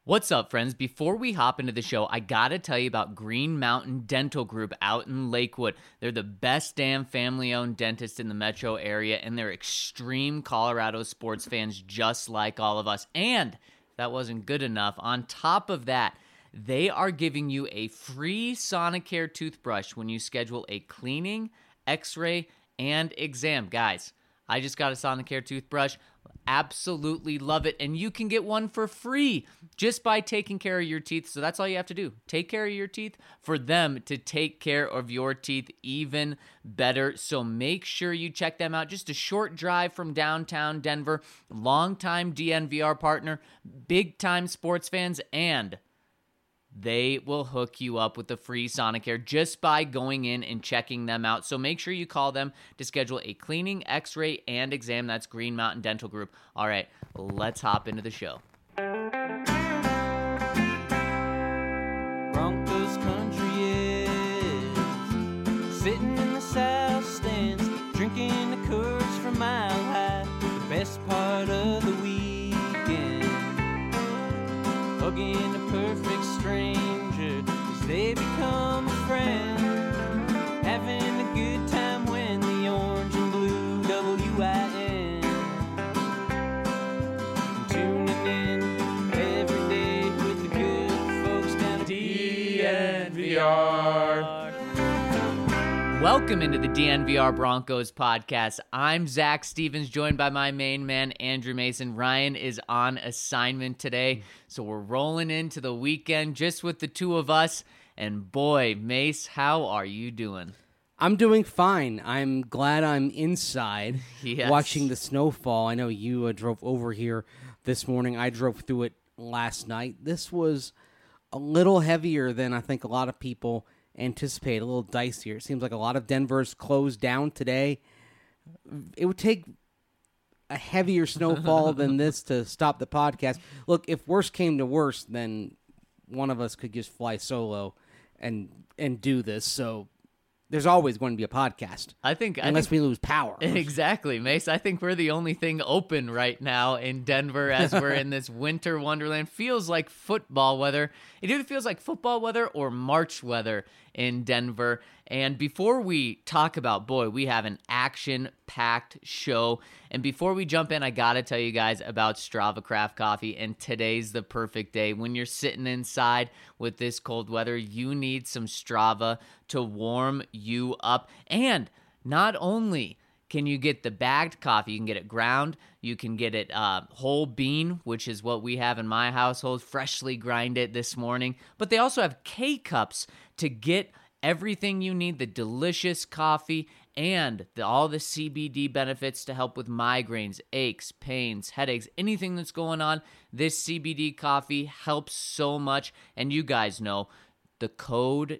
What's up, friends? Before we hop into the show, I gotta tell you about Green Mountain Dental Group out in Lakewood. They're the best damn family-owned dentist in the metro area, and they're extreme Colorado sports fans just like all of us. And if that wasn't good enough, on top of that, they are giving you a free Sonicare toothbrush when you schedule a cleaning, x-ray, and exam. Guys, I just got a Sonicare toothbrush. Absolutely love it. And you can get one for free just by taking care of your teeth. So that's all you have to do. Take care of your teeth for them to take care of your teeth even better. So make sure you check them out. Just a short drive from downtown Denver. Longtime DNVR partner, big time sports fans, and they will hook you up with the free Sonicare just by going in and checking them out. So make sure you call them to schedule a cleaning, x-ray, and exam. That's Green Mountain Dental Group. All right, let's hop into the show. Broncos country is sitting in the south stands, drinking the Coors from Mile High. The best part of the weekend, hugging a perfect stranger as they become a friend, having a good time when the orange and blue WIN, tuning in every day with the good folks down at DNVR. Welcome into the DNVR Broncos podcast. I'm Zach Stevens, joined by my main man, Andrew Mason. Ryan is on assignment today, so we're rolling into the weekend just with the two of us. And boy, Mace, how are you doing? I'm doing fine. I'm glad I'm inside Yes. watching the snowfall. I know you drove over here this morning. I drove through it last night. This was a little heavier than I think a lot of people anticipate, a little dicier. It seems like a lot of Denver's closed down today. It would take a heavier snowfall than this to stop the podcast. Look, if worse came to worse, then one of us could just fly solo and do this. So there's always going to be a podcast. Unless we lose power. Exactly, Mace. I think we're the only thing open right now in Denver as we're in this winter wonderland. Feels like football weather. It either feels like football weather or March weather in Denver. And before we talk about, boy, we have an action-packed show. And before we jump in, I got to tell you guys about Strava Craft Coffee. And today's the perfect day. When you're sitting inside with this cold weather, you need some Strava to warm you up. And not only can you get the bagged coffee, you can get it ground, you can get it whole bean, which is what we have in my household, freshly grinded this morning. But they also have K-Cups to get everything you need, the delicious coffee and all the CBD benefits to help with migraines, aches, pains, headaches, anything that's going on. This CBD coffee helps so much. And you guys know the code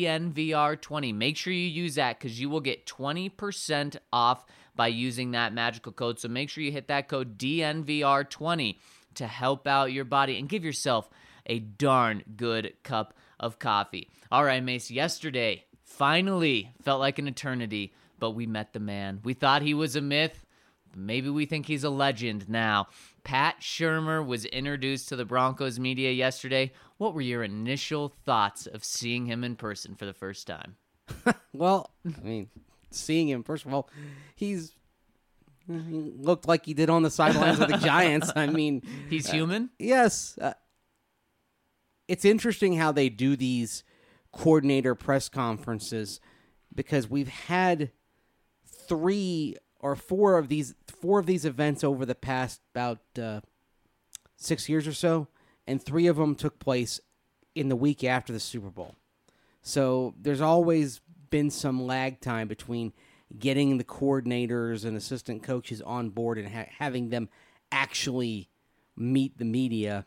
DNVR20. Make sure you use that because you will get 20% off by using that magical code. So make sure you hit that code DNVR20 to help out your body and give yourself a darn good cup of coffee. All right, Mace, yesterday finally felt like an eternity, but we met the man. We thought he was a myth. Maybe we think he's a legend now. Pat Shurmur was introduced to the Broncos media yesterday. What were your initial thoughts of seeing him in person for the first time? Well, I mean, seeing him, first of all, he looked like he did on the sidelines of the Giants. I mean, he's human? Yes. It's interesting how they do these coordinator press conferences because we've had four of these events over the past about 6 years or so, and 3 of them took place in the week after the Super Bowl. So there's always been some lag time between getting the coordinators and assistant coaches on board and having them actually meet the media.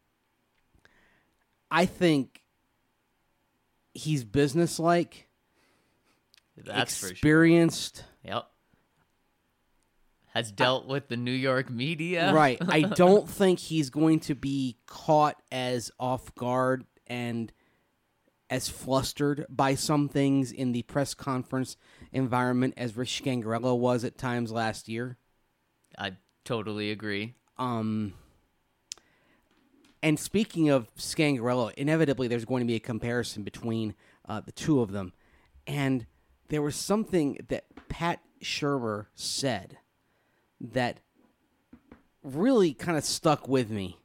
I think he's businesslike, That's experienced. For sure. Yep. Has dealt with the New York media. Right. I don't think he's going to be caught as off guard and as flustered by some things in the press conference environment as Rich Scangarello was at times last year. I totally agree. And speaking of Scangarello, inevitably there's going to be a comparison between the two of them. And there was something that Pat Shurmur said that really kind of stuck with me.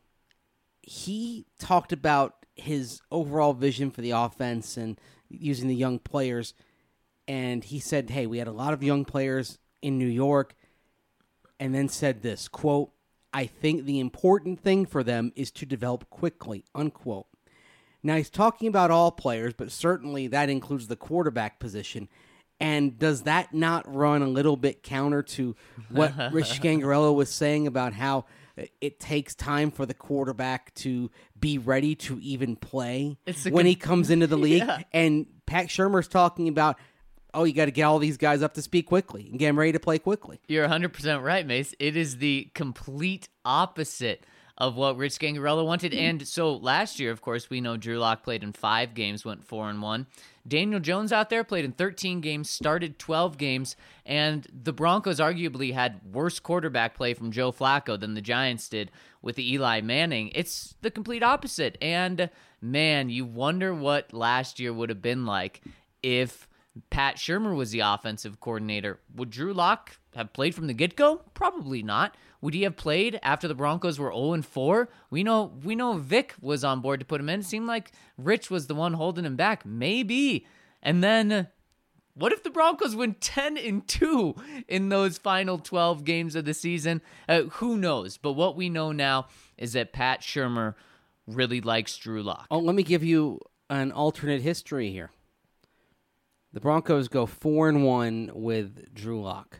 He talked about his overall vision for the offense and using the young players. And he said, hey, we had a lot of young players in New York. And then said this, quote, I think the important thing for them is to develop quickly, unquote. Now, he's talking about all players, but certainly that includes the quarterback position. And does that not run a little bit counter to what Rich Scangarello was saying about how it takes time for the quarterback to be ready to even play when he comes into the league? Yeah. And Pat Shurmur's talking about, oh, you got to get all these guys up to speed quickly and get them ready to play quickly. You're 100% right, Mace. It is the complete opposite of what Rich Scangarello wanted. And so last year, of course, we know Drew Lock played in 5 games, went 4-1. Daniel Jones out there played in 13 games, started 12 games, and the Broncos arguably had worse quarterback play from Joe Flacco than the Giants did with Eli Manning. It's the complete opposite. And, man, you wonder what last year would have been like if Pat Shurmur was the offensive coordinator. Would Drew Lock have played from the get-go? Probably not. Would he have played after the Broncos were 0-4? We know Vic was on board to put him in. It seemed like Rich was the one holding him back. Maybe. And then what if the Broncos win 10-2 in those final 12 games of the season? Who knows? But what we know now is that Pat Shurmur really likes Drew Lock. Oh, let me give you an alternate history here. The Broncos go 4-1 with Drew Lock.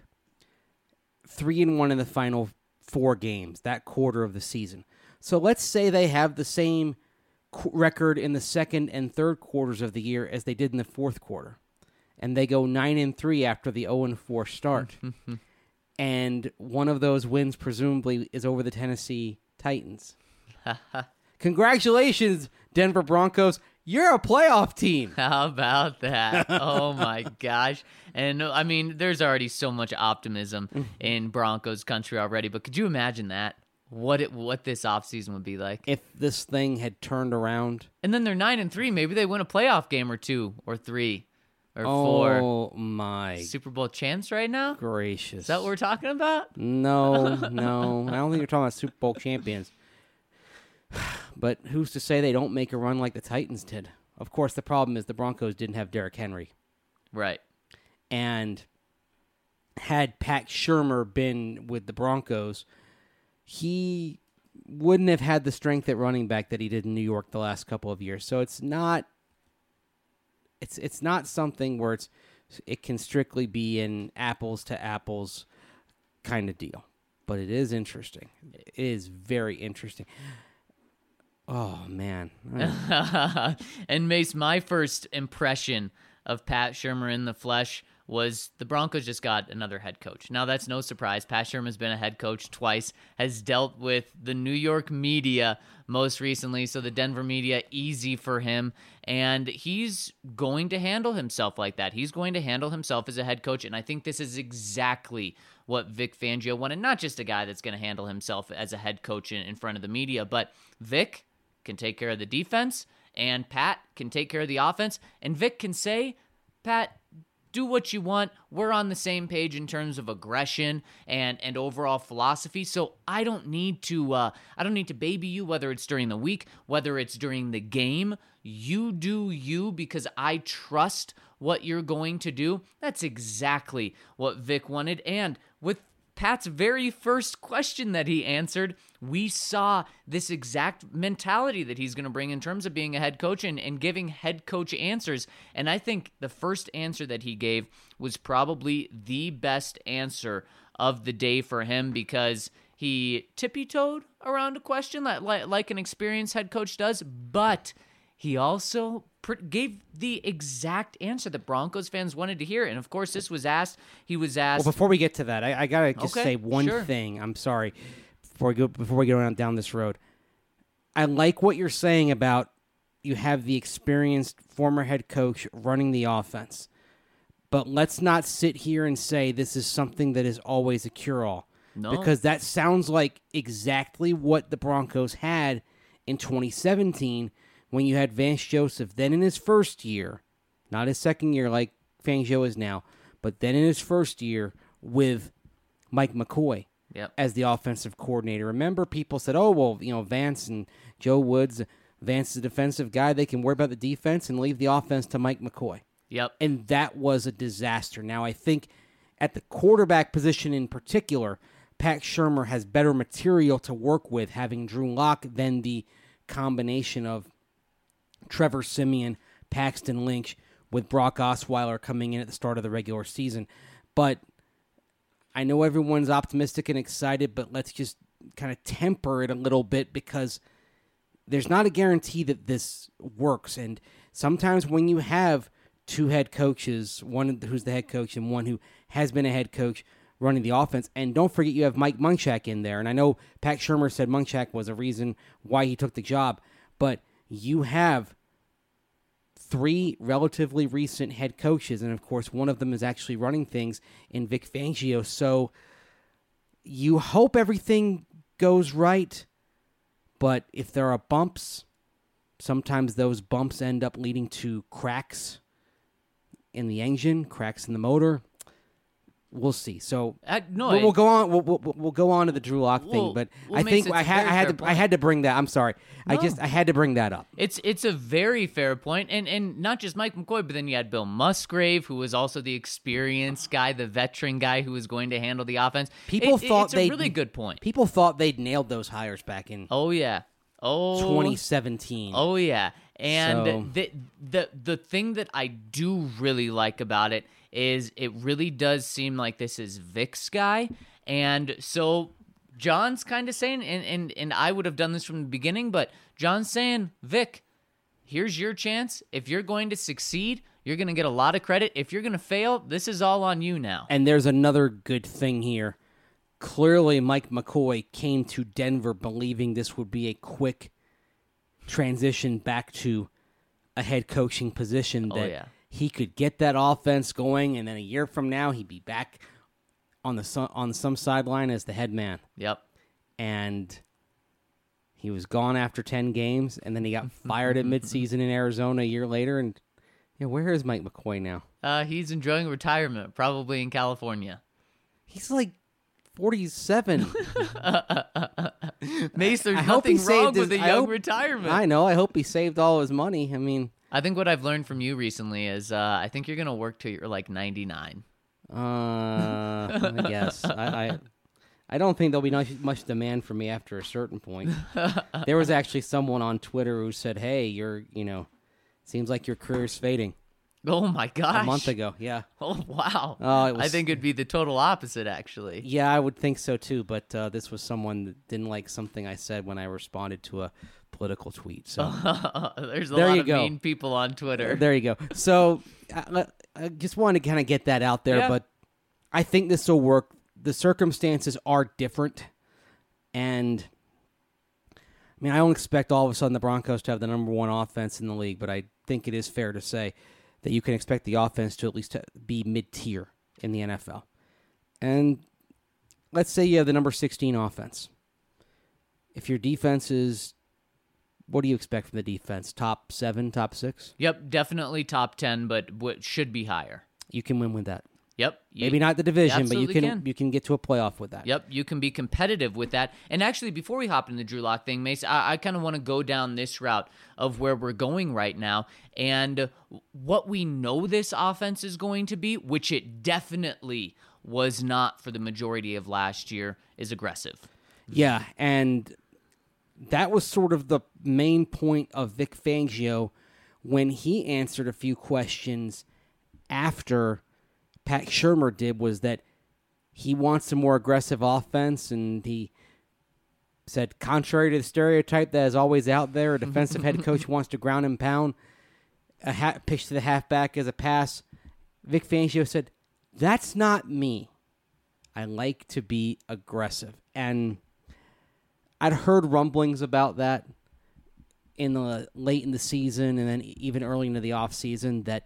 3-1 in the final 4 games, that quarter of the season. So let's say they have the same record in the second and third quarters of the year as they did in the fourth quarter. And they go 9-3 after the 0-4 start. And one of those wins presumably is over the Tennessee Titans. Congratulations, Denver Broncos. You're a playoff team. How about that? Oh, my gosh. And, I mean, there's already so much optimism in Broncos country already, but could you imagine that? What this offseason would be like? If this thing had turned around. And then they're 9-3. Maybe they win a playoff game or 2 or 3 or 4. Oh, my. Super Bowl chance right now? Gracious. Is that what we're talking about? No. I don't think you're talking about Super Bowl champions. But who's to say they don't make a run like the Titans did? Of course, the problem is the Broncos didn't have Derrick Henry. Right. And had Pat Shurmur been with the Broncos, he wouldn't have had the strength at running back that he did in New York the last couple of years. So it's not something where it can strictly be an apples to apples kind of deal. But it is interesting. It is very interesting. Oh, man. And Mace, my first impression of Pat Shurmur in the flesh was the Broncos just got another head coach. Now, that's no surprise. Pat Shurmur's been a head coach twice, has dealt with the New York media most recently, so the Denver media, easy for him, and he's going to handle himself like that. He's going to handle himself as a head coach, and I think this is exactly what Vic Fangio wanted. Not just a guy that's going to handle himself as a head coach in front of the media, but Vic can take care of the defense, and Pat can take care of the offense, and Vic can say, Pat, do what you want. We're on the same page in terms of aggression and overall philosophy. So I don't need to baby you, whether it's during the week, whether it's during the game. You do you because I trust what you're going to do. That's exactly what Vic wanted. And with Pat's very first question that he answered, we saw this exact mentality that he's going to bring in terms of being a head coach and giving head coach answers. And I think the first answer that he gave was probably the best answer of the day for him because he tippy-toed around a question like an experienced head coach does, but he also gave the exact answer that Broncos fans wanted to hear. And, of course, this was asked. He was asked. Well, before we get to that, I got to just say one thing. I'm sorry. Before we go down this road. I like what you're saying about you have the experienced former head coach running the offense. But let's not sit here and say this is something that is always a cure-all. No. Because that sounds like exactly what the Broncos had in 2017 when you had Vance Joseph, then in his first year, not his second year like Fangio is now, but then in his first year with Mike McCoy as the offensive coordinator. Remember, people said, oh, well, Vance and Joe Woods, Vance is a defensive guy. They can worry about the defense and leave the offense to Mike McCoy. Yep. And that was a disaster. Now, I think at the quarterback position in particular, Pat Shurmur has better material to work with, having Drew Lock than the combination of Trevor Siemian, Paxton Lynch, with Brock Osweiler coming in at the start of the regular season. But I know everyone's optimistic and excited, but let's just kind of temper it a little bit because there's not a guarantee that this works. And sometimes when you have two head coaches, one who's the head coach and one who has been a head coach running the offense, and don't forget you have Mike Munchak in there. And I know Pat Shurmur said Munchak was a reason why he took the job, but you have three relatively recent head coaches, and of course one of them is actually running things in Vic Fangio. So you hope everything goes right, but if there are bumps, sometimes those bumps end up leading to cracks in the engine, cracks in the motor. We'll see. So we'll go on. We'll go on to the Drew Lock thing, but I think I had to bring that. I'm sorry. No. I had to bring that up. It's a very fair point, and not just Mike McCoy, but then you had Bill Musgrave, who was also the experienced guy, the veteran guy who was going to handle the offense. It's a really good point. People thought they'd nailed those hires back in 2017. Oh yeah, and the thing that I do really like about it is it really does seem like this is Vic's guy. And so John's kind of saying, and I would have done this from the beginning, but John's saying, Vic, here's your chance. If you're going to succeed, you're going to get a lot of credit. If you're going to fail, this is all on you now. And there's another good thing here. Clearly, Mike McCoy came to Denver believing this would be a quick transition back to a head coaching position that he could get that offense going, and then a year from now, he'd be back on some sideline as the head man. Yep. And he was gone after 10 games, and then he got fired at midseason in Arizona a year later. And where is Mike McCoy now? He's enjoying retirement, probably in California. He's like 47. Mace, there's nothing wrong with a young retirement. I know. I hope he saved all his money. I mean, I think what I've learned from you recently is I think you're going to work till you're like 99. I guess. I don't think there'll be much demand for me after a certain point. There was actually someone on Twitter who said, hey, seems like your career's fading. Oh, my gosh. A month ago, yeah. Oh, wow. I think it'd be the total opposite, actually. Yeah, I would think so, too. But this was someone that didn't like something I said when I responded to a political tweet. So there's a lot of mean people on Twitter. There you go. So I just wanted to kind of get that out there. Yeah. But I think this will work. The circumstances are different. And, I mean, I don't expect all of a sudden the Broncos to have the number one offense in the league. But I think it is fair to say that you can expect the offense to at least be mid-tier in the NFL. And let's say you have the number 16 offense. If your defense is, what do you expect from the defense? Top 7, top 6? Yep, definitely top 10, but what should be higher. You can win with that. Yep. Maybe not the division, but you can get to a playoff with that. Yep, you can be competitive with that. And actually, before we hop into the Drew Lock thing, Mace, I kind of want to go down this route of where we're going right now and what we know this offense is going to be, which it definitely was not for the majority of last year, is aggressive. Yeah, and that was sort of the main point of Vic Fangio when he answered a few questions after Pat Shurmur did, was that he wants a more aggressive offense, and he said, contrary to the stereotype that is always out there, a defensive head coach wants to ground and pound, a pitch to the halfback as a pass. Vic Fangio said, that's not me. I like to be aggressive. And I'd heard rumblings about that late in the season and then even early into the offseason that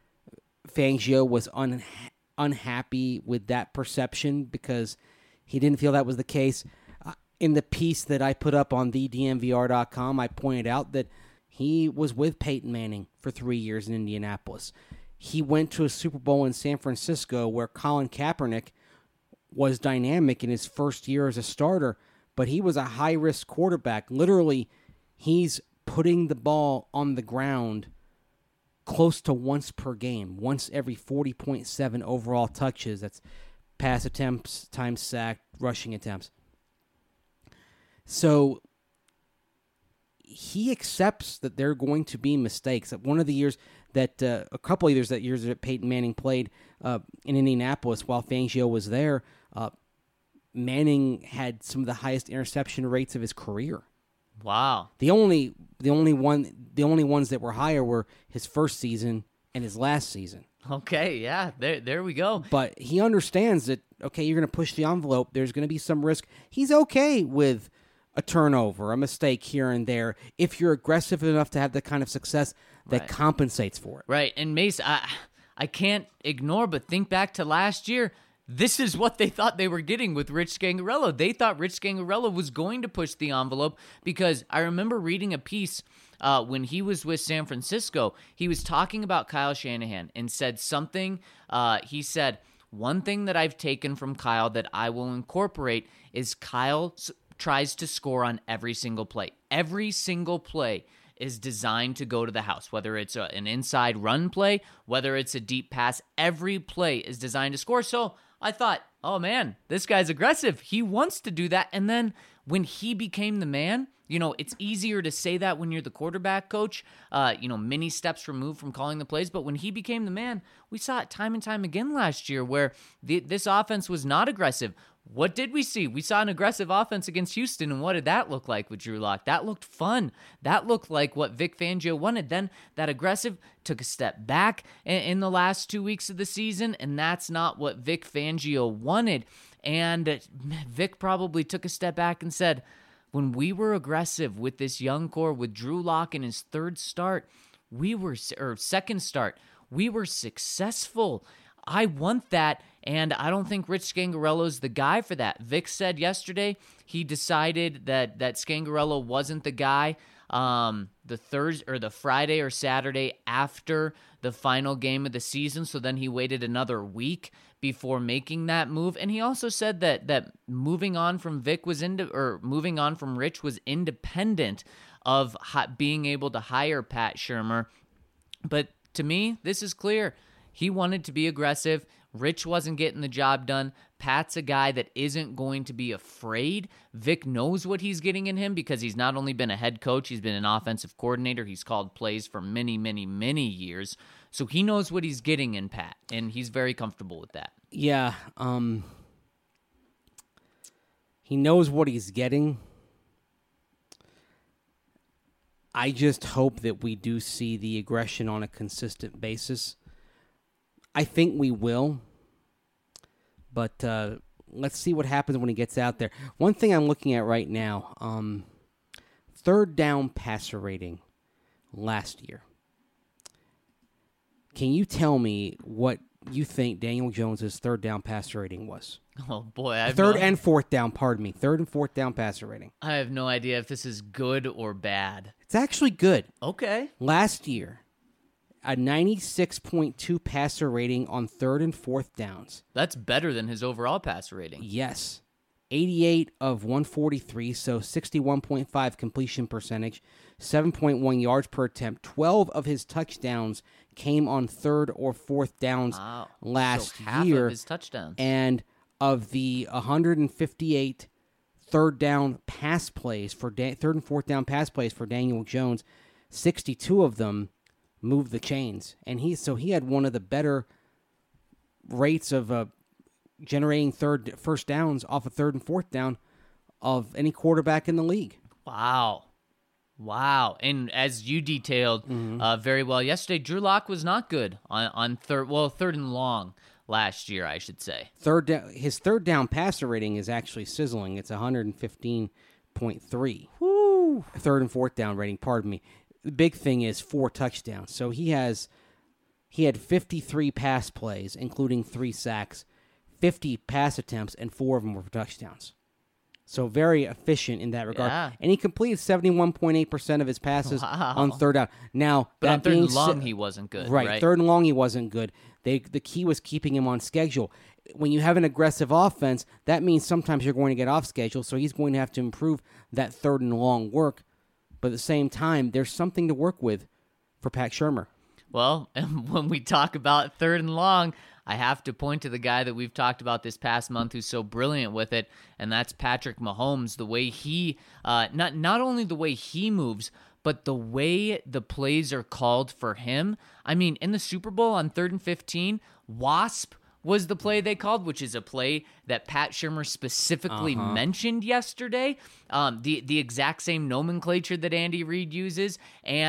Fangio was unhappy with that perception because he didn't feel that was the case. In the piece that I put up on thedmvr.com, I pointed out that he was with Peyton Manning for 3 years in Indianapolis. He went to a Super Bowl in San Francisco where Colin Kaepernick was dynamic in his first year as a starter, but he was a high-risk quarterback. Literally, he's putting the ball on the ground close to once per game, once every 40.7 overall touches. That's pass attempts times sack, rushing attempts. So he accepts that there are going to be mistakes. One of the years that, a couple of years that Peyton Manning played in Indianapolis while Fangio was there, Manning had some of the highest interception rates of his career. Wow. The only ones that were higher were his first season and his last season. Okay, yeah, there we go. But he understands that, okay, you're going to push the envelope. There's going to be some risk. He's okay with a turnover, a mistake here and there, if you're aggressive enough to have the kind of success that compensates for it. Right, and Mace, I can't ignore but think back to last year. This is what they thought they were getting with Rich Scangarello. They thought Rich Scangarello was going to push the envelope because I remember reading a piece when he was with San Francisco. He was talking about Kyle Shanahan and said something. He said, one thing that I've taken from Kyle that I will incorporate is Kyle tries to score on every single play. Every single play is designed to go to the house, whether it's an inside run play, whether it's a deep pass. Every play is designed to score. So I thought, oh man, this guy's aggressive. He wants to do that. And then when he became the man, it's easier to say that when you're the quarterback coach, many steps removed from calling the plays. But when he became the man, we saw it time and time again last year where this offense was not aggressive. What did we see? We saw an aggressive offense against Houston, and what did that look like with Drew Lock? That looked fun. That looked like what Vic Fangio wanted. Then that aggressive took a step back in the last 2 weeks of the season, and that's not what Vic Fangio wanted. And Vic probably took a step back and said, when we were aggressive with this young core, with Drew Lock in his second start, we were successful. I want that, and I don't think Rich Scangarello's the guy for that. Vic said yesterday he decided that Scangarello wasn't the guy the Thursday or the Friday or Saturday after the final game of the season, so then he waited another week before making that move. And he also said that moving on from Rich was independent of being able to hire Pat Shurmur. But to me, this is clear. He wanted to be aggressive. Rich wasn't getting the job done. Pat's a guy that isn't going to be afraid. Vic knows what he's getting in him because he's not only been a head coach, he's been an offensive coordinator. He's called plays for many, many, many years. So he knows what he's getting in Pat, and he's very comfortable with that. Yeah. He knows what he's getting. I just hope that we do see the aggression on a consistent basis. I think we will, but let's see what happens when he gets out there. One thing I'm looking at right now, third down passer rating last year. Can you tell me what you think Daniel Jones's third down passer rating was? Oh, boy. Third and fourth down passer rating. I have no idea if this is good or bad. It's actually good. Okay. Last year, a 96.2 passer rating on third and fourth downs. That's better than his overall passer rating. Yes. 88 of 143, so 61.5 completion percentage, 7.1 yards per attempt. 12 of his touchdowns came on third or fourth downs last so half year. Of his touchdowns. And of the 158 third down pass plays for third and fourth down pass plays for Daniel Jones, 62 of them moved the chains, and he had one of the better rates of generating first downs off of third and fourth down of any quarterback in the league. Wow. And as you detailed very well yesterday, Drew Lock was not good on third and long last year, I should say. His third down passer rating is actually sizzling. It's 115.3. Woo. Third and fourth down rating, pardon me. The big thing is 4 touchdowns. So he had 53 pass plays, including 3 sacks, 50 pass attempts, and 4 of them were for touchdowns. So very efficient in that regard. Yeah. And he completed 71.8% of his passes Wow. on third down. Now, But that on third being and long, said- he wasn't good. Right, Right. third and long, he wasn't good. The key was keeping him on schedule. When you have an aggressive offense, that means sometimes you're going to get off schedule, so he's going to have to improve that third and long work. But at the same time, there's something to work with for Pat Shurmur. Well, when we talk about third and long, I have to point to the guy that we've talked about this past month who's so brilliant with it, and that's Patrick Mahomes. The way he, not only the way he moves, but the way the plays are called for him. I mean, in the Super Bowl on 3rd and 15, WASP was the play they called, which is a play that Pat Shurmur specifically mentioned yesterday. The exact same nomenclature that Andy Reid uses,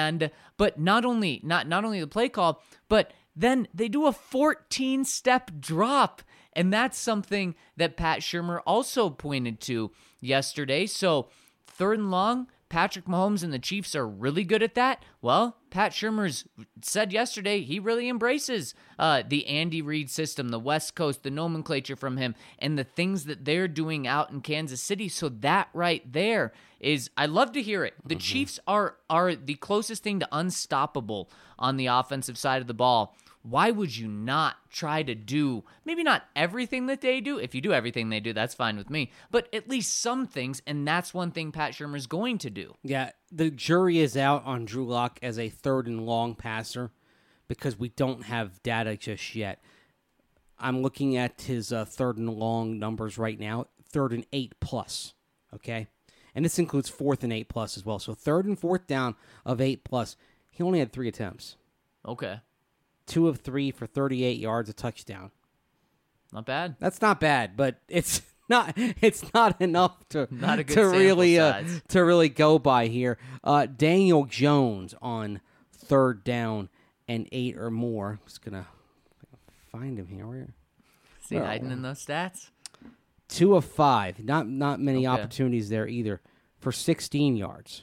but not only the play call, but then they do a 14-step drop, and that's something that Pat Shurmur also pointed to yesterday. So third and long, Patrick Mahomes and the Chiefs are really good at that. Well, Pat Shurmur's said yesterday he really embraces the Andy Reid system, the West Coast, the nomenclature from him, and the things that they're doing out in Kansas City. So that right there is, I love to hear it. The Chiefs are the closest thing to unstoppable on the offensive side of the ball. Why would you not try to do, maybe not everything that they do? If you do everything they do, that's fine with me. But at least some things, and that's one thing Pat Shurmur's going to do. Yeah, the jury is out on Drew Lock as a third and long passer because we don't have data just yet. I'm looking at his third and long numbers right now, 3rd and 8+, okay? And this includes 4th and 8+ as well. So 3rd and 4th down of 8+, he only had 3 attempts. Okay. 2 of 3 for 38 yards, a touchdown. Not bad. That's not bad, but it's not enough to Not a good to sample really size. to really go by here. Daniel Jones on 3rd down and 8 or more. I'm just gonna find him here. Where? See, Well, hiding in those stats. 2 of 5. Not many Okay. opportunities there either for 16 yards.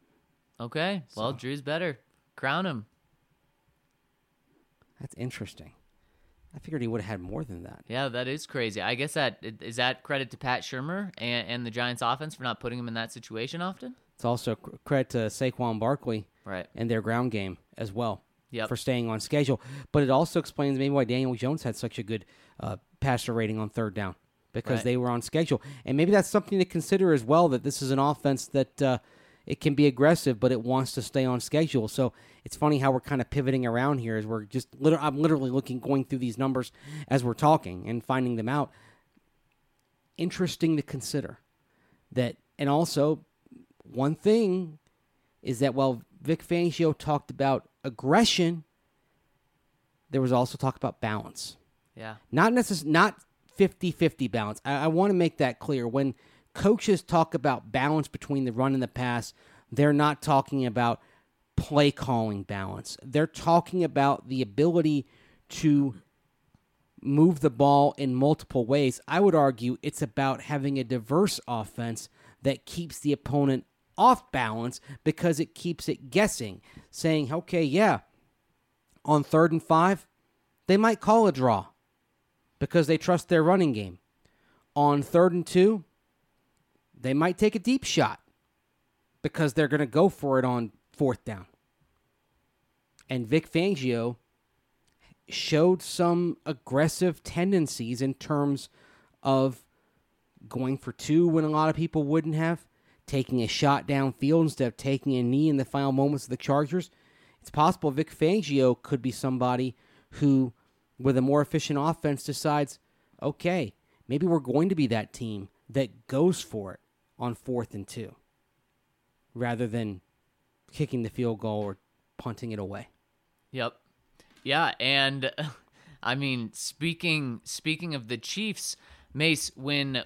Okay. Well, Drew's better. Crown him. That's interesting. I figured he would have had more than that. Yeah, that is crazy. I guess is that credit to Pat Shurmur and the Giants offense for not putting him in that situation often? It's also credit to Saquon Barkley Right. and their ground game as well. Yep. For staying on schedule. But it also explains maybe why Daniel Jones had such a good passer rating on 3rd down, because Right. they were on schedule. And maybe that's something to consider as well, that this is an offense that it can be aggressive, but it wants to stay on schedule. So it's funny how we're kind of pivoting around here as we're just I'm literally going through these numbers as we're talking and finding them out. Interesting to consider that. And also, one thing is that while Vic Fangio talked about aggression, there was also talk about balance. Yeah. Not 50-50 balance. I want to make that clear. When coaches talk about balance between the run and the pass, they're not talking about play calling balance. They're talking about the ability to move the ball in multiple ways. I would argue it's about having a diverse offense that keeps the opponent off balance because it keeps it guessing, saying, okay, yeah, on 3rd and 5, they might call a draw because they trust their running game. On 3rd and 2, they might take a deep shot because they're going to go for it on 4th down. And Vic Fangio showed some aggressive tendencies in terms of going for 2 when a lot of people wouldn't have, taking a shot downfield instead of taking a knee in the final moments of the Chargers. It's possible Vic Fangio could be somebody who, with a more efficient offense, decides, okay, maybe we're going to be that team that goes for it on 4th and 2 rather than kicking the field goal or punting it away. Yep. Yeah, and I mean, speaking of the Chiefs, Mace, when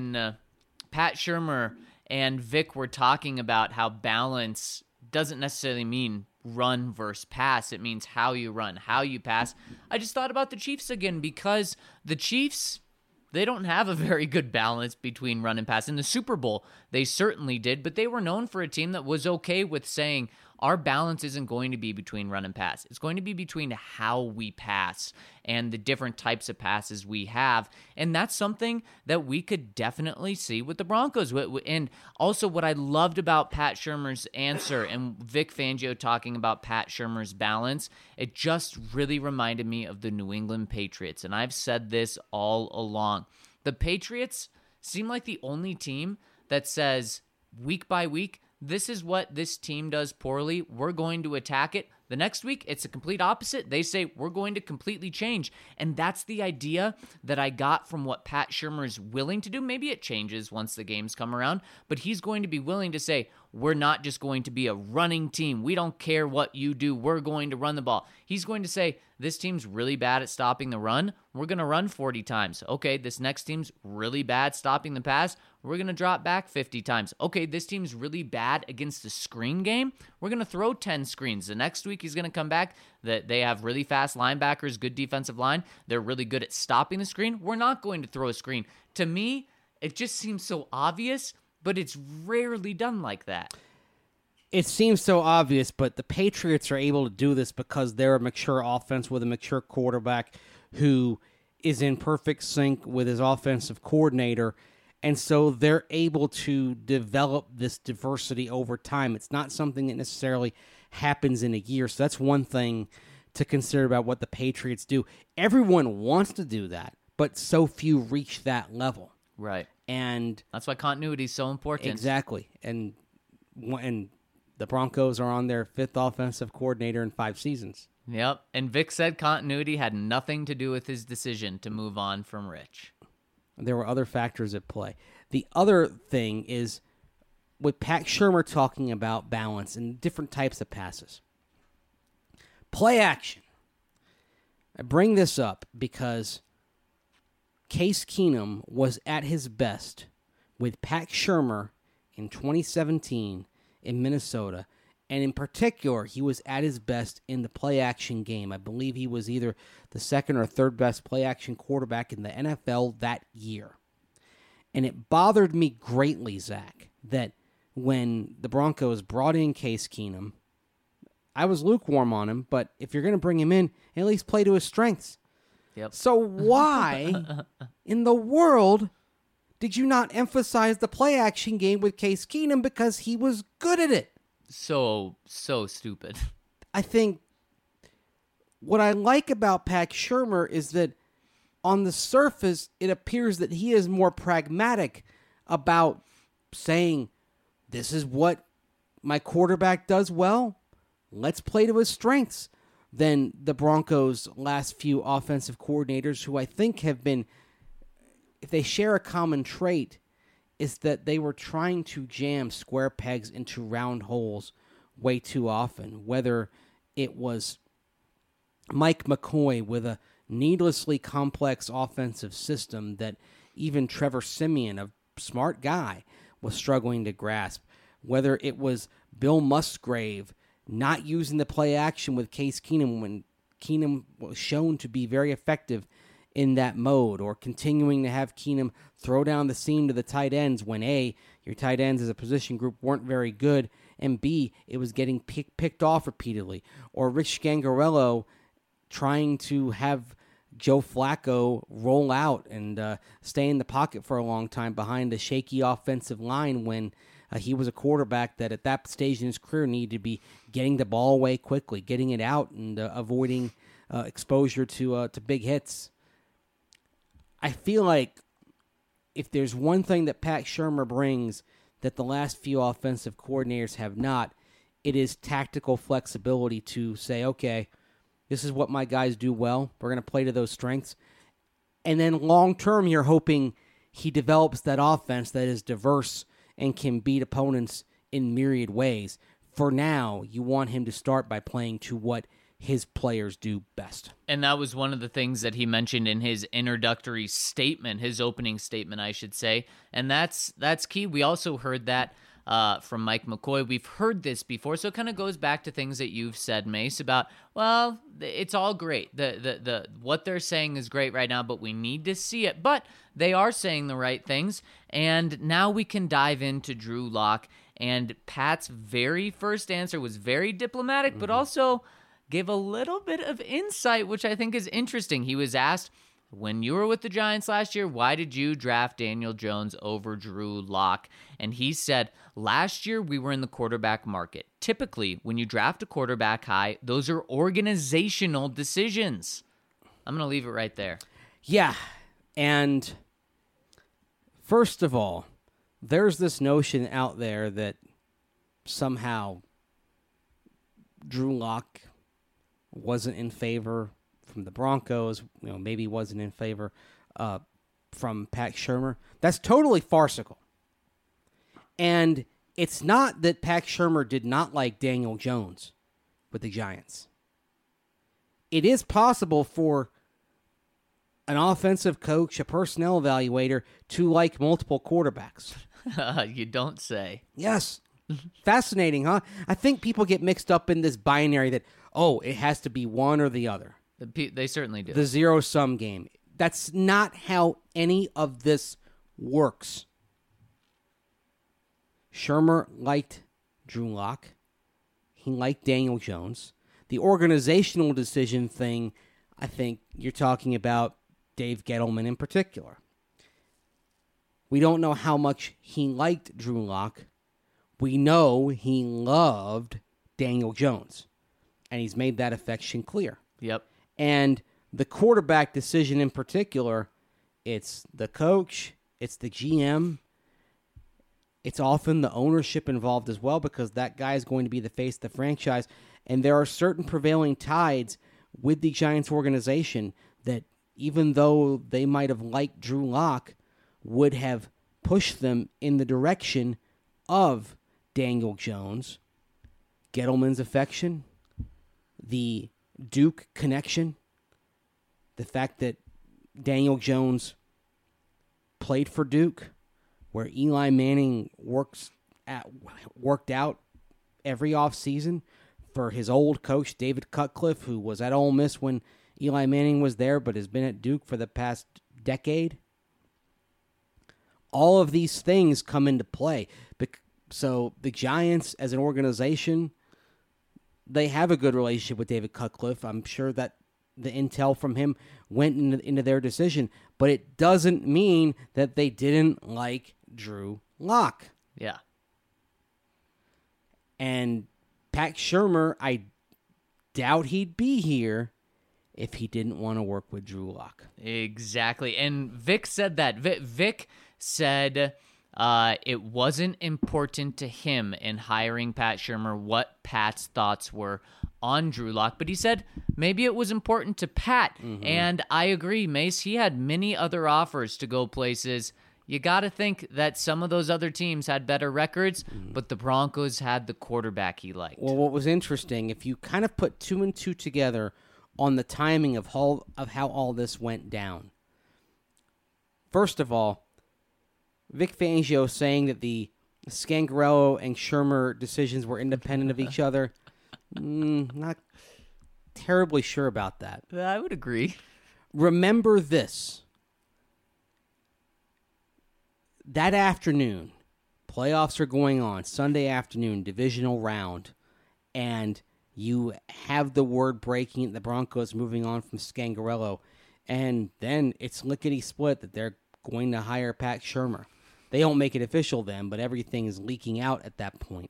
Pat Shurmur and Vic were talking about how balance doesn't necessarily mean run versus pass. It means how you run, how you pass. I just thought about the Chiefs again because the Chiefs, they don't have a very good balance between run and pass. In the Super Bowl, they certainly did, but they were known for a team that was okay with saying, our balance isn't going to be between run and pass. It's going to be between how we pass and the different types of passes we have. And that's something that we could definitely see with the Broncos. And also what I loved about Pat Shurmur's answer and Vic Fangio talking about Pat Shurmur's balance, it just really reminded me of the New England Patriots. And I've said this all along. The Patriots seem like the only team that says week by week, this is what this team does poorly. We're going to attack it. The next week, it's a complete opposite. They say, we're going to completely change. And that's the idea that I got from what Pat Shurmur is willing to do. Maybe it changes once the games come around, but he's going to be willing to say, we're not just going to be a running team. We don't care what you do. We're going to run the ball. He's going to say, this team's really bad at stopping the run. We're going to run 40 times. Okay, this next team's really bad stopping the pass. We're going to drop back 50 times. Okay, this team's really bad against the screen game. We're going to throw 10 screens. The next week he's going to come back. That they have really fast linebackers, good defensive line. They're really good at stopping the screen. We're not going to throw a screen. To me, it just seems so obvious, but it's rarely done like that. It seems so obvious, but the Patriots are able to do this because they're a mature offense with a mature quarterback who is in perfect sync with his offensive coordinator, and so they're able to develop this diversity over time. It's not something that necessarily happens in a year, so that's one thing to consider about what the Patriots do. Everyone wants to do that, but so few reach that level. Right. And that's why continuity is so important. Exactly. And the Broncos are on their 5th offensive coordinator in 5 seasons. Yep. And Vic said continuity had nothing to do with his decision to move on from Rich. There were other factors at play. The other thing is with Pat Shurmur talking about balance and different types of passes. Play action. I bring this up because Case Keenum was at his best with Pat Shurmur in 2017 in Minnesota, and in particular, he was at his best in the play-action game. I believe he was either the 2nd or 3rd best play-action quarterback in the NFL that year. And it bothered me greatly, Zach, that when the Broncos brought in Case Keenum, I was lukewarm on him, but if you're going to bring him in, at least play to his strengths. Yep. So why in the world did you not emphasize the play-action game with Case Keenum? Because he was good at it. So stupid. I think what I like about Pat Shurmur is that on the surface, it appears that he is more pragmatic about saying, this is what my quarterback does well. Let's play to his strengths. Than the Broncos' last few offensive coordinators, who I think have been, if they share a common trait, is that they were trying to jam square pegs into round holes way too often. Whether it was Mike McCoy with a needlessly complex offensive system that even Trevor Siemian, a smart guy, was struggling to grasp. Whether it was Bill Musgrave not using the play action with Case Keenum when Keenum was shown to be very effective in that mode, or continuing to have Keenum throw down the seam to the tight ends when A, your tight ends as a position group weren't very good, and B, it was getting picked off repeatedly, or Rich Scangarello trying to have Joe Flacco roll out and stay in the pocket for a long time behind a shaky offensive line when he was a quarterback that at that stage in his career needed to be getting the ball away quickly, getting it out, and avoiding exposure to big hits. I feel like if there's one thing that Pat Shurmur brings that the last few offensive coordinators have not, it is tactical flexibility to say, okay, this is what my guys do well. We're going to play to those strengths. And then long term, you're hoping he develops that offense that is diverse and can beat opponents in myriad ways. For now, you want him to start by playing to what his players do best. And that was one of the things that he mentioned in his introductory statement, his opening statement, I should say. And that's key. We also heard that from Mike McCoy. We've heard this before, so it kind of goes back to things that you've said, Mace, about, well, it's all great. The what they're saying is great right now, but we need to see it. But they are saying the right things, and now we can dive into Drew Lock And Pat's very first answer was very diplomatic, but also gave a little bit of insight, which I think is interesting. He was asked, when you were with the Giants last year, why did you draft Daniel Jones over Drew Lock? And he said, last year we were in the quarterback market. Typically, when you draft a quarterback high, those are organizational decisions. I'm going to leave it right there. Yeah, and first of all, there's this notion out there that somehow Drew Lock wasn't in favor from the Broncos, maybe wasn't in favor from Pat Shurmur. That's totally farcical. And it's not that Pat Shurmur did not like Daniel Jones with the Giants. It is possible for an offensive coach, a personnel evaluator, to like multiple quarterbacks. You don't say. Yes. Fascinating, huh? I think people get mixed up in this binary that, it has to be one or the other. They certainly do. The zero-sum game. That's not how any of this works. Shurmur liked Drew Lock. He liked Daniel Jones. The organizational decision thing, I think you're talking about Dave Gettleman in particular. We don't know how much he liked Drew Lock. We know he loved Daniel Jones. And he's made that affection clear. Yep. And the quarterback decision in particular, it's the coach, it's the GM, it's often the ownership involved as well, because that guy is going to be the face of the franchise. And there are certain prevailing tides with the Giants organization that, even though they might have liked Drew Lock, would have pushed them in the direction of Daniel Jones. Gettleman's affection, the Duke connection, the fact that Daniel Jones played for Duke, where Eli Manning worked out every offseason for his old coach, David Cutcliffe, who was at Ole Miss when Eli Manning was there, but has been at Duke for the past decade. All of these things come into play. So the Giants, as an organization, they have a good relationship with David Cutcliffe. I'm sure that the intel from him went into their decision, but it doesn't mean that they didn't like Drew Lock. Yeah. And Pat Shurmur, I doubt he'd be here if he didn't want to work with Drew Lock. Exactly. And Vic said that. Vic said it wasn't important to him in hiring Pat Shurmur what Pat's thoughts were on Drew Lock, but he said maybe it was important to Pat. And I agree, Mace. He had many other offers to go places. You got to think that some of those other teams had better records, but the Broncos had the quarterback he liked. Well, what was interesting, if you kind of put two and two together on the timing of how all this went down. First of all, Vic Fangio saying that the Scangarello and Shurmur decisions were independent of each other, not terribly sure about that. I would agree. Remember this. That afternoon, playoffs are going on, Sunday afternoon, divisional round, and you have the word breaking, the Broncos moving on from Scangarello, and then it's lickety-split that they're going to hire Pat Shurmur. They don't make it official then, but everything is leaking out at that point.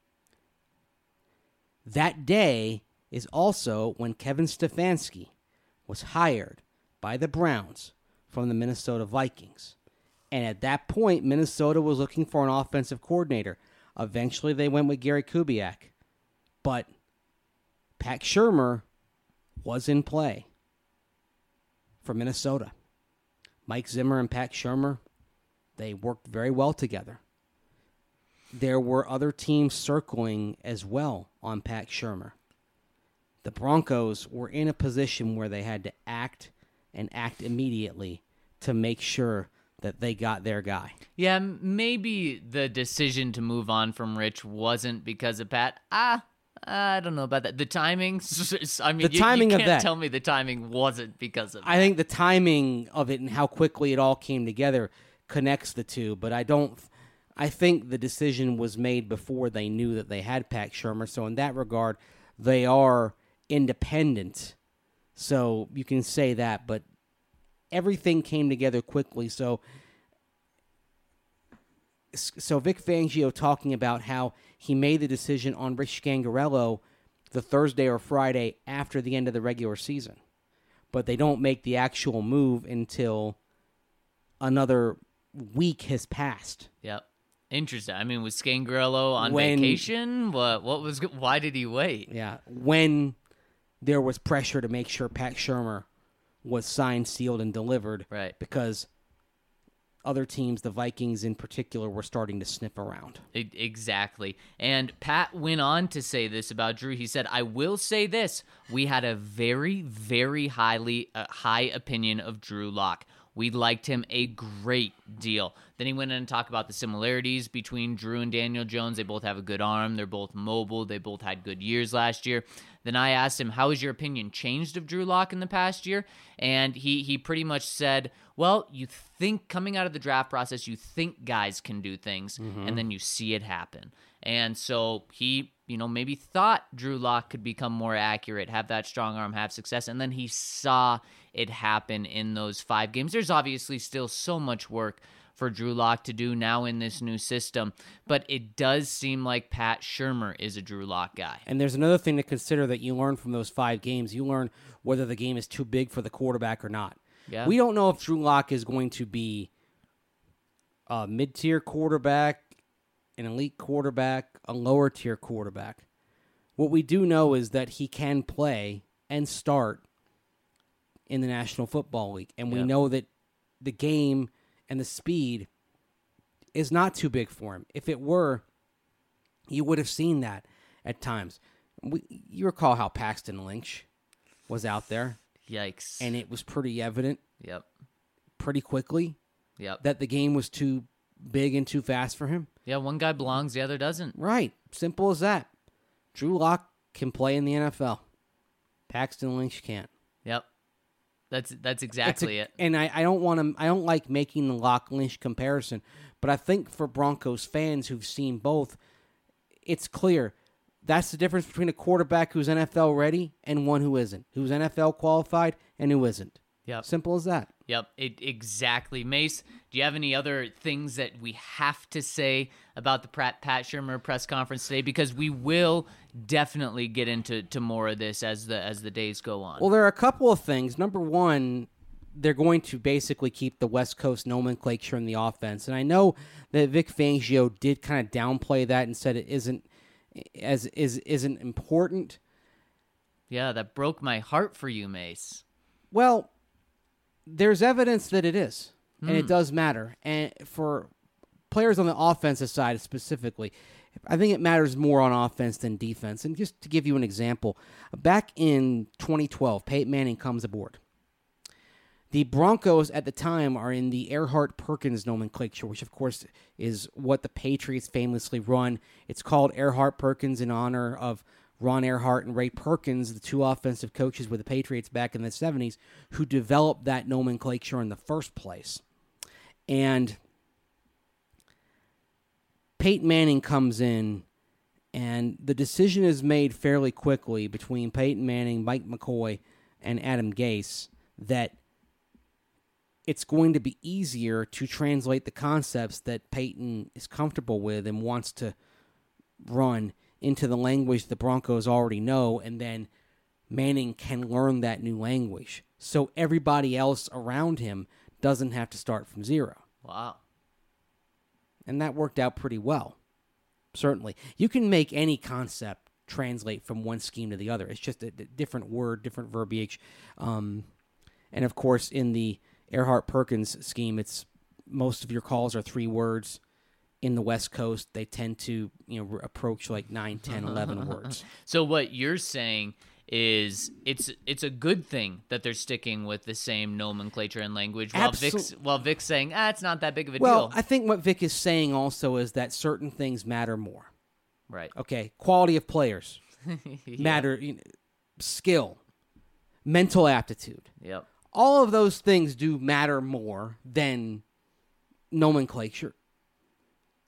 That day is also when Kevin Stefanski was hired by the Browns from the Minnesota Vikings. And at that point, Minnesota was looking for an offensive coordinator. Eventually, they went with Gary Kubiak. But Pat Shurmur was in play for Minnesota. Mike Zimmer and Pat Shurmur, they worked very well together. There were other teams circling as well on Pat Shurmur. The Broncos were in a position where they had to act and act immediately to make sure that they got their guy. Yeah, maybe the decision to move on from Rich wasn't because of Pat. I don't know about that. The timing, I mean, the timing you of can't that. tell me the timing wasn't because of I think the timing of it and how quickly it all came together connects the two, but I don't I think the decision was made before they knew that they had Pat Shurmur. So in that regard, they are independent. So you can say that, but everything came together quickly. So Vic Fangio talking about how he made the decision on Rich Scangarello the Thursday or Friday after the end of the regular season. But they don't make the actual move until another week has passed. Yep. Interesting. I mean, was Scangarello on vacation? Why did he wait? Yeah. When there was pressure to make sure Pat Shurmur was signed, sealed, and delivered. Right. Because other teams, the Vikings in particular, were starting to sniff around. Exactly. And Pat went on to say this about Drew. He said, I will say this. We had a very, very high opinion of Drew Lock. We liked him a great deal. Then he went in and talked about the similarities between Drew and Daniel Jones. They both have a good arm. They're both mobile. They both had good years last year. Then I asked him, how has your opinion changed of Drew Lock in the past year? And he pretty much said, well, you think coming out of the draft process, you think guys can do things, and then you see it happen. And so he, maybe thought Drew Lock could become more accurate, have that strong arm, have success, and then he saw it happen in those 5 games. There's obviously still so much work for Drew Lock to do now in this new system, but it does seem like Pat Shurmur is a Drew Lock guy. And there's another thing to consider that you learn from those 5 games. You learn whether the game is too big for the quarterback or not. Yeah. We don't know if Drew Lock is going to be a mid-tier quarterback, an elite quarterback, a lower-tier quarterback. What we do know is that he can play and start in the National Football League. And we know that the game and the speed is not too big for him. If it were, you would have seen that at times. You recall how Paxton Lynch was out there. Yikes. And it was pretty evident pretty quickly that the game was too big and too fast for him. Yeah, one guy belongs, the other doesn't. Right. Simple as that. Drew Lock can play in the NFL. Paxton Lynch can't. Yep. That's exactly it. And I don't like making the Lock Lynch comparison, but I think for Broncos fans who've seen both, it's clear that's the difference between a quarterback who's NFL ready and one who isn't, who's NFL qualified and who isn't. Yep. Simple as that. Yep, exactly. Mace, do you have any other things that we have to say about the Pat Shurmur press conference today? Because we will definitely get into more of this as the days go on. Well, there are a couple of things. Number one, they're going to basically keep the West Coast nomenclature in the offense. And I know that Vic Fangio did kind of downplay that and said it isn't important. Yeah, that broke my heart for you, Mace. Well, there's evidence that it is, and it does matter. And for players on the offensive side specifically, I think it matters more on offense than defense. And just to give you an example, back in 2012, Peyton Manning comes aboard. The Broncos at the time are in the Erhardt-Perkins nomenclature, which of course is what the Patriots famously run. It's called Erhardt-Perkins in honor of Ron Erhardt and Ray Perkins, the 2 offensive coaches with the Patriots back in the 70s, who developed that nomenclature in the first place. And Peyton Manning comes in, and the decision is made fairly quickly between Peyton Manning, Mike McCoy, and Adam Gase that it's going to be easier to translate the concepts that Peyton is comfortable with and wants to run into the language the Broncos already know, and then Manning can learn that new language. So everybody else around him doesn't have to start from zero. Wow. And that worked out pretty well. Certainly. You can make any concept translate from one scheme to the other. It's just a different word, different verbiage. And of course, in the Erhardt-Perkins scheme, it's most of your calls are 3 words. In the West Coast, they tend to approach like 9, 10, 11 words. So what you're saying is it's a good thing that they're sticking with the same nomenclature and language while Vic's saying, it's not that big of a deal. Well, I think what Vic is saying also is that certain things matter more. Right. Okay, quality of players matter, skill, mental aptitude. Yep. All of those things do matter more than nomenclature.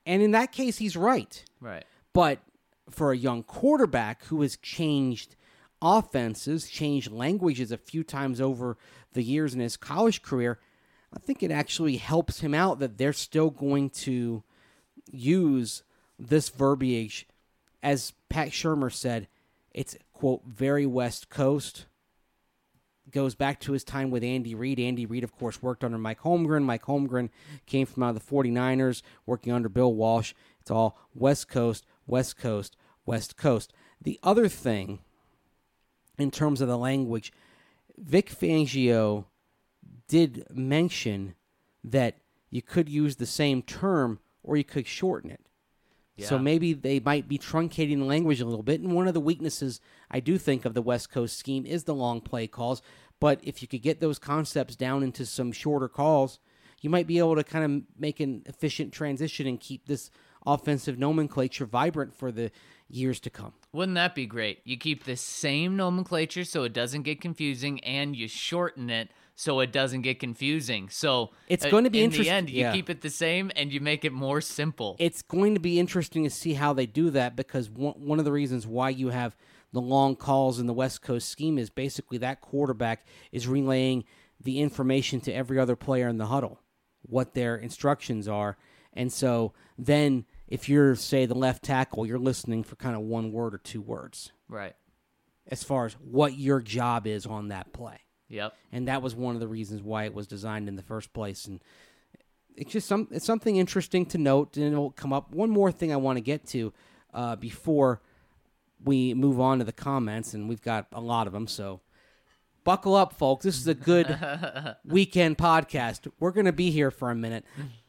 And in that case, he's right. Right. But for a young quarterback who has changed offenses, changed languages a few times over the years in his college career, I think it actually helps him out that they're still going to use this verbiage. As Pat Shurmur said, it's, quote, very West Coast. Goes back to his time with Andy Reid. Andy Reid, of course, worked under Mike Holmgren. Mike Holmgren came from out of the 49ers, working under Bill Walsh. It's all West Coast, West Coast, West Coast. The other thing, in terms of the language, Vic Fangio did mention that you could use the same term or you could shorten it. Yeah. So maybe they might be truncating the language a little bit. And one of the weaknesses I do think of the West Coast scheme is the long play calls. But if you could get those concepts down into some shorter calls, you might be able to kind of make an efficient transition and keep this offensive nomenclature vibrant for the years to come. Wouldn't that be great? You keep the same nomenclature so it doesn't get confusing, and you shorten it so it doesn't get confusing. So it's going to be in the interesting. end, you keep it the same and you make it more simple. It's going to be interesting to see how they do that, because one of the reasons why you have the long calls in the West Coast scheme is basically that quarterback is relaying the information to every other player in the huddle, what their instructions are. And so then if you're, say, the left tackle, you're listening for kind of one word or two words. Right. As far as what your job is on that play. Yep. And that was one of the reasons why it was designed in the first place. And it's just it's something interesting to note, and it'll come up. One more thing I want to get to before we move on to the comments, and we've got a lot of them, so buckle up, folks. This is a good weekend podcast. We're going to be here for a minute.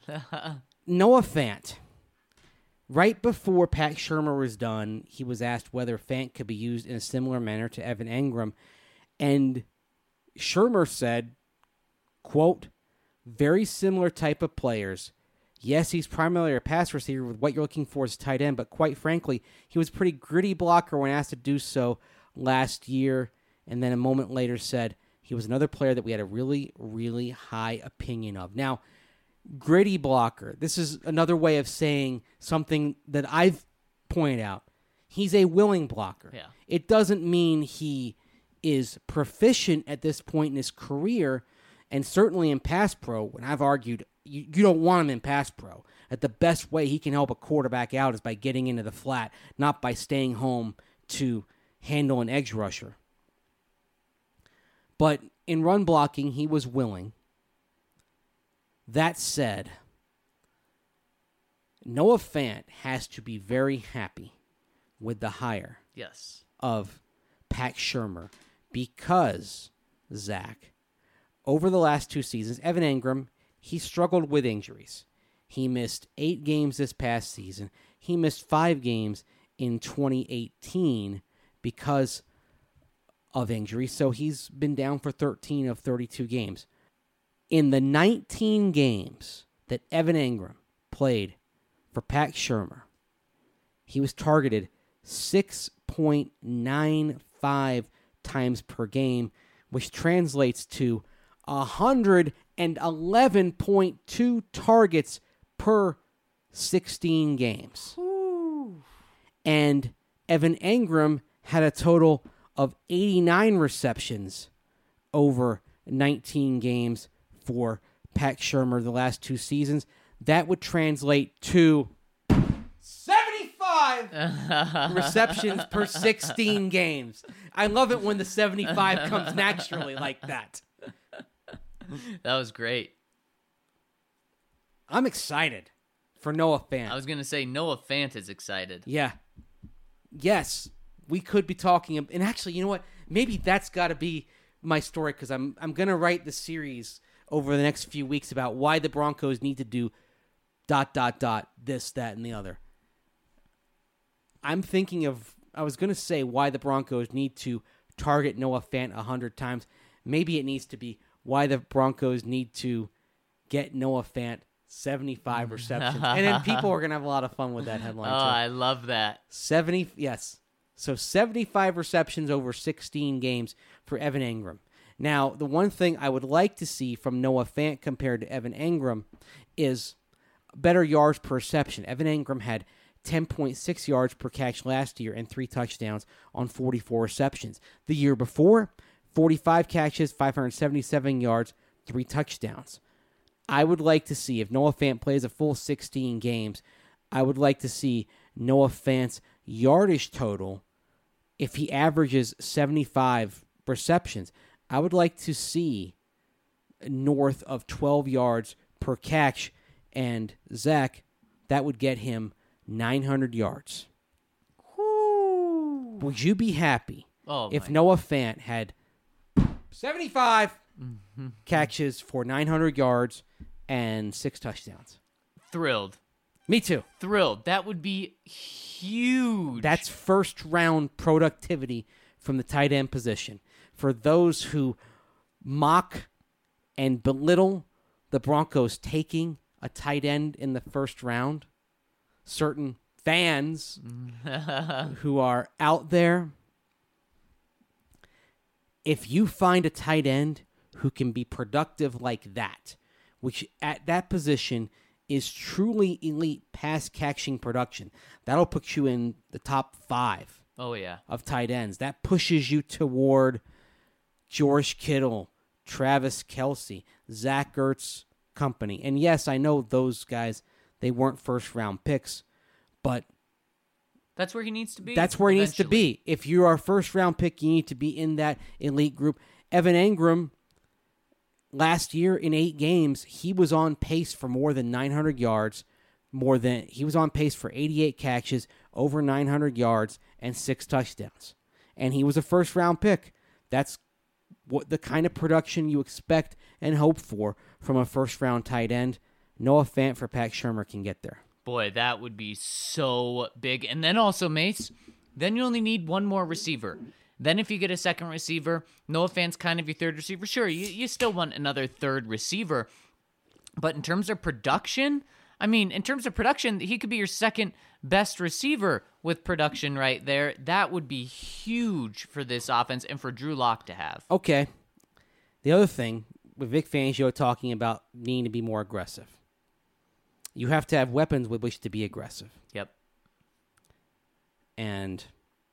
Noah Fant. Right before Pat Shurmur was done, he was asked whether Fant could be used in a similar manner to Evan Engram, and Shurmur said, quote, very similar type of players. Yes, he's primarily a pass receiver with what you're looking for as a tight end, but quite frankly, he was a pretty gritty blocker when asked to do so last year, and then a moment later said he was another player that we had a really, really high opinion of. Now, gritty blocker, this is another way of saying something that I've pointed out. He's a willing blocker. Yeah. It doesn't mean he is proficient at this point in his career, and certainly in pass pro, when I've argued you don't want him in pass pro, that the best way he can help a quarterback out is by getting into the flat, not by staying home to handle an edge rusher. But in run blocking, he was willing. That said, Noah Fant has to be very happy with the hire Yes. of Pat Shurmur because, Zach, over the last 2 seasons, Evan Engram, he struggled with injuries. He missed 8 games this past season. He missed 5 games in 2018 because of injury, so he's been down for 13 of 32 games. In the 19 games that Evan Engram played for Pat Shurmur, he was targeted 6.95 times per game, which translates to 111.2 targets per 16 games. Ooh. And Evan Engram had a total of 89 receptions over 19 games for Pat Shurmur the last 2 seasons. That would translate to 75 receptions per 16 games. I love it when the 75 comes naturally like that. That was great. I'm excited for Noah Fant. I was going to say Noah Fant is excited. Yeah. Yes, we could be talking. And actually, you know what? Maybe that's got to be my story, because I'm going to write the series over the next few weeks about why the Broncos need to do ... this, that, and the other. I'm thinking of, I was going to say why the Broncos need to target Noah Fant 100 times. Maybe it needs to be why the Broncos need to get Noah Fant 75 receptions. And then people are going to have a lot of fun with that headline, Oh, too. I love that. 70, yes. So 75 receptions over 16 games for Evan Engram. Now, the one thing I would like to see from Noah Fant compared to Evan Engram is better yards per reception. Evan Engram had 10.6 yards per catch last year and 3 touchdowns on 44 receptions. The year before, 45 catches, 577 yards, 3 touchdowns. I would like to see, if Noah Fant plays a full 16 games, I would like to see Noah Fant's yardage total, if he averages 75 receptions, I would like to see north of 12 yards per catch. And, Zach, that would get him 900 yards. Woo. Would you be happy if my. Noah Fant had 75 catches for 900 yards and 6 touchdowns? Thrilled. Me too. Thrilled. That would be huge. That's first-round productivity from the tight end position. For those who mock and belittle the Broncos taking a tight end in the first round, certain fans who are out there, if you find a tight end who can be productive like that, which at that position is truly elite pass-catching production, that'll put you in the top 5 of tight ends. That pushes you toward George Kittle, Travis Kelce, Zach Ertz company. And yes, I know those guys, they weren't first-round picks, but that's where he needs to be. That's where he needs to be. If you are a first-round pick, you need to be in that elite group. Evan Engram, last year in 8 games, he was on pace for more than 900 yards. He was on pace for 88 catches, over 900 yards, and 6 touchdowns. And he was a first-round pick. That's what the kind of production you expect and hope for from a first-round tight end. Noah Fant for Pat Shurmur can get there. Boy, that would be so big. And then also, Mace, then you only need one more receiver. Then if you get a second receiver, Noah Fant's kind of your third receiver. Sure, you still want another third receiver. But in terms of production, he could be your second best receiver with production right there. That would be huge for this offense and for Drew Lock to have. Okay. The other thing, with Vic Fangio talking about needing to be more aggressive, you have to have weapons with which to be aggressive. Yep. And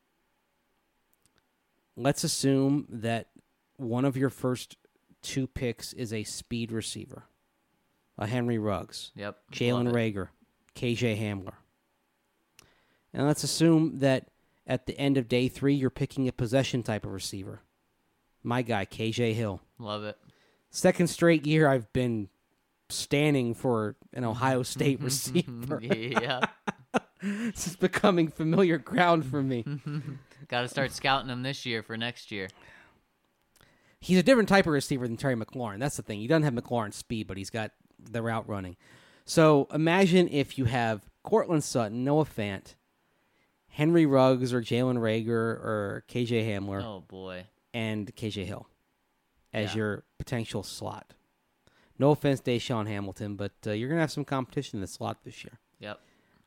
let's assume that one of your first 2 picks is a speed receiver. A Henry Ruggs. Yep. Jalen Reagor. KJ Hamler. And let's assume that at the end of day 3, you're picking a possession type of receiver. My guy, KJ Hill. Love it. Second straight year I've been standing for an Ohio State receiver. Yeah. This is becoming familiar ground for me. Got to start scouting him this year for next year. He's a different type of receiver than Terry McLaurin. That's the thing. He doesn't have McLaurin's speed, but he's got the route running. So imagine if you have Cortland Sutton, Noah Fant, Henry Ruggs, or Jalen Reagor, or KJ Hamler. Oh, boy. And KJ Hill as your potential slot. No offense, Deshaun Hamilton, but you're going to have some competition in the slot this year. Yep.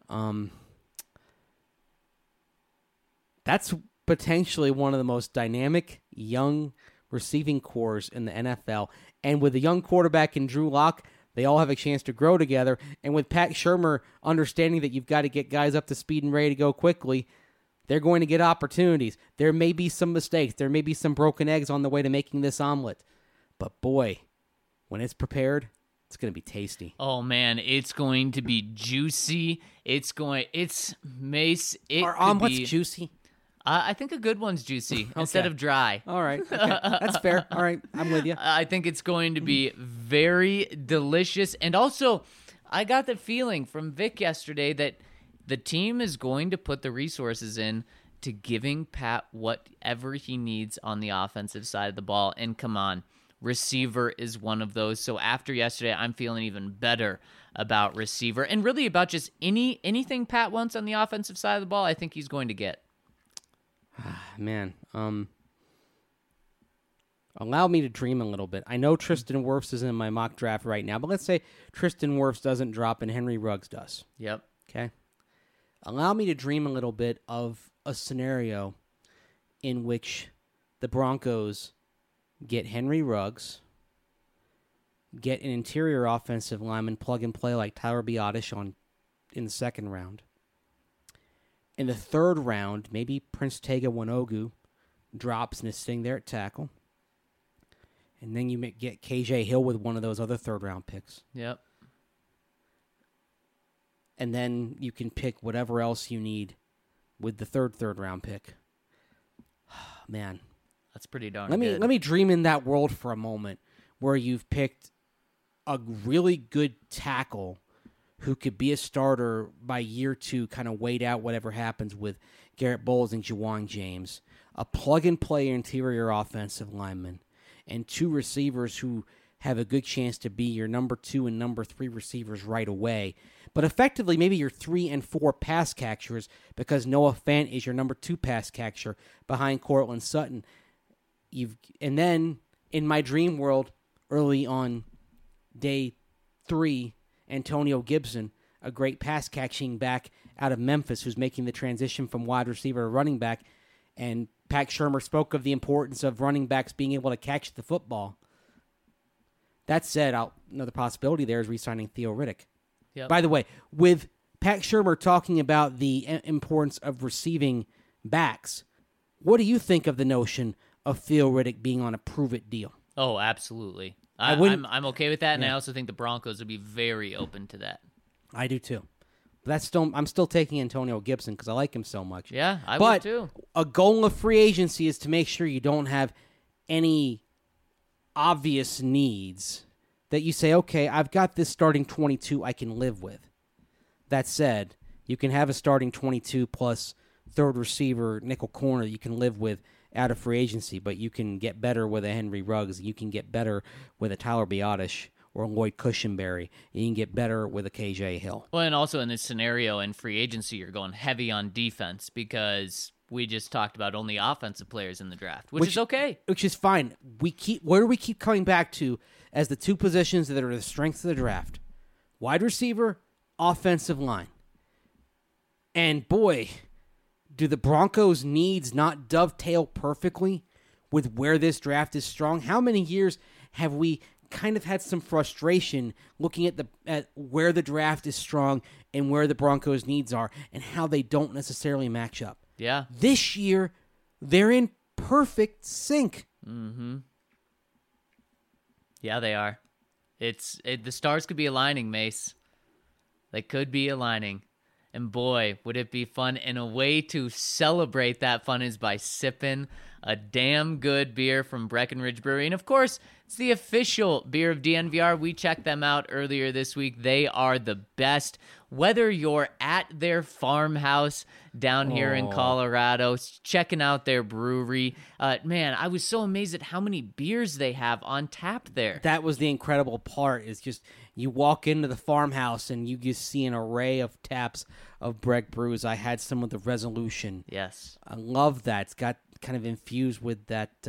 That's potentially one of the most dynamic young receiving cores in the NFL. And with a young quarterback in Drew Lock, they all have a chance to grow together. And with Pat Shurmur understanding that you've got to get guys up to speed and ready to go quickly, they're going to get opportunities. There may be some mistakes. There may be some broken eggs on the way to making this omelet. But boy, when it's prepared, it's going to be tasty. Oh, man, it's going to be juicy. Mace. Are omelets juicy? I think a good one's juicy instead of dry. All right. Okay. That's fair. All right. I'm with you. I think it's going to be very delicious. And also, I got the feeling from Vic yesterday that the team is going to put the resources in to giving Pat whatever he needs on the offensive side of the ball. And come on, receiver is one of those. So after yesterday, I'm feeling even better about receiver and really about just anything Pat wants on the offensive side of the ball, I think he's going to get. Man, allow me to dream a little bit. I know Tristan Wirfs is in my mock draft right now, but let's say Tristan Wirfs doesn't drop and Henry Ruggs does. Yep. Okay. Allow me to dream a little bit of a scenario in which the Broncos get Henry Ruggs, get an interior offensive lineman plug and play like Tyler Biotish in the second round. In the third round, maybe Prince Tega Wanogu drops and is sitting there at tackle. And then you get KJ Hill with one of those other third-round picks. Yep. And then you can pick whatever else you need with the third-round pick. Man. That's pretty darn Let good. me dream in that world for a moment where you've picked a really good tackle who could be a starter by year 2, kind of wait out whatever happens with Garrett Bowles and Juwan James, a plug-and-play interior offensive lineman, and 2 receivers who have a good chance to be your number 2 and number 3 receivers right away. But effectively, maybe your 3 and 4 pass catchers because Noah Fant is your number 2 pass catcher behind Cortland Sutton. And then, in my dream world, early on day 3, Antonio Gibson, a great pass-catching back out of Memphis who's making the transition from wide receiver to running back. And Pat Shurmur spoke of the importance of running backs being able to catch the football. That said, another possibility there is re-signing Theo Riddick. Yep. By the way, with Pat Shurmur talking about the importance of receiving backs, what do you think of the notion of Theo Riddick being on a prove-it deal? Oh, absolutely. I'm okay with that, and I also think the Broncos would be very open to that. I do too. But I'm still taking Antonio Gibson because I like him so much. Yeah, I would too. A goal of free agency is to make sure you don't have any obvious needs that you say, okay, I've got this starting 22 I can live with. That said, you can have a starting 22 plus third receiver, nickel corner that you can live with out of free agency, but you can get better with a Henry Ruggs. You can get better with a Tyler Biotish or Lloyd Cushenberry. You can get better with a KJ Hill. Well, and also in this scenario in free agency, you're going heavy on defense because we just talked about only offensive players in the draft, which is okay. Which is fine. Where do we keep coming back to as the 2 positions that are the strengths of the draft? Wide receiver, offensive line. And boy, do the Broncos' needs not dovetail perfectly with where this draft is strong? How many years have we kind of had some frustration looking at where the draft is strong and where the Broncos' needs are and how they don't necessarily match up? Yeah. This year, they're in perfect sync. Mm-hmm. Yeah, they are. The stars could be aligning, Mace. They could be aligning. And boy, would it be fun. And a way to celebrate that fun is by sipping a damn good beer from Breckenridge Brewery. And of course, it's the official beer of DNVR. We checked them out earlier this week. They are the best. Whether you're at their farmhouse down here in Colorado, checking out their brewery, man, I was so amazed at how many beers they have on tap there. That was the incredible part, is just you walk into the farmhouse and you just see an array of taps of Breck brews. I had some of the Resolution. Yes. I love that. It's got kind of infused with that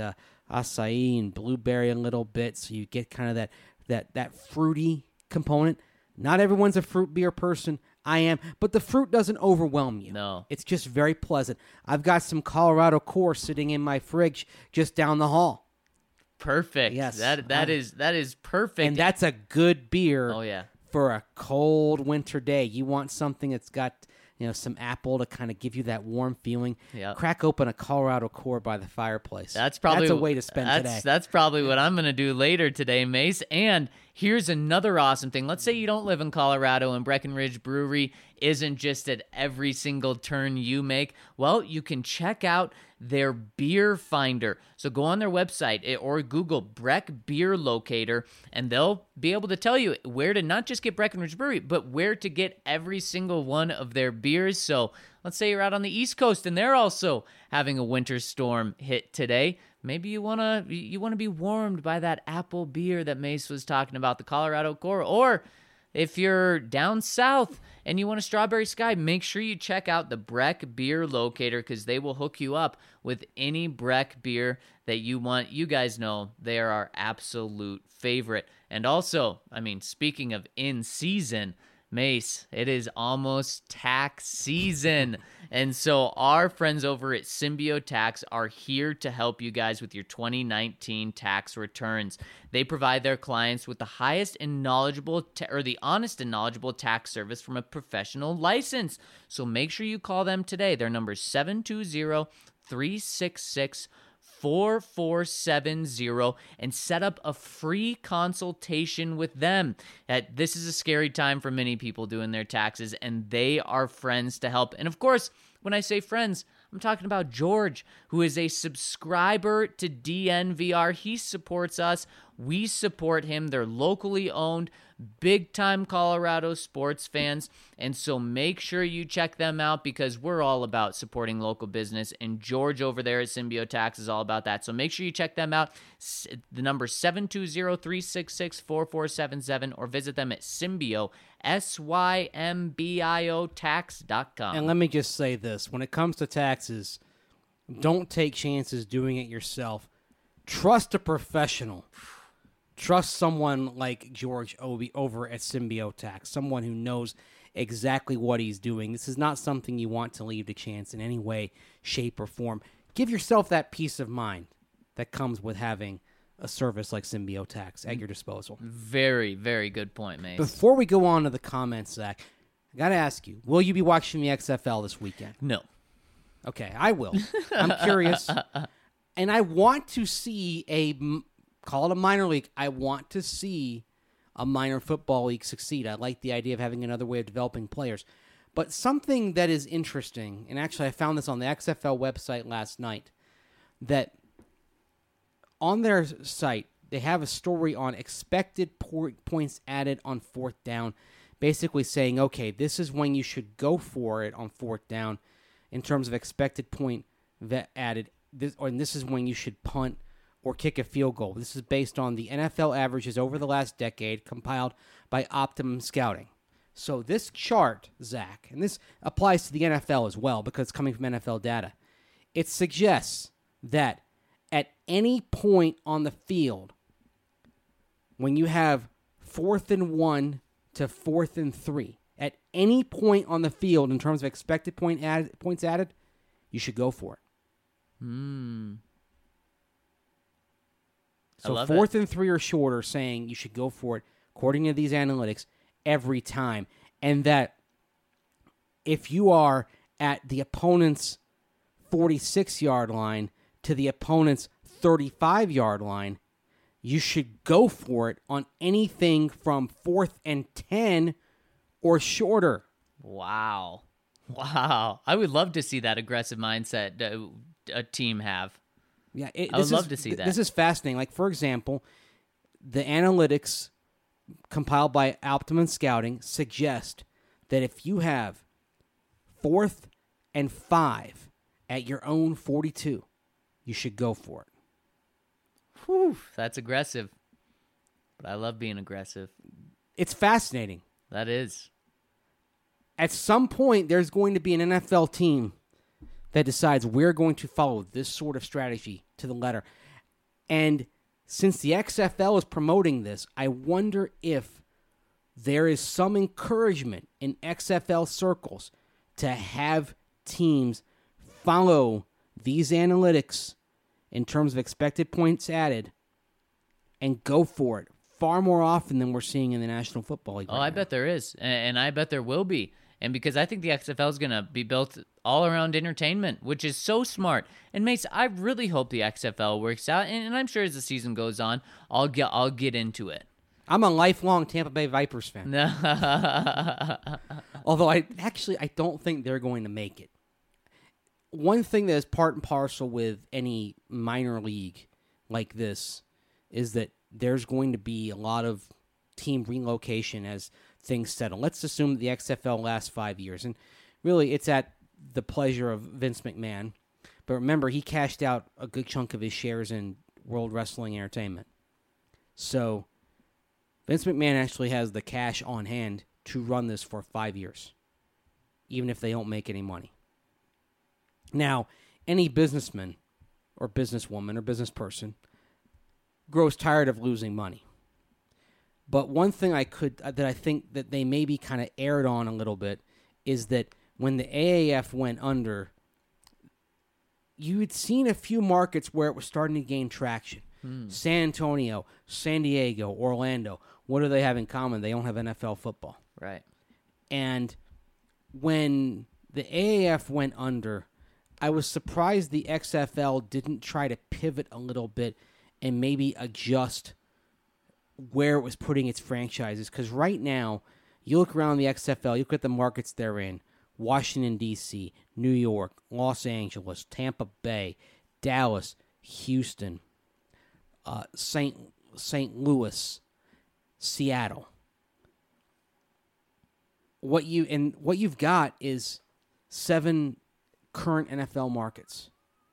acai and blueberry a little bit, so you get kind of that fruity component. Not everyone's a fruit beer person. I am, but the fruit doesn't overwhelm you. No. It's just very pleasant. I've got some Colorado Core sitting in my fridge just down the hall. Perfect. Yes. That is perfect. And that's a good beer. Oh yeah. For a cold winter day. You want something that's got, some apple to kind of give you that warm feeling. Yep. Crack open a Colorado Core by the fireplace. That's a way to spend today. That's probably what I'm going to do later today, Mace. And here's another awesome thing. Let's say you don't live in Colorado and Breckenridge Brewery isn't just at every single turn you make. Well, you can check out their beer finder. So go on their website or Google Breck Beer Locator, and they'll be able to tell you where to not just get Breckenridge Brewery, but where to get every single one of their beers. So let's say you're out on the East Coast and they're also having a winter storm hit today. Maybe you wanna be warmed by that apple beer that Mace was talking about, the Colorado Core. Or if you're down south and you want a Strawberry Sky, make sure you check out the Breck Beer Locator because they will hook you up with any Breck beer that you want. You guys know they are our absolute favorite. And also, speaking of in season, Mace, it is almost tax season. And so our friends over at Symbio Tax are here to help you guys with your 2019 tax returns. They provide their clients with the highest and knowledgeable the honest and knowledgeable tax service from a professional license. So make sure you call them today. Their number is 720-366-4470 and set up a free consultation with them. This is a scary time for many people doing their taxes, and they are friends to help. And of course, when I say friends, I'm talking about George, who is a subscriber to DNVR. He supports us. We support him. They're locally owned, big-time Colorado sports fans. And so make sure you check them out because we're all about supporting local business. And George over there at Symbio Tax is all about that. So make sure you check them out. The number is 720-366-4477 or visit them at Symbio, SYMBIO tax.com. And let me just say this. When it comes to taxes, don't take chances doing it yourself. Trust a professional. Trust someone like George Obi over at Symbio Tax, someone who knows exactly what he's doing. This is not something you want to leave to chance in any way, shape, or form. Give yourself that peace of mind that comes with having a service like Symbio Tax at your disposal. Very, very good point, Mace. Before we go on to the comments, Zach, I got to ask you, will you be watching the XFL this weekend? No. Okay, I will. I'm curious. And I want to see call it a minor league. I want to see a minor football league succeed. I like the idea of having another way of developing players. But something that is interesting, and actually I found this on the XFL website last night, that on their site, they have a story on expected points added on fourth down, basically saying, okay, this is when you should go for it on fourth down in terms of expected point added, and this is when you should punt or kick a field goal. This is based on the NFL averages over the last decade compiled by Optimum Scouting. So this chart, Zach, and this applies to the NFL as well because it's coming from NFL data, it suggests that at any point on the field, when you have 4th and 1 to 4th and 3, at any point on the field in terms of expected points added, you should go for it. So 4th and 3 or shorter, saying you should go for it, according to these analytics, every time. And that if you are at the opponent's 46-yard line to the opponent's 35-yard line, you should go for it on anything from 4th and 10 or shorter. Wow. I would love to see that aggressive mindset a team have. Yeah, I would love to see that. This is fascinating. Like, for example, the analytics compiled by Optimum Scouting suggest that if you have 4th and 5 at your own 42, you should go for it. Whew, that's aggressive. But I love being aggressive. It's fascinating. That is. At some point, there's going to be an NFL team that decides we're going to follow this sort of strategy to the letter. And since the XFL is promoting this, I wonder if there is some encouragement in XFL circles to have teams follow these analytics in terms of expected points added and go for it far more often than we're seeing in the National Football League. I bet there is, and I bet there will be. And because I think the XFL is going to be built all around entertainment, which is so smart. And Mace, I really hope the XFL works out, and I'm sure as the season goes on, I'll get into it. I'm a lifelong Tampa Bay Vipers fan. Although I don't think they're going to make it. One thing that is part and parcel with any minor league like this is that there's going to be a lot of team relocation as things settle. Let's assume the XFL lasts 5 years. And really, it's at the pleasure of Vince McMahon. But remember, he cashed out a good chunk of his shares in World Wrestling Entertainment. So Vince McMahon actually has the cash on hand to run this for 5 years, even if they don't make any money. Now, any businessman or businesswoman or business person grows tired of losing money. But one thing that I think that they maybe kind of erred on a little bit is that when the AAF went under, you had seen a few markets where it was starting to gain traction. San Antonio, San Diego, Orlando. What do they have in common? They don't have NFL football. Right. And when the AAF went under, I was surprised the XFL didn't try to pivot a little bit and maybe adjust where it was putting its franchises. Because right now, you look around the XFL, you look at the markets they're in: Washington, D.C., New York, Los Angeles, Tampa Bay, Dallas, Houston, St. Louis, Seattle. What you've got is 7 current NFL markets.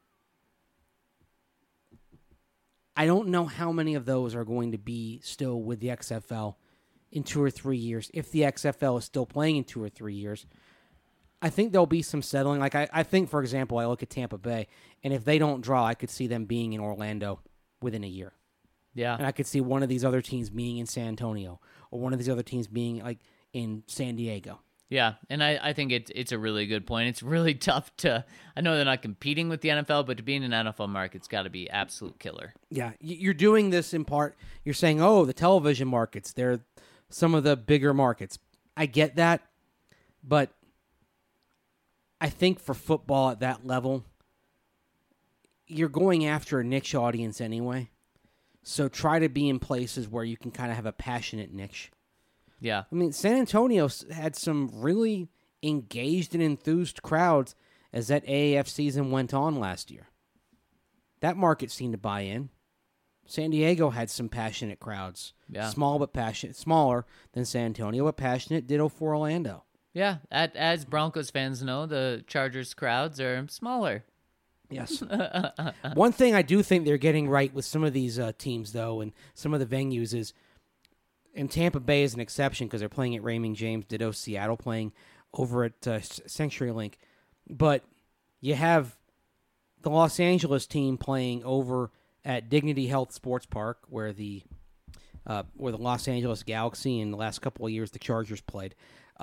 I don't know how many of those are going to be still with the XFL in 2 or 3 years. If the XFL is still playing in 2 or 3 years, I think there'll be some settling. Like I think, for example, I look at Tampa Bay, and if they don't draw, I could see them being in Orlando within a year. Yeah. And I could see one of these other teams being in San Antonio, or one of these other teams being like in San Diego. Yeah, and I think it's a really good point. It's really tough to. I know they're not competing with the NFL, but to be in an NFL market's got to be absolute killer. Yeah, you're doing this in part. You're saying, oh, the television markets, they're some of the bigger markets. I get that, but I think for football at that level, you're going after a niche audience anyway. So try to be in places where you can kind of have a passionate niche. Yeah. I mean, San Antonio had some really engaged and enthused crowds as that AAF season went on last year. That market seemed to buy in. San Diego had some passionate crowds. Yeah. Small but passionate. Smaller than San Antonio, but passionate. Ditto for Orlando. Yeah. As Broncos fans know, the Chargers crowds are smaller. Yes. One thing I do think they're getting right with some of these teams, though, and some of the venues is, and Tampa Bay is an exception because they're playing at Raymond James, ditto Seattle playing over at CenturyLink. But you have the Los Angeles team playing over at Dignity Health Sports Park, where the Los Angeles Galaxy in the last couple of years the Chargers played.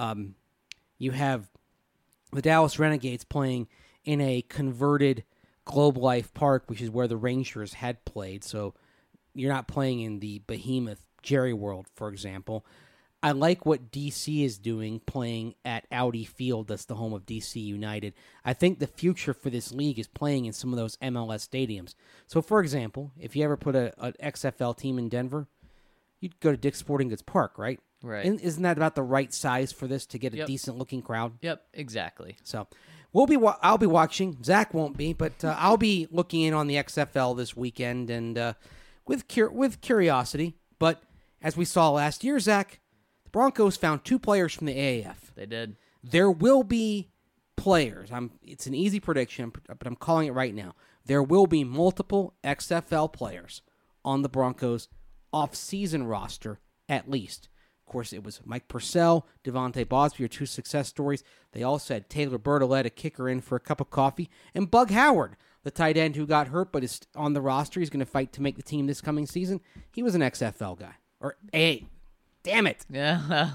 You have the Dallas Renegades playing in a converted Globe Life Park, which is where the Rangers had played. So you're not playing in the behemoth Jerry World, for example. I like what DC is doing, playing at Audi Field. That's the home of DC United. I think the future for this league is playing in some of those MLS stadiums. So, for example, if you ever put an XFL team in Denver, you'd go to Dick's Sporting Goods Park, right? Right. Isn't that about the right size for this to get a decent-looking crowd? Yep, exactly. So, I'll be watching. Zach won't be, but I'll be looking in on the XFL this weekend and with curiosity. But as we saw last year, Zach, the Broncos found 2 players from the AAF. They did. There will be players. It's an easy prediction, but I'm calling it right now. There will be multiple XFL players on the Broncos off-season roster, at least. Of course, it was Mike Purcell, Devontae Bosby, your 2 success stories. They also had Taylor Bertolet, a kicker, in for a cup of coffee, and Bug Howard, the tight end who got hurt but is on the roster. He's going to fight to make the team this coming season. He was an XFL guy. Damn it. Yeah.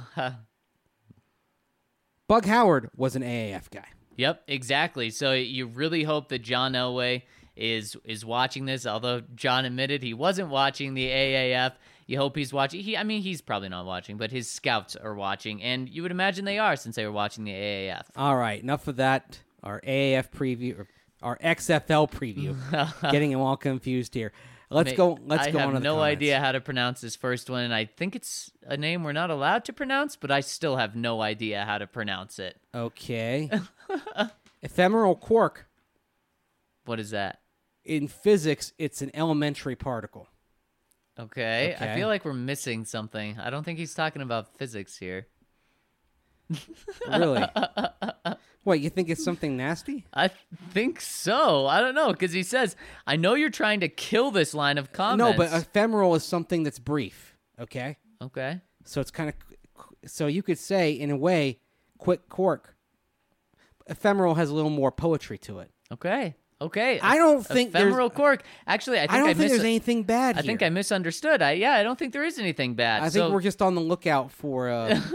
Bug Howard was an AAF guy. Yep, exactly. So you really hope that John Elway is watching this, although John admitted he wasn't watching the AAF. You hope he's watching. He's probably not watching, but his scouts are watching, and you would imagine they are since they were watching the AAF. All right, enough of that. Our AAF preview, or our XFL preview. Getting them all confused here. Let's go on to the I have no comments. idea how to pronounce this first one, and I think it's a name we're not allowed to pronounce, but I still have no idea how to pronounce it. Okay. Ephemeral quark. What is that? In physics, it's an elementary particle. Okay. I feel like we're missing something. I don't think he's talking about physics here. Really? What, you think it's something nasty? I think so. I don't know, because he says, I know you're trying to kill this line of comments. No, but ephemeral is something that's brief, okay? Okay. So it's kind of, so you could say, in a way, quick quark. Ephemeral has a little more poetry to it. Okay. Okay. I don't think there's- ephemeral cork. Actually, I think there's anything bad I here. think I misunderstood. I don't think there is anything bad. I think we're just on the lookout for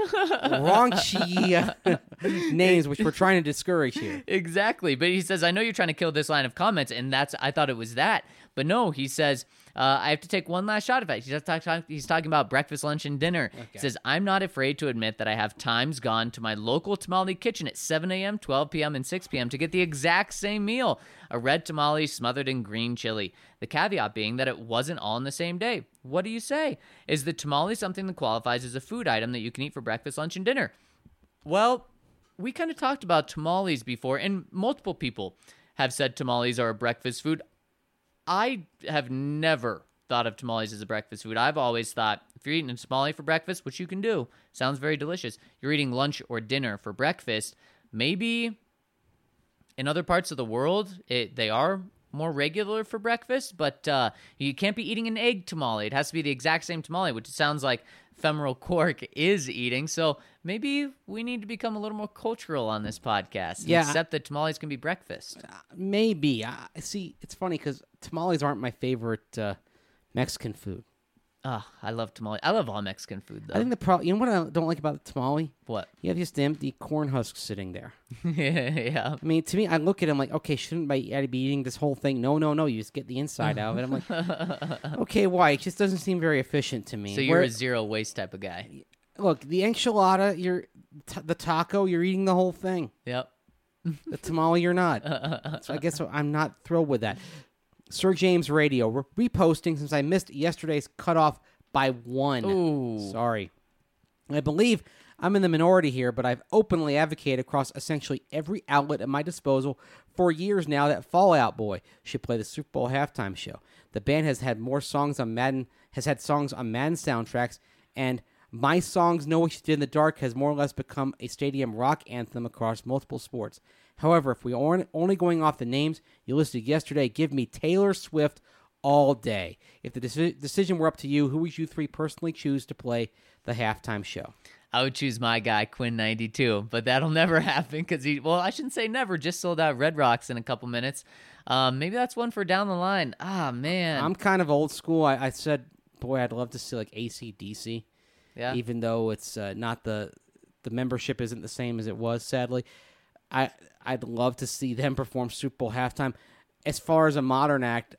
raunchy names, which we're trying to discourage here. Exactly. But he says, I know you're trying to kill this line of comments, and I thought it was that. But no, he says, I have to take one last shot of it. He's talking about breakfast, lunch, and dinner. Okay. He says, I'm not afraid to admit that I have times gone to my local tamale kitchen at 7 a.m., 12 p.m., and 6 p.m. to get the exact same meal, a red tamale smothered in green chili. The caveat being that it wasn't all in the same day. What do you say? Is the tamale something that qualifies as a food item that you can eat for breakfast, lunch, and dinner? Well, we kind of talked about tamales before, and multiple people have said tamales are a breakfast food. I have never thought of tamales as a breakfast food. I've always thought if you're eating a tamale for breakfast, which you can do, sounds very delicious, you're eating lunch or dinner for breakfast. Maybe in other parts of the world, they are more regular for breakfast, but you can't be eating an egg tamale. It has to be the exact same tamale, which sounds like Ephemeral Cork is eating. So maybe we need to become a little more cultural on this podcast and accept that tamales can be breakfast. Maybe. See, it's funny because tamales aren't my favorite Mexican food. I love tamale. I love all Mexican food, though. I think the problem, you know what I don't like about the tamale? What? You have just empty corn husks sitting there. Yeah. I mean, to me, I look at them like, okay, shouldn't I be eating this whole thing? No, you just get the inside out of it. I'm like, okay, why? It just doesn't seem very efficient to me. So you're a zero waste type of guy. Look, the enchilada, the taco, you're eating the whole thing. Yep. The tamale, you're not. So I guess I'm not thrilled with that. Sir James Radio, we're reposting since I missed yesterday's cutoff by 1. Ooh. Sorry. I believe I'm in the minority here, but I've openly advocated across essentially every outlet at my disposal for years now that Fall Out Boy should play the Super Bowl halftime show. The band has had songs on Madden soundtracks, and My Songs Know What You Did in the Dark has more or less become a stadium rock anthem across multiple sports. However, if we are only going off the names you listed yesterday, give me Taylor Swift all day. If the decision were up to you, who would you three personally choose to play the halftime show? I would choose my guy, Quinn92, but that'll never happen because I shouldn't say never, just sold out Red Rocks in a couple minutes. Maybe that's one for down the line. Man. I'm kind of old school. I said, boy, I'd love to see like AC/DC. Yeah. Even though it's not the membership isn't the same as it was, sadly. I'd love to see them perform Super Bowl halftime. As far as a modern act,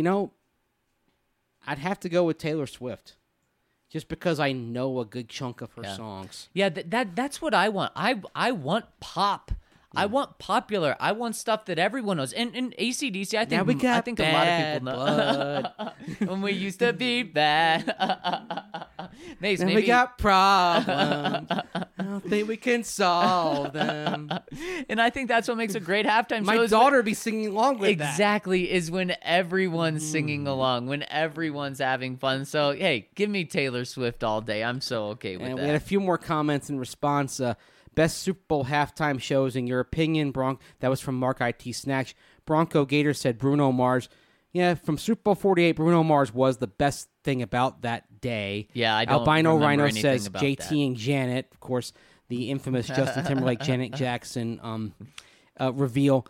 I'd have to go with Taylor Swift, just because I know a good chunk of her songs. Yeah, that's what I want. I want pop. I want popular. I want stuff that everyone knows. And AC/DC, I think a lot of people know. When we used to be bad. Mace, and maybe we got problems. I don't think we can solve them. And I think that's what makes a great halftime show. My daughter would be singing along with that. Exactly, is when everyone's singing along, when everyone's having fun. So, hey, give me Taylor Swift all day. I'm so okay with and that. We had a few more comments in response. Best Super Bowl halftime shows in your opinion, That was from Mark IT Snatch. Bronco Gator said Bruno Mars. Yeah, from Super Bowl 48, Bruno Mars was the best thing about that day. Yeah, I don't Albino remember Rhino anything says about JT that. and Janet. Of course, the infamous Justin Timberlake, Janet Jackson reveal.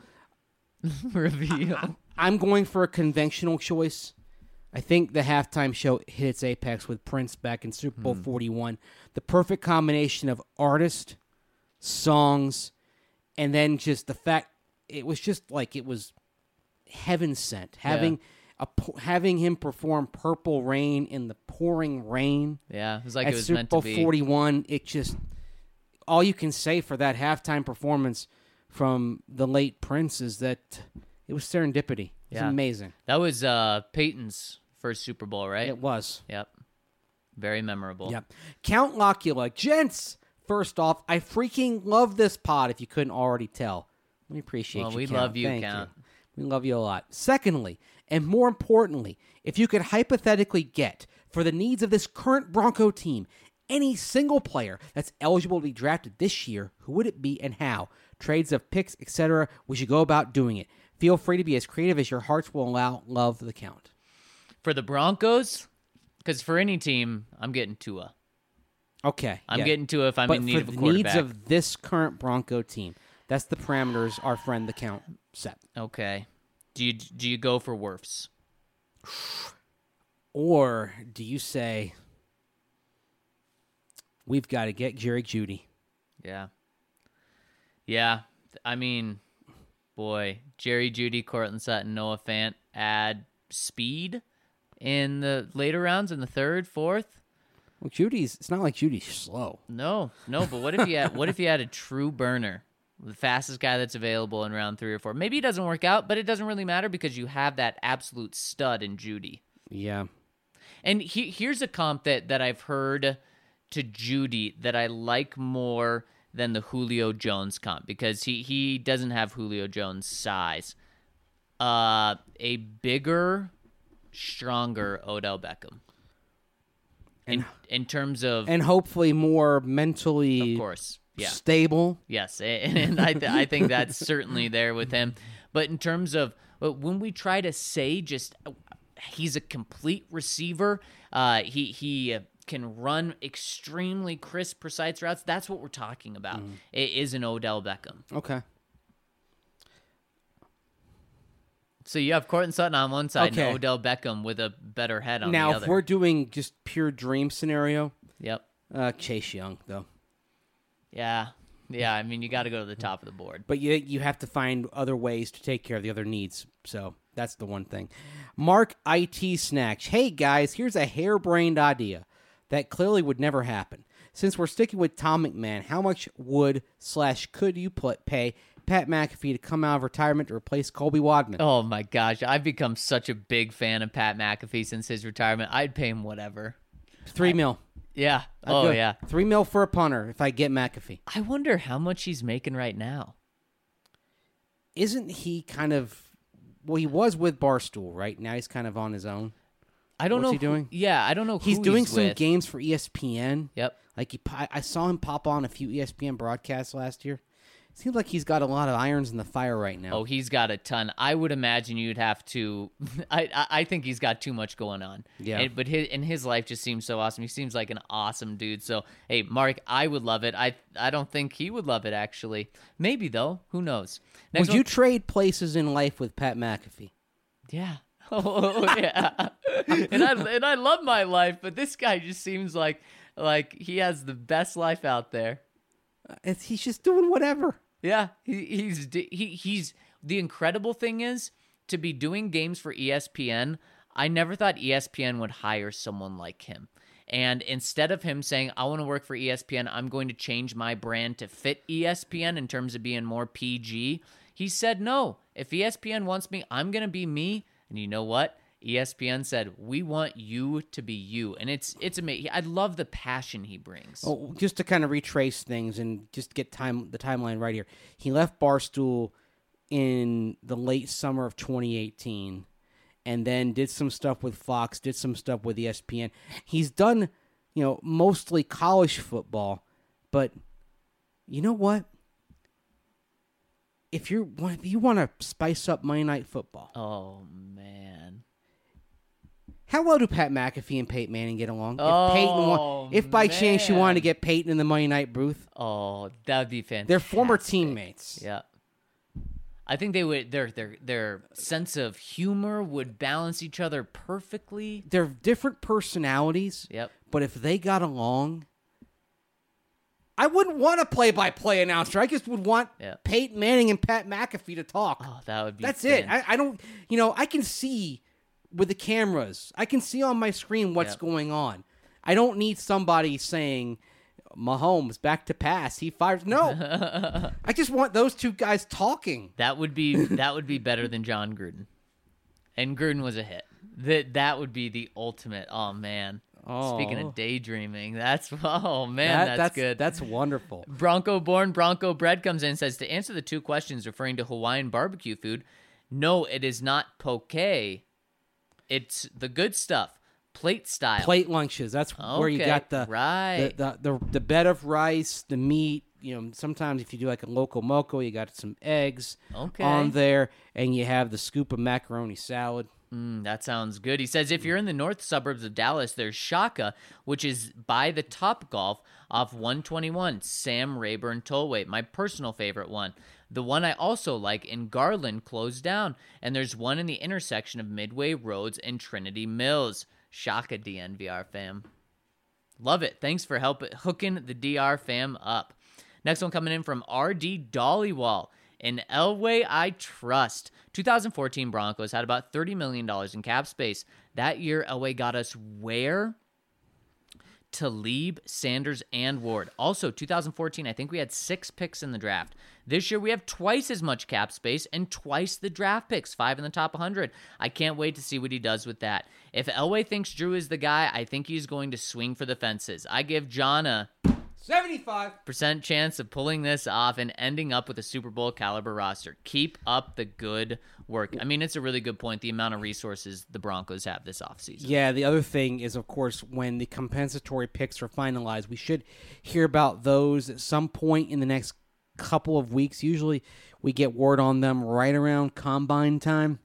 Reveal. I'm going for a conventional choice. I think the halftime show hit its apex with Prince back in Super Bowl 41. The perfect combination of artist, songs, and then just the fact it was just like it was heaven sent. Having him perform Purple Rain in the pouring rain. Yeah, it was like at it was Super meant Bowl to be. 41, it just all you can say for that halftime performance from the late Prince is that it was serendipity. It was amazing. That was Peyton's first Super Bowl, right? It was. Yep. Very memorable. Yep. Count Locula. Gents, first off, I freaking love this pod, if you couldn't already tell. We appreciate you, we Count. love you, Thank Count. We love you a lot. Secondly, and more importantly, if you could hypothetically get, for the needs of this current Bronco team, any single player that's eligible to be drafted this year, who would it be and how? Trades of picks, etc. We should go about doing it. Feel free to be as creative as your hearts will allow. Love, the Count. For the Broncos, because for any team, I'm getting Tua. Okay. I'm getting Tua if I'm but in need for of a the quarterback. needs of this current Bronco team, that's the parameters our friend the Count set. Okay. Do you go for Wirfs? Or do you say, we've got to get Jerry Jeudy? Yeah. Yeah. I mean, boy, Jerry Jeudy, Cortland Sutton, Noah Fant add speed in the later rounds, in the third, fourth. Well, it's not like Judy's slow. No, but what if you had a true burner, the fastest guy that's available in round 3 or 4? Maybe it doesn't work out, but it doesn't really matter because you have that absolute stud in Jeudy. Yeah. And here's a comp that I've heard to Jeudy that I like more than the Julio Jones comp, because he doesn't have Julio Jones' size. A bigger, stronger Odell Beckham. In terms of, and hopefully more mentally, of course, yeah, stable. Yes, and I think that's certainly there with him. But in terms of when we try to say just he's a complete receiver, he can run extremely crisp, precise routes. That's what we're talking about. It is an Odell Beckham. Okay. So you have Cortland Sutton on one side Okay. and Odell Beckham with a better head on the Now, other. if we're doing just pure dream scenario, Yep. Chase Young, though. Yeah. I mean, you got to go to the top of the board. But you have to find other ways to take care of the other needs. So that's the one thing. Mark IT Snacks. Hey, guys, here's a harebrained idea that clearly would never happen. Since we're sticking with Tom McMahon, how much would/could you pay Pat McAfee to come out of retirement to replace Colby Wadman? Oh, my gosh. I've become such a big fan of Pat McAfee since his retirement. I'd pay him whatever. $3 million. Yeah. I'd Oh, go yeah. $3 million for a punter if I get McAfee. I wonder how much he's making right now. Isn't he kind of... Well, he was with Barstool, right? Now he's kind of on his own. I don't What's know. he doing? Yeah, I don't know who He's doing some with. games for ESPN. Yep. Like I saw him pop on a few ESPN broadcasts last year. Seems like he's got a lot of irons in the fire right now. Oh, he's got a ton. I would imagine you'd have to. I think he's got too much going on. Yeah. But his life just seems so awesome. He seems like an awesome dude. So hey, Mark, I would love it. I don't think he would love it actually. Maybe though. Who knows? Next Would you trade places in life with Pat McAfee? Yeah. Oh yeah. and I love my life, but this guy just seems like he has the best life out there. He's just doing whatever. Yeah, he's the incredible thing is to be doing games for ESPN. I never thought ESPN would hire someone like him. And instead of him saying, I want to work for ESPN, I'm going to change my brand to fit ESPN in terms of being more PG, he said, no, if ESPN wants me, I'm going to be me. And you know what? ESPN said, we want you to be you. And it's amazing. I love the passion he brings. Oh, just to kind of retrace things and just get the timeline right here. He left Barstool in the late summer of 2018 and then did some stuff with Fox, did some stuff with ESPN. He's done, mostly college football, but you know what? If you want to spice up Monday Night Football. Oh, man. How well do Pat McAfee and Peyton Manning get along? Oh, if by chance you wanted to man. get Peyton in the Monday Night booth, Oh, that would be fantastic. they're former teammates. Yeah. I think they would their sense of humor would balance each other perfectly. They're different personalities. Yep. But if they got along, I wouldn't want a play-by-play announcer. I just would want Yeah. Peyton Manning and Pat McAfee to talk. Oh, that would be That's it. I don't, I can see with the cameras. I can see on my screen what's Yep. going on. I don't need somebody saying, Mahomes back to pass. He fires. No. I just want those two guys talking. That would be better than John Gruden. And Gruden was a hit. That would be the ultimate. Oh man. Speaking Oh. of daydreaming, that's that's good. That's wonderful. Bronco born, Bronco bred comes in and says, to answer the two questions referring to Hawaiian barbecue food, no, it is not poke. It's the good stuff, plate style. Plate lunches. That's where you Okay, got the right. the bed of rice, the meat. Sometimes if you do like a loco moco, you got some eggs Okay. on there, and you have the scoop of macaroni salad. That sounds good. He says, if you're in the north suburbs of Dallas, there's Shaka, which is by the Top Golf off 121, Sam Rayburn Tollway, my personal favorite one. The one I also like in Garland closed down, and there's one in the intersection of Midway Roads and Trinity Mills. Shaka DNVR fam. Love it. Thanks for hooking the DR fam up. Next one coming in from RD Dollywall. In Elway I Trust. 2014 Broncos had about $30 million in cap space. That year, Elway got us where? Talib, Sanders, and Ward. Also, 2014, I think we had 6 picks in the draft. This year, we have twice as much cap space and twice the draft picks, 5 in the top 100. I can't wait to see what he does with that. If Elway thinks Drew is the guy, I think he's going to swing for the fences. I give John a 75% chance of pulling this off and ending up with a Super Bowl caliber roster. Keep up the good work. I mean, it's a really good point, the amount of resources the Broncos have this offseason. Yeah, the other thing is, of course, when the compensatory picks are finalized, we should hear about those at some point in the next couple of weeks. Usually we get word on them right around combine time.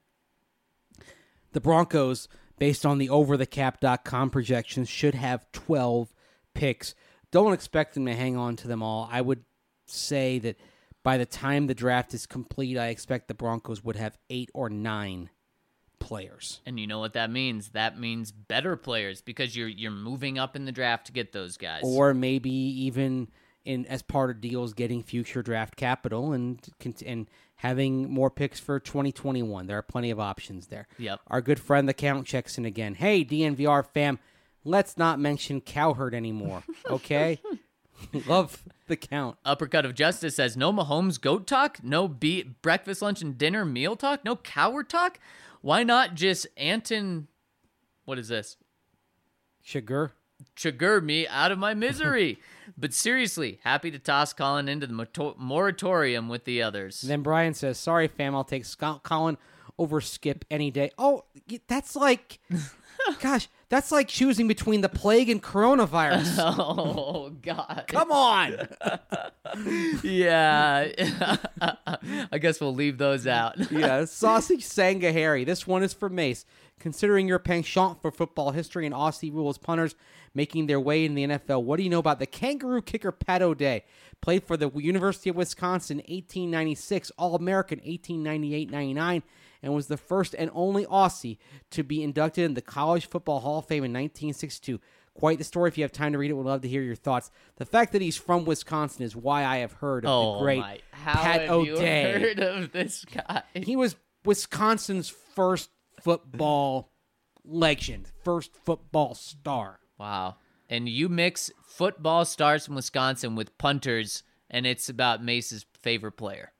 The Broncos, based on the overthecap.com projections, should have 12 picks. Don't expect them to hang on to them all. I would say that by the time the draft is complete, I expect the Broncos would have 8 or 9 players. And you know what that means? That means better players because you're moving up in the draft to get those guys. Or maybe even as part of deals getting future draft capital and having more picks for 2021. There are plenty of options there. Yep. Our good friend the Count checks in again. Hey, DNVR fam, let's not mention Cowherd anymore, okay? Love the Count. Uppercut of Justice says, no Mahomes goat talk? No breakfast, lunch, and dinner meal talk? No Cowherd talk? Why not just Anton, what is this? Sugar me out of my misery. But seriously, happy to toss Colin into the moratorium with the others. And then Brian says, sorry, fam, I'll take Colin over Skip any day. Oh, that's like... Gosh, that's like choosing between the plague and coronavirus. Oh, God. Come on. Yeah. I guess we'll leave those out. Yeah, Sausage Sangahari. This one is for Mace. Considering your penchant for football history and Aussie rules punters making their way in the NFL, what do you know about the kangaroo kicker Pat O'Day? Played for the University of Wisconsin 1896, All-American 1898-99, and was the first and only Aussie to be inducted in the College Football Hall of Fame in 1962. Quite the story. If you have time to read it, we'd love to hear your thoughts. The fact that he's from Wisconsin is why I have heard of the great Pat O'Day. How have you heard of this guy? He was Wisconsin's first football legend, first football star. Wow. And you mix football stars from Wisconsin with punters, and it's about Mace's favorite player.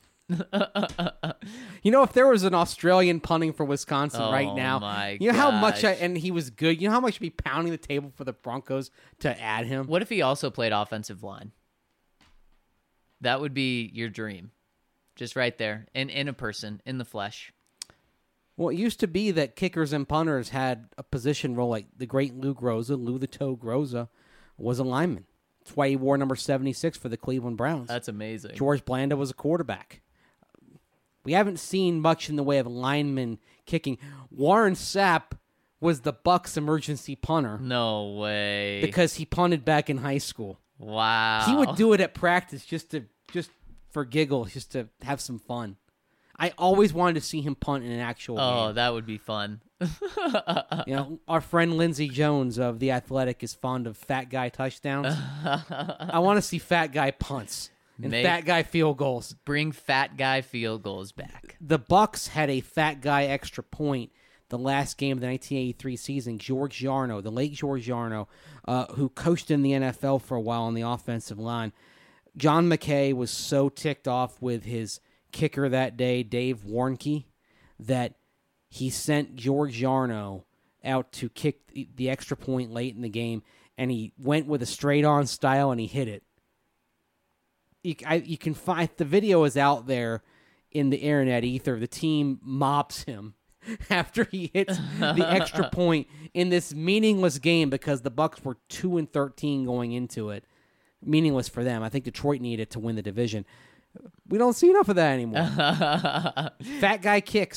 You know, if there was an Australian punting for Wisconsin right now, you know how much, and he was good, you know how much he'd be pounding the table for the Broncos to add him? What if he also played offensive line? That would be your dream. Just right there, in a person, in the flesh. Well, it used to be that kickers and punters had a position role, like the great Lou the Toe Groza was a lineman. That's why he wore number 76 for the Cleveland Browns. That's amazing. George Blanda was a quarterback. We haven't seen much in the way of linemen kicking. Warren Sapp was the Bucs emergency punter. No way. Because he punted back in high school. Wow. He would do it at practice just for giggles, just to have some fun. I always wanted to see him punt in an actual game. Oh, that would be fun. You know, our friend Lindsey Jones of The Athletic is fond of fat guy touchdowns. I want to see fat guy punts and fat guy field goals. Bring fat guy field goals back. The Bucs had a fat guy extra point the last game of the 1983 season. George Yarno, the late George Yarno, who coached in the NFL for a while on the offensive line. John McKay was so ticked off with his kicker that day, Dave Warnke, that he sent George Yarno out to kick the extra point late in the game, and he went with a straight-on style, and he hit it. You can find the video is out there in the internet ether. The team mops him after he hits the extra point in this meaningless game because the Bucs were 2-13 going into it. Meaningless for them. I think Detroit needed to win the division. We don't see enough of that anymore. Fat guy kicks.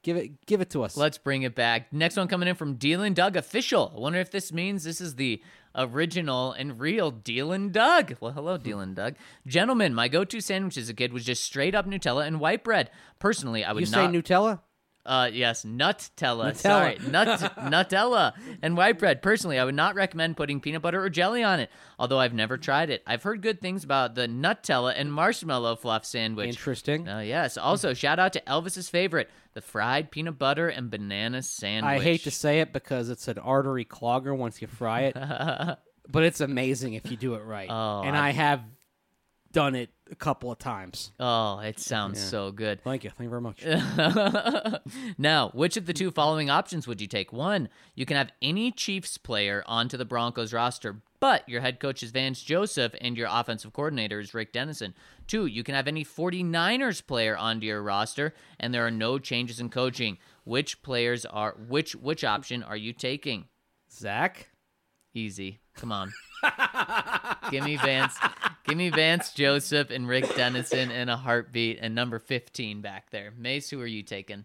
Give it to us. Let's bring it back. Next one coming in from Dealin' Doug Official. I wonder if this means this is the original and real Dealin' Doug. Well, hello, Dealin' Doug. Gentlemen, my go-to sandwich as a kid was just straight up Nutella and white bread. Personally, I would you not... say Nutella? Yes, Nutella. Nutella. Sorry, Nutella and white bread. Personally, I would not recommend putting peanut butter or jelly on it, although I've never tried it. I've heard good things about the Nutella and marshmallow fluff sandwich. Interesting. Yes. Also, shout out to Elvis's favorite, the fried peanut butter and banana sandwich. I hate to say it because it's an artery clogger once you fry it, but it's amazing if you do it right. Oh, and I have done it a couple of times. Oh, it sounds so good. Thank you very much. Now, which of the two following options would you take? 1, you can have any Chiefs player onto the Broncos roster, but your head coach is Vance Joseph and your offensive coordinator is Rick Dennison. 2, you can have any 49ers player onto your roster and there are no changes in coaching. Which option are you taking? Zach? Easy. Come on. Give me Vance Joseph and Rick Dennison in a heartbeat and number 15 back there. Mace, who are you taking?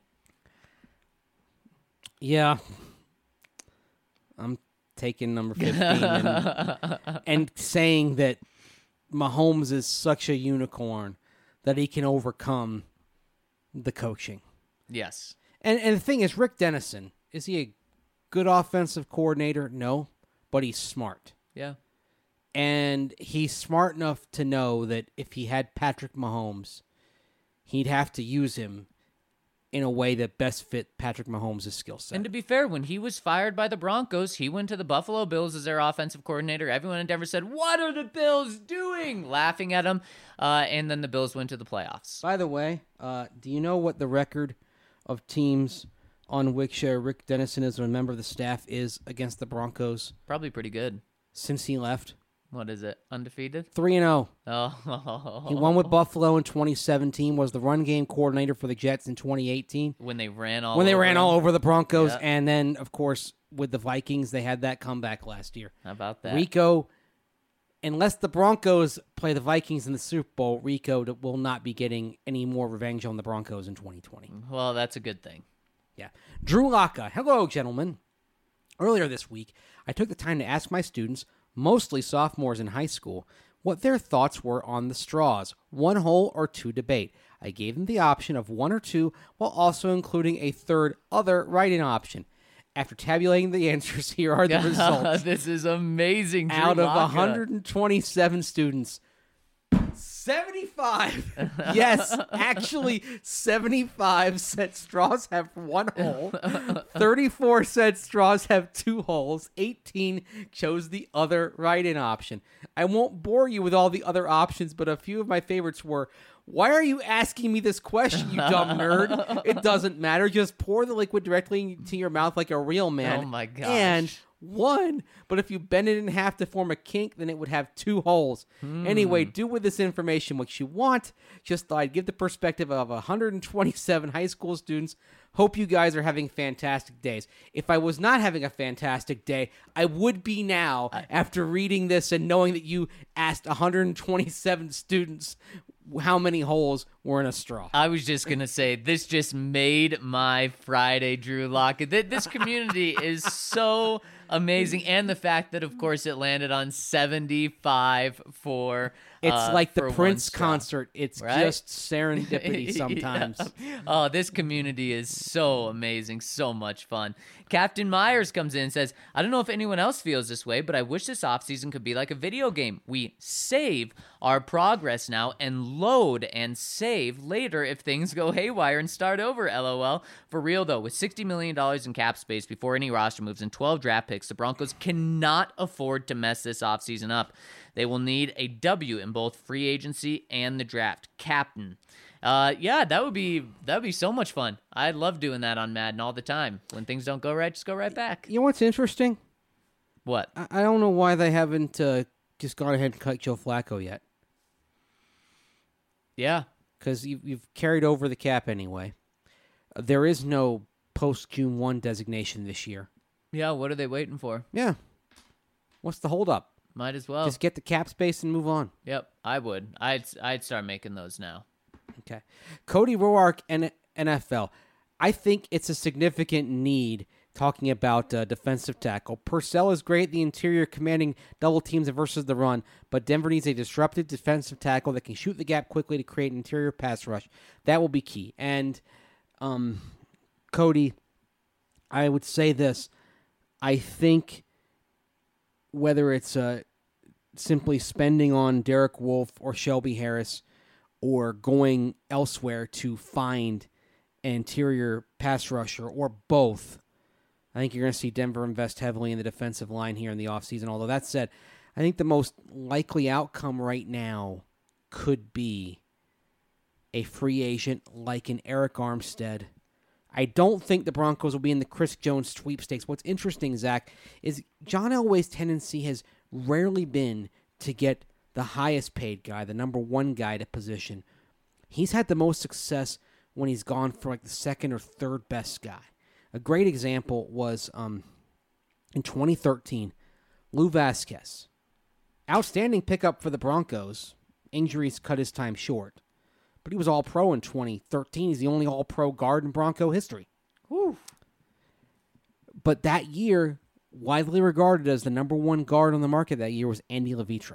Yeah. I'm taking number 15 and saying that Mahomes is such a unicorn that he can overcome the coaching. Yes. And the thing is, Rick Dennison, is he a good offensive coordinator? No, but he's smart. Yeah. And he's smart enough to know that if he had Patrick Mahomes, he'd have to use him in a way that best fit Patrick Mahomes' skill set. And to be fair, when he was fired by the Broncos, he went to the Buffalo Bills as their offensive coordinator. Everyone in Denver said, "What are the Bills doing?" laughing at him. And then the Bills went to the playoffs. By the way, do you know what the record of teams on which Rick Dennison is a member of the staff is against the Broncos Probably pretty good. since he left? What is it? Undefeated? 3-0. Oh. He won with Buffalo in 2017, was the run game coordinator for the Jets in 2018. When they ran all over the Broncos, Yeah. and then, of course, with the Vikings, they had that comeback last year. How about that? Rico, unless the Broncos play the Vikings in the Super Bowl, Rico will not be getting any more revenge on the Broncos in 2020. Well, that's a good thing. Yeah. Drew Locka. Hello, gentlemen. Earlier this week, I took the time to ask my students, mostly sophomores in high school, what their thoughts were on the straws, 1 hole or 2 debate. I gave them the option of 1 or 2 while also including a third other write-in option. After tabulating the answers, here are the results. This is amazing. Drew Out of Locka. 127 students, 75. Yes, actually 75 said straws have 1 hole. 34 said straws have 2 holes. 18 chose the other write-in option. I won't bore you with all the other options, but a few of my favorites were, why are you asking me this question, you dumb nerd? It doesn't matter. Just pour the liquid directly into your mouth like a real man. Oh my gosh. And 1, but if you bend it in half to form a kink, then it would have 2 holes. Anyway, do with this information what you want. Just thought I'd give the perspective of 127 high school students. Hope you guys are having fantastic days. If I was not having a fantastic day, I would be now after reading this and knowing that you asked 127 students how many holes were in a straw. I was just going to say, this just made my Friday, Drew Lockett. This community is so amazing. And the fact that, of course, it landed on 75 for It's like the for one Prince straw. concert. It's Right? just serendipity sometimes. Yeah. Oh, this community is so amazing. So much fun. Captain Myers comes in and says, I don't know if anyone else feels this way, but I wish this offseason could be like a video game. We save our progress now and load and save later if things go haywire and start over, LOL. For real, though, with $60 million in cap space before any roster moves and 12 draft picks, the Broncos cannot afford to mess this offseason up. They will need a W in both free agency and the draft. Captain. Yeah, that would be so much fun. I love doing that on Madden all the time. When things don't go right, just go right back. You know what's interesting? What? I don't know why they haven't just gone ahead and cut Joe Flacco yet. Yeah. Because you've carried over the cap anyway. There is no post-June 1 designation this year. Yeah, what are they waiting for? Yeah. What's the holdup? Might as well. Just get the cap space and move on. Yep, I would. I'd start making those now. Okay. Cody Roark, NFL. I think it's a significant need. Talking about defensive tackle, Purcell is great at the interior, commanding double teams versus the run, but Denver needs a disruptive defensive tackle that can shoot the gap quickly to create an interior pass rush. That will be key. And Cody, I would say this. I think whether it's simply spending on Derek Wolfe or Shelby Harris or going elsewhere to find an interior pass rusher or both, I think you're going to see Denver invest heavily in the defensive line here in the offseason. Although that said, I think the most likely outcome right now could be a free agent like an Eric Armstead. I don't think the Broncos will be in the Chris Jones sweepstakes. What's interesting, Zach, is John Elway's tendency has rarely been to get the highest paid guy, the number one guy to position. He's had the most success when he's gone for like the second or third best guy. A great example was in 2013, Lou Vasquez. Outstanding pickup for the Broncos. Injuries cut his time short. But he was All-Pro in 2013. He's the only All-Pro guard in Bronco history. Whew. But that year, widely regarded as the number one guard on the market that year was Andy Levitra.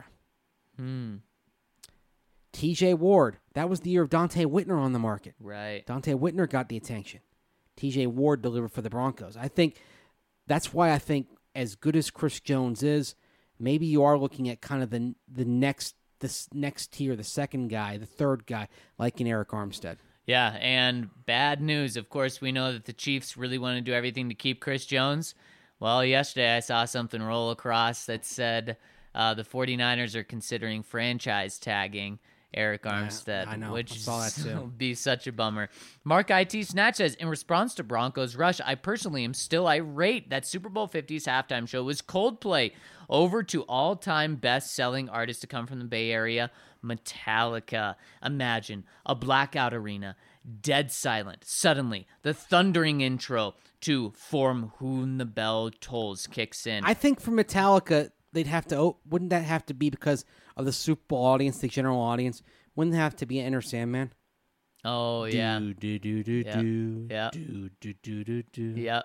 TJ Ward, that was the year of Dante Whitner on the market. Right. Dante Whitner got the attention. TJ Ward delivered for the Broncos. I think that's why I think as good as Chris Jones is, maybe you are looking at kind of the next tier, the second guy, the third guy, like an Eric Armstead. Yeah, and bad news. Of course, we know that the Chiefs really want to do everything to keep Chris Jones. Well, yesterday I saw something roll across that said the 49ers are considering franchise tagging Eric Armstead, I know. which I saw that too. will be such a bummer. Mark IT Snatch says, in response to Broncos rush, I personally am still irate that Super Bowl 50's halftime show was Coldplay. Over to all-time best-selling artist to come from the Bay Area, Metallica. Imagine a blackout arena, dead silent. Suddenly, the thundering intro to From Whom the Bell Tolls kicks in. I think for Metallica, they'd have to. Wouldn't that have to be because of the Super Bowl audience, the general audience? Wouldn't it have to be Enter Sandman? Oh, yeah. Do, do, do, do, Yeah. do, Yeah. do, do, do, do, do. Yeah.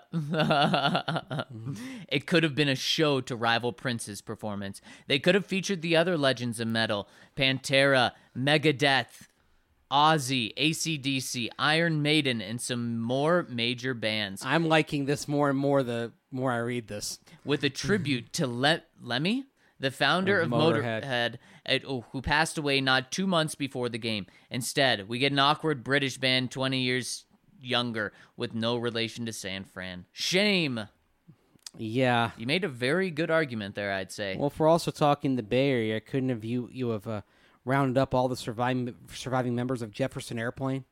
It could have been a show to rival Prince's performance. They could have featured the other legends of metal, Pantera, Megadeth, Ozzy, AC/DC, Iron Maiden, and some more major bands. I'm liking this more and more the more I read this. With a tribute to Lemmy, the founder of Motorhead, who passed away not 2 months before the game. Instead, we get an awkward British band 20 years younger with no relation to San Fran. Shame. Yeah. You made a very good argument there, I'd say. Well, if we're also talking the Bay Area, couldn't have you have rounded up all the surviving members of Jefferson Airplane?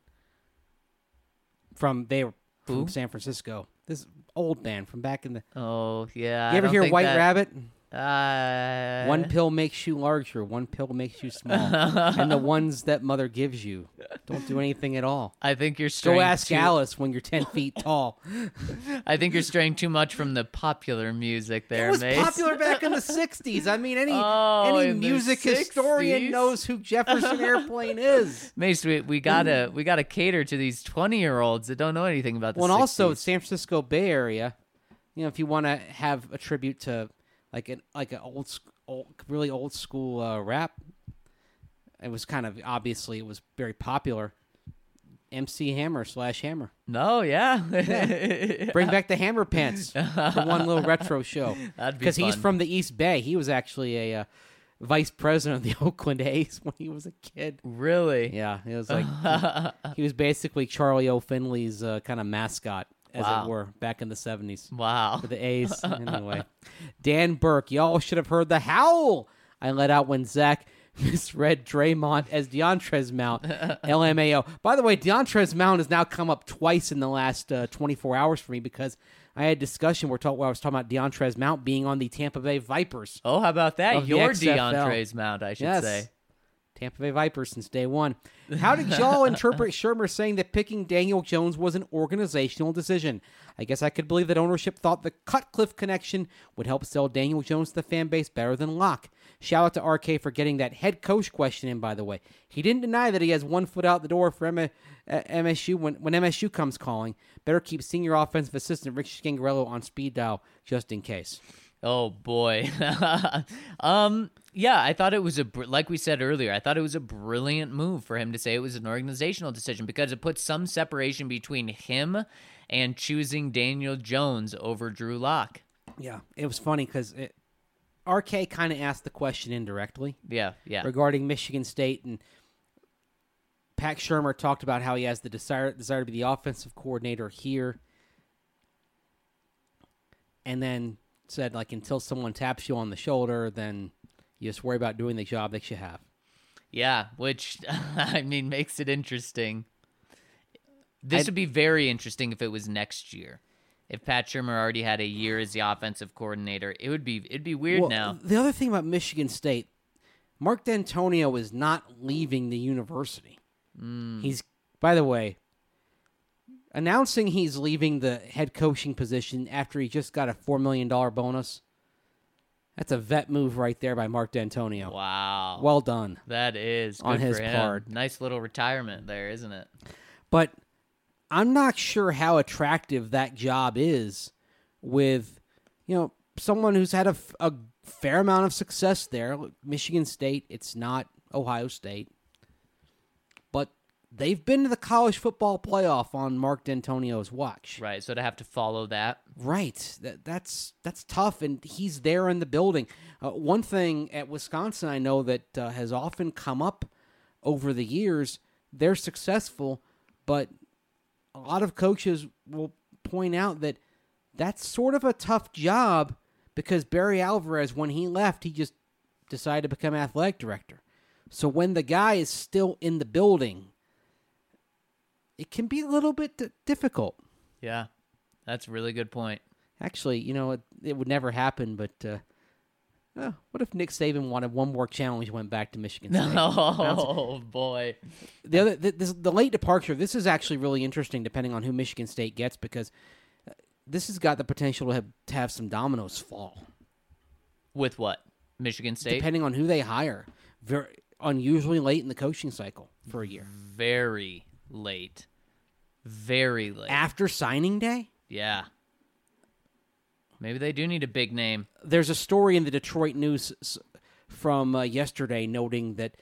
From San Francisco. This old band from back in the. Oh, yeah. You ever hear White Rabbit? One pill makes you larger, one pill makes you small. And the ones that mother gives you don't do anything at all. I think you're straying. Go ask Alice when you're 10 feet tall. I think you're straying too much from the popular music there, It was Mace. popular back in the 60s. I mean, any in the music 60s? historian knows who Jefferson Airplane is. Mace, we gotta cater to these 20-year-olds that don't know anything about the 60s. Well, and also San Francisco Bay Area, if you want to have a tribute to like an really old school rap, it was kind of obviously it was very popular. MC Hammer / Hammer. No, yeah. Bring back the Hammer Pants for one little retro show. That'd be because he's fun. from the East Bay. He was actually a vice president of the Oakland A's when he was a kid. Really? Yeah, it was like he was basically Charlie O'Finley's kind of mascot, as Wow. it were, back in the 70s. Wow. For the A's. Anyway. Dan Burke, y'all should have heard the howl I let out when Zach misread Draymond as DeAndre's Mount. LMAO. By the way, DeAndre's Mount has now come up twice in the last 24 hours for me because I had a discussion where I was talking about DeAndre's Mount being on the Tampa Bay Vipers. Oh, how about that? Of the Your XFL. DeAndre's Mount, I should say. Tampa Bay Vipers since day one. How did y'all interpret Shermer saying that picking Daniel Jones was an organizational decision? I guess I could believe that ownership thought the Cutcliffe connection would help sell Daniel Jones to the fan base better than Locke. Shout out to RK for getting that head coach question in, by the way. He didn't deny that he has 1 foot out the door for MSU when MSU comes calling. Better keep senior offensive assistant Rick Scangarello on speed dial just in case. Oh boy. Yeah, I thought it was like we said earlier, I thought it was a brilliant move for him to say it was an organizational decision because it puts some separation between him and choosing Daniel Jones over Drew Lock. Yeah, it was funny because RK kind of asked the question indirectly. Yeah. Regarding Michigan State, and Pat Shermer talked about how he has the desire to be the offensive coordinator here, and then said, like, until someone taps you on the shoulder, then you just worry about doing the job that you have. Yeah, which, I mean, makes it interesting. This would be very interesting if it was next year. If Pat Shermer already had a year as the offensive coordinator, it'd be weird now. The other thing about Michigan State, Mark D'Antonio is not leaving the university. He's, by the way, announcing he's leaving the head coaching position after he just got a $4 million bonus. That's a vet move right there by Mark D'Antonio. Wow. Well done. That is good on his for him. part. Nice little retirement there, isn't it? But I'm not sure how attractive that job is with, someone who's had a fair amount of success there. Michigan State, it's not Ohio State. But they've been to the college football playoff on Mark D'Antonio's watch. Right, so to have to follow that. Right. That's tough, and he's there in the building. One thing at Wisconsin I know that has often come up over the years, they're successful, but a lot of coaches will point out that that's sort of a tough job because Barry Alvarez, when he left, he just decided to become athletic director. So when the guy is still in the building, it can be a little bit difficult. Yeah, that's a really good point. Actually, it would never happen, but what if Nick Saban wanted one more challenge and went back to Michigan State? Oh, boy. The late departure, this is actually really interesting depending on who Michigan State gets because this has got the potential to have some dominoes fall. With what? Michigan State? Depending on who they hire. Very unusually late in the coaching cycle for a year. Very late. Very late. After signing day? Yeah. Maybe they do need a big name. There's a story in the Detroit News from yesterday noting that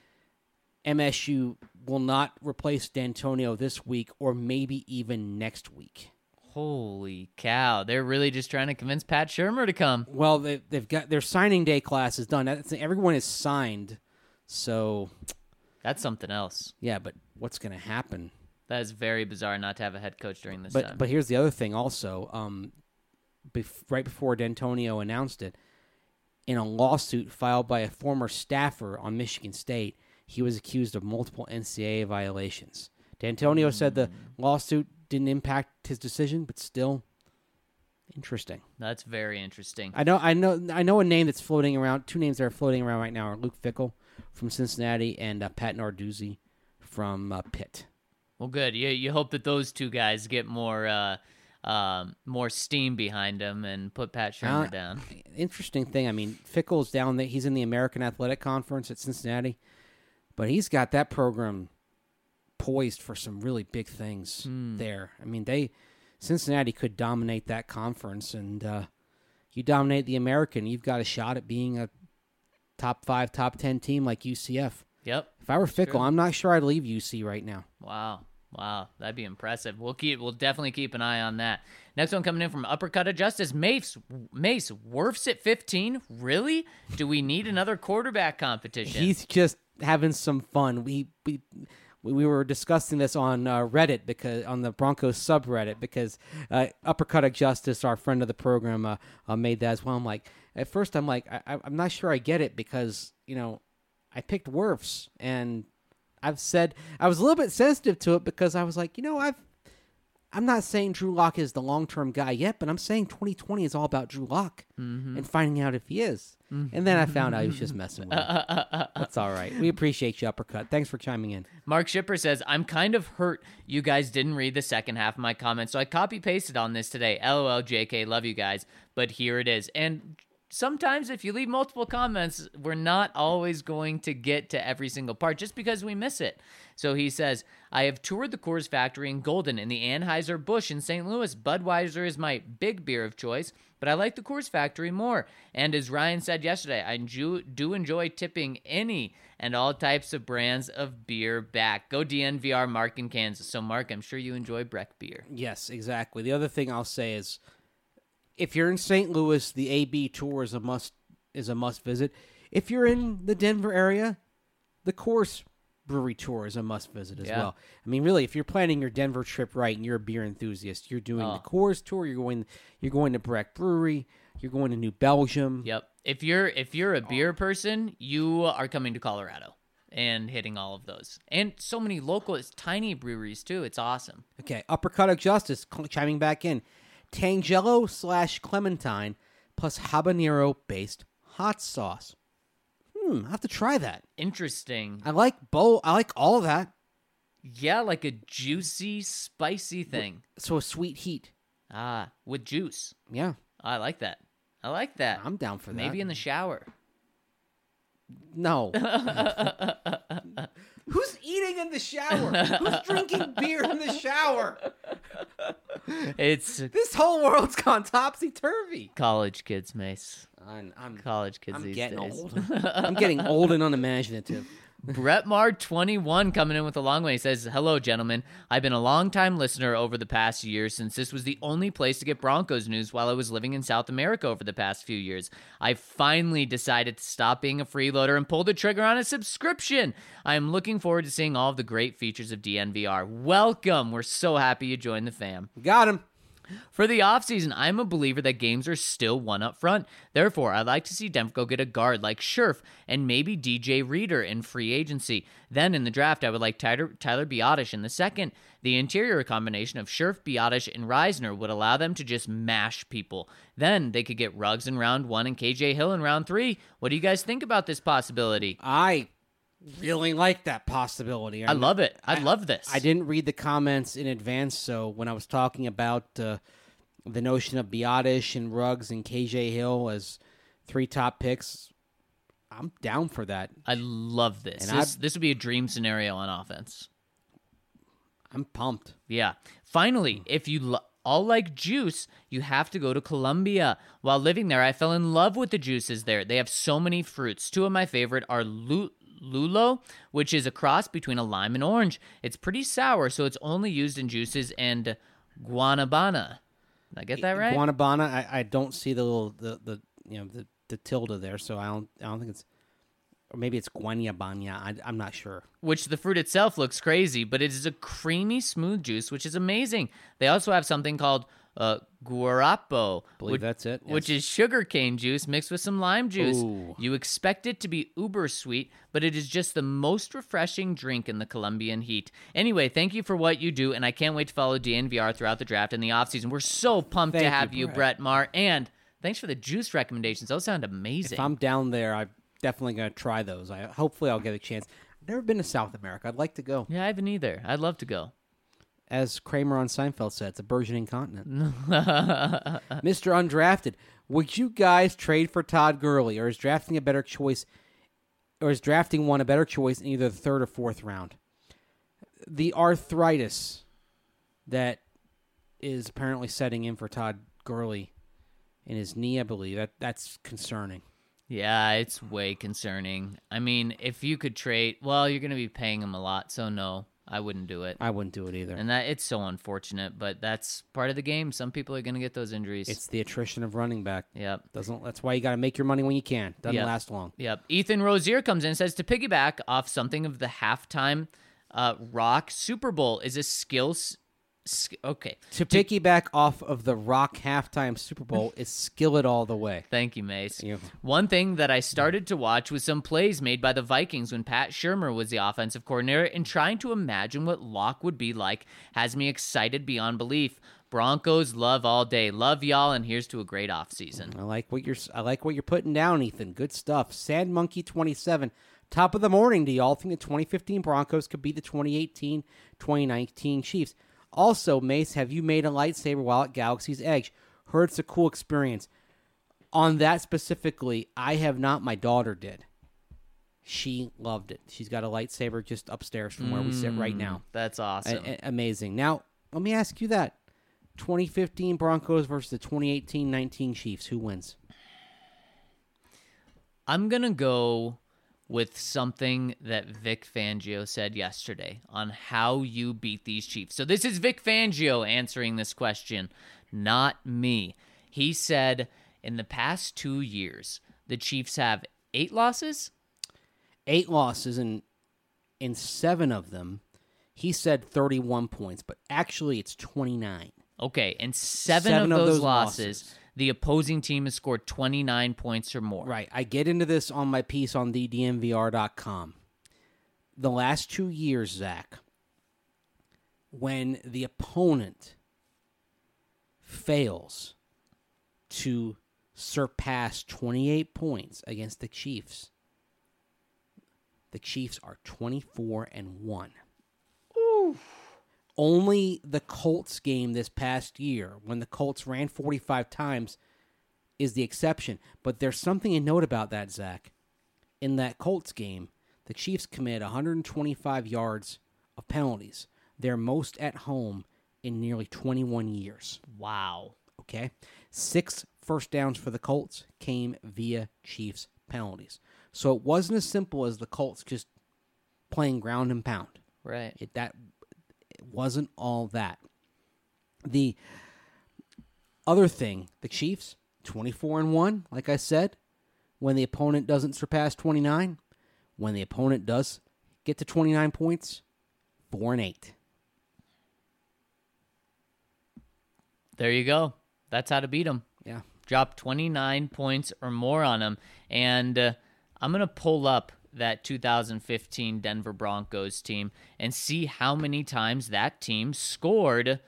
MSU will not replace D'Antonio this week or maybe even next week. Holy cow. They're really just trying to convince Pat Shermer to come. Well, they've got their signing day class is done. Everyone is signed, so... That's something else. Yeah, but what's going to happen? That is very bizarre not to have a head coach during this time. But here's the other thing also. Right before D'Antonio announced it, in a lawsuit filed by a former staffer on Michigan State, he was accused of multiple NCAA violations. D'Antonio said the lawsuit didn't impact his decision, but still interesting. That's very interesting. I know a name that's floating around. Two names that are floating around right now are Luke Fickell from Cincinnati and Pat Narduzzi from Pitt. Well, good. You hope that those two guys get more steam behind him and put Pat Shermer down. Interesting thing. I mean, Fickell's down there. He's in the American Athletic Conference at Cincinnati, but he's got that program poised for some really big things there. I mean, Cincinnati could dominate that conference, and you dominate the American, you've got a shot at being a top 5, top 10 team like UCF. Yep. If I were Fickell, I'm not sure I'd leave UC right now. Wow, that'd be impressive. We'll definitely keep an eye on that. Next one coming in from Uppercut of Justice. Mace, Wirfs at 15? Really? Do we need another quarterback competition? He's just having some fun. We were discussing this on Reddit because on the Broncos subreddit because Uppercut of Justice, our friend of the program, made that as well. At first I'm not sure I get it because I picked Wirfs and I've said I was a little bit sensitive to it because I was like, I'm not saying Drew Lock is the long-term guy yet, but I'm saying 2020 is all about Drew Lock and finding out if he is. And then I found out he was just messing with him. That's all right. We appreciate you, Uppercut. Thanks for chiming in. Mark Shipper says, I'm kind of hurt you guys didn't read the second half of my comment, so I copy-pasted on this today. LOL, JK, love you guys, but here it is. And sometimes if you leave multiple comments, we're not always going to get to every single part just because we miss it. So he says, I have toured the Coors factory in Golden and the Anheuser-Busch in St. Louis. Budweiser is my big beer of choice, but I like the Coors factory more. And as Ryan said yesterday, I do enjoy tipping any and all types of brands of beer back. Go DNVR, Mark in Kansas. So Mark, I'm sure you enjoy Breck beer. Yes, exactly. The other thing I'll say is, if you're in St. Louis, the AB tour is a must visit. If you're in the Denver area, the Coors Brewery tour is a must visit as well. I mean, really, if you're planning your Denver trip right and you're a beer enthusiast, you're doing the Coors tour. You're going to Breck Brewery. You're going to New Belgium. Yep. If you're a beer person, you are coming to Colorado and hitting all of those. And so many local, tiny breweries too. It's awesome. Okay, Uppercut of Justice chiming back in. Tangelo / Clementine plus habanero-based hot sauce. I have to try that. Interesting. I like both. I like all of that. Yeah, like a juicy, spicy thing. So a sweet heat. With juice. Yeah. I like that. I'm down for that. Maybe in the shower. No. Who's eating in the shower? Who's drinking beer in the shower? This whole world's gone topsy-turvy. College kids, Mace. I'm College kids these getting days. old. I'm getting old and unimaginative. Brettmar21 coming in with a long way. He says, hello, gentlemen. I've been a long-time listener over the past year since this was the only place to get Broncos news while I was living in South America over the past few years. I finally decided to stop being a freeloader and pull the trigger on a subscription. I am looking forward to seeing all of the great features of DNVR. Welcome. We're so happy you joined the fam. Got him. For the offseason, I'm a believer that games are still one up front. Therefore, I'd like to see Denver go get a guard like Scherf and maybe DJ Reader in free agency. Then in the draft, I would like Tyler Biadasz in the second. The interior combination of Scherf, Biadasz, and Reisner would allow them to just mash people. Then they could get Ruggs in round 1 and KJ Hill in round 3. What do you guys think about this possibility? I really like that possibility. I love it. I love this. I didn't read the comments in advance, so when I was talking about the notion of Biadasz and Ruggs and KJ Hill as 3 top picks, I'm down for that. I love this. And This would be a dream scenario on offense. I'm pumped. Yeah. Finally, if you all like juice, you have to go to Colombia. While living there, I fell in love with the juices there. They have so many fruits. 2 of my favorite are Lulo, which is a cross between a lime and orange. It's pretty sour, so it's only used in juices, and Guanabana. Did I get that right? Guanabana. I don't see the little the tilde there, so I don't think it's, or maybe it's Guanabana. I'm not sure. Which the fruit itself looks crazy, but it is a creamy, smooth juice, which is amazing. They also have something called guarapo. That's it. Yes. Which is sugarcane juice mixed with some lime juice. Ooh. You expect it to be uber sweet, but it is just the most refreshing drink in the Colombian heat. Anyway, thank you for what you do, and I can't wait to follow DNVR throughout the draft and the offseason. We're so pumped to have you, Brett Maher, and thanks for the juice recommendations. Those sound amazing. If I'm down there, I'm definitely going to try those. Hopefully I'll get a chance. I've never been to South America. I'd like to go. Yeah, I haven't either. I'd love to go. As Kramer on Seinfeld said, it's a burgeoning continent. Mr. Undrafted, would you guys trade for Todd Gurley, or is drafting one a better choice in either the 3rd or 4th round? The arthritis that is apparently setting in for Todd Gurley in his knee, I believe, that's concerning. Yeah, it's way concerning. I mean, if you could trade, well, you're going to be paying him a lot, so no. I wouldn't do it. I wouldn't do it either. And it's so unfortunate, but that's part of the game. Some people are going to get those injuries. It's the attrition of running back. Yep. That's why you got to make your money when you can. Doesn't last long. Yep. Ethan Rozier comes in and says, to piggyback off something of the halftime rock, Super Bowl is a skill Okay. To piggyback off of the Rock halftime Super Bowl is Skillet all the way. Thank you, Mace. Yeah. One thing that I started to watch was some plays made by the Vikings when Pat Shurmur was the offensive coordinator, and trying to imagine what Locke would be like has me excited beyond belief. Broncos love all day. Love y'all, and here's to a great offseason. I like what you're putting down, Ethan. Good stuff. Sand Monkey 27. Top of the morning. Do y'all think the 2015 Broncos could beat the 2018-2019 Chiefs? Also, Mace, have you made a lightsaber while at Galaxy's Edge? Heard it's a cool experience. On that specifically, I have not. My daughter did. She loved it. She's got a lightsaber just upstairs from where we sit right now. That's awesome. Amazing. Now, let me ask you that. 2015 Broncos versus the 2018-19 Chiefs. Who wins? I'm going to go with something that Vic Fangio said yesterday on how you beat these Chiefs. So this is Vic Fangio answering this question, not me. He said in the past 2 years, the Chiefs have 8 losses? 8 losses, and in 7 of them, he said 31 points, but actually it's 29. Okay, and seven of those losses, the opposing team has scored 29 points or more. Right. I get into this on my piece on thedmvr.com. The last 2 years, Zach, when the opponent fails to surpass 28 points against the Chiefs are 24-1. Ooh. Only the Colts game this past year, when the Colts ran 45 times, is the exception. But there's something to note about that, Zach. In that Colts game, the Chiefs committed 125 yards of penalties, their most at home in nearly 21 years. Wow. Okay? 6 first downs for the Colts came via Chiefs penalties. So it wasn't as simple as the Colts just playing ground and pound. Right. It wasn't all that. The other thing, the Chiefs, 24-1, like I said, when the opponent doesn't surpass 29. When the opponent does get to 29 points, 4-8. There you go. That's how to beat them. Yeah. Drop 29 points or more on them. And I'm going to pull up that 2015 Denver Broncos team and see how many times that team scored,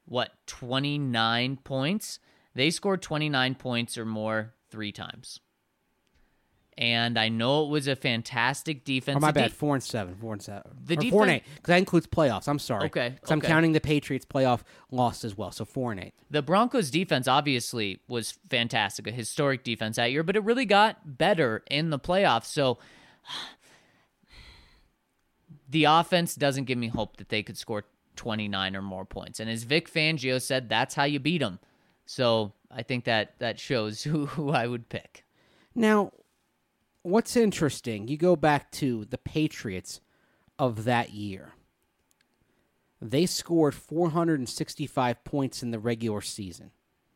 29 points? They scored 29 points or more 3 times. And I know it was a fantastic defense. Oh, my bad, 4-7. 4-7. The or defense, 4-8, because that includes playoffs. I'm sorry. Okay. Because I'm counting the Patriots playoff loss as well, so 4-8. The Broncos defense obviously was fantastic, a historic defense that year, but it really got better in the playoffs. So the offense doesn't give me hope that they could score 29 or more points. And as Vic Fangio said, that's how you beat them. So I think that shows who I would pick. Now, what's interesting, you go back to the Patriots of that year. They scored 465 points in the regular season.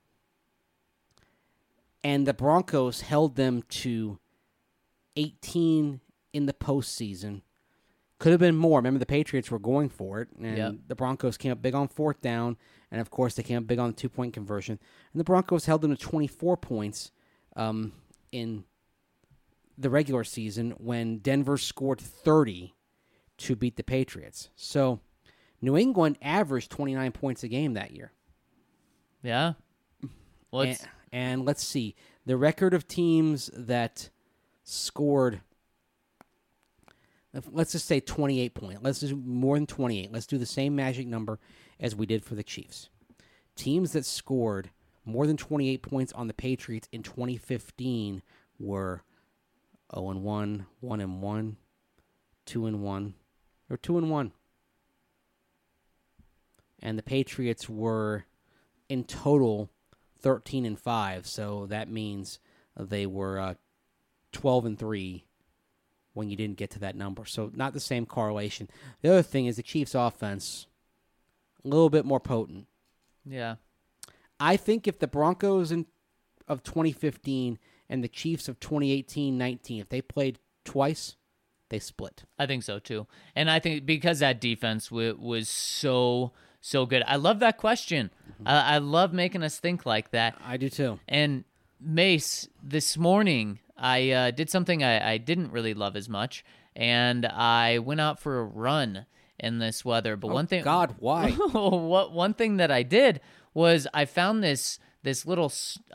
And the Broncos held them to 18 in the postseason. Could have been more. Remember, the Patriots were going for it, and the Broncos came up big on 4th down, and of course they came up big on the 2-point conversion. And the Broncos held them to 24 points in the regular season when Denver scored 30 to beat the Patriots. So New England averaged 29 points a game that year. Yeah. Well, and let's see. The record of teams that scored, let's just say 28 points. Let's just more than 28. Let's do the same magic number as we did for the Chiefs. Teams that scored more than 28 points on the Patriots in 2015 were 0-1, 1-1, 2-1, or 2-1. And the Patriots were in total 13-5, so that means they were 12-3 when you didn't get to that number. So not the same correlation. The other thing is the Chiefs' offense, a little bit more potent. Yeah. I think if the Broncos of 2015 and the Chiefs of 2018-19, if they played twice, they split. I think so, too. And I think because that defense was so so good. I love that question. I love making us think like that. I do too. And Mace, this morning I did something I didn't really love as much, and I went out for a run in this weather. But one thing, God, why? one thing that I did was I found this little,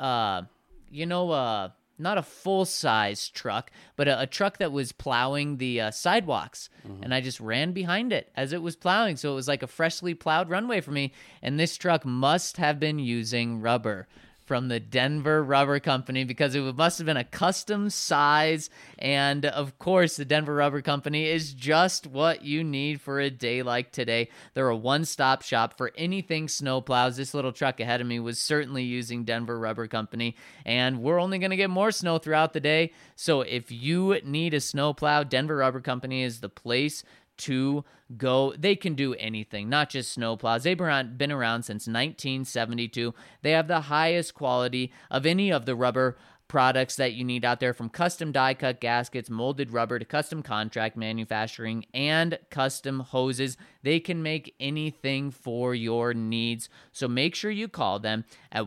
not a full-size truck, but a truck that was plowing the sidewalks. And I just ran behind it as it was plowing. So it was like a freshly plowed runway for me. And this truck must have been using rubber from the Denver Rubber Company, because it must have been a custom size. And of course, the Denver Rubber Company is just what you need for a day like today. They're a one-stop shop for anything snowplows. This little truck ahead of me was certainly using Denver Rubber Company, and we're only going to get more snow throughout the day. So if you need a snowplow, Denver Rubber Company is the place to go. They can do anything, not just snowplows. They've been around since 1972. They have the highest quality of any of the rubber products that you need out there, from custom die-cut gaskets, molded rubber, to custom contract manufacturing and custom hoses. They can make anything for your needs. So make sure you call them at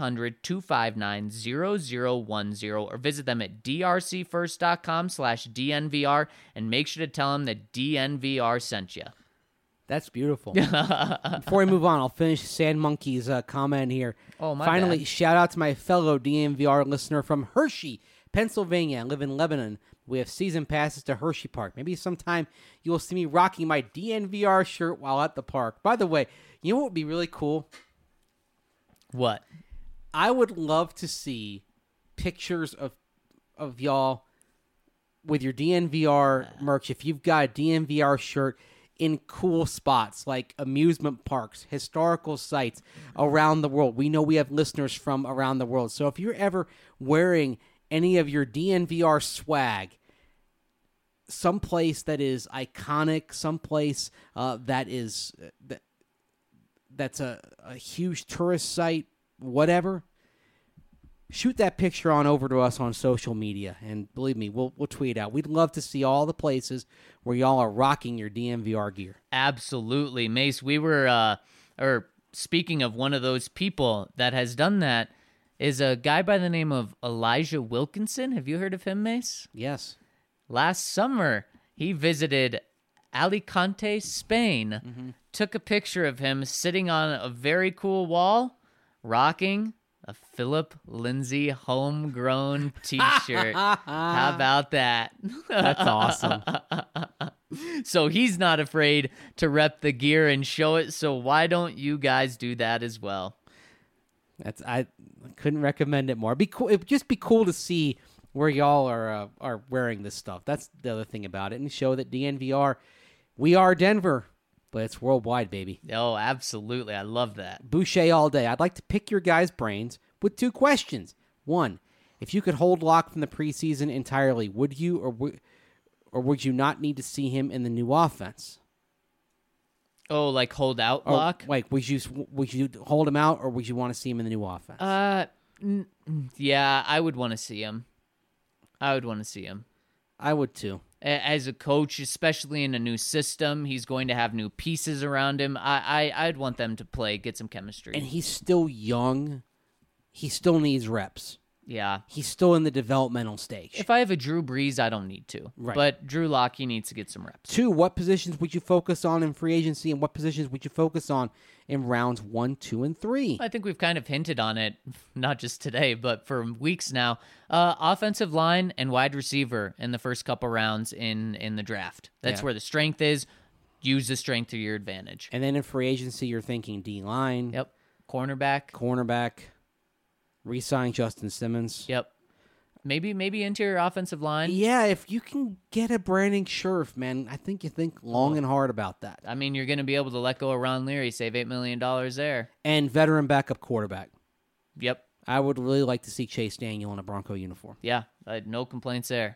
1-800-259-0010 or visit them at drcfirst.com/DNVR and make sure to tell them that DNVR sent you. That's beautiful. Before we move on, I'll finish Sand Monkey's comment here. Oh, my Finally, bad. shout out to my fellow DNVR listener from Hershey, Pennsylvania. I live in Lebanon. We have season passes to Hershey Park. Maybe sometime you will see me rocking my DNVR shirt while at the park. By the way, you know what would be really cool? What? I would love to see pictures of y'all with your DNVR merch. If you've got a DNVR shirt in cool spots like amusement parks, historical sites around the world. We know we have listeners from around the world. So if you're ever wearing any of your DNVR swag, someplace that is iconic, someplace that's a huge tourist site, whatever, shoot that picture on over to us on social media, and believe me, we'll tweet out. We'd love to see all the places where y'all are rocking your DNVR gear. Absolutely. Mace, we were, speaking of one of those people that has done that, is a guy by the name of Elijah Wilkinson. Have you heard of him, Mace? Yes. Last summer, he visited Alicante, Spain, took a picture of him sitting on a very cool wall, rocking a Philip Lindsay homegrown t-shirt. How about that? That's awesome. So he's not afraid to rep the gear and show it, so why don't you guys do that as well? I couldn't recommend it more. It'd just be cool to see where y'all are wearing this stuff. That's the other thing about it, and show that DNVR, we are Denver, but it's worldwide, baby. Oh, absolutely. I love that. Boucher all day. I'd like to pick your guys' brains with two questions. One, if you could hold Locke from the preseason entirely, would you or would you not need to see him in the new offense? Oh, like hold out Or, Locke? Like, would you hold him out, or would you want to see him in the new offense? Yeah, I would want to see him. I would too. As a coach, especially in a new system, he's going to have new pieces around him. I'd want them to play, get some chemistry. And he's still young. He still needs reps. Yeah. He's still in the developmental stage. If I have a Drew Brees, I don't need to. Right. But Drew Lock, he needs to get some reps. Two, what positions would you focus on in free agency, and what positions would you focus on in rounds 1, 2, and 3? I think we've kind of hinted on it, not just today, but for weeks now. Offensive line and wide receiver in the first couple rounds in the draft. That's where the strength is. Use the strength to your advantage. And then in free agency, you're thinking D-line. Yep. Cornerback. Re-sign Justin Simmons. Yep. Maybe interior offensive line. Yeah, if you can get a Brandon Scherf, man, I think you think long and hard about that. I mean, you're going to be able to let go of Ron Leary, save $8 million there. And veteran backup quarterback. Yep. I would really like to see Chase Daniel in a Bronco uniform. Yeah, no complaints there.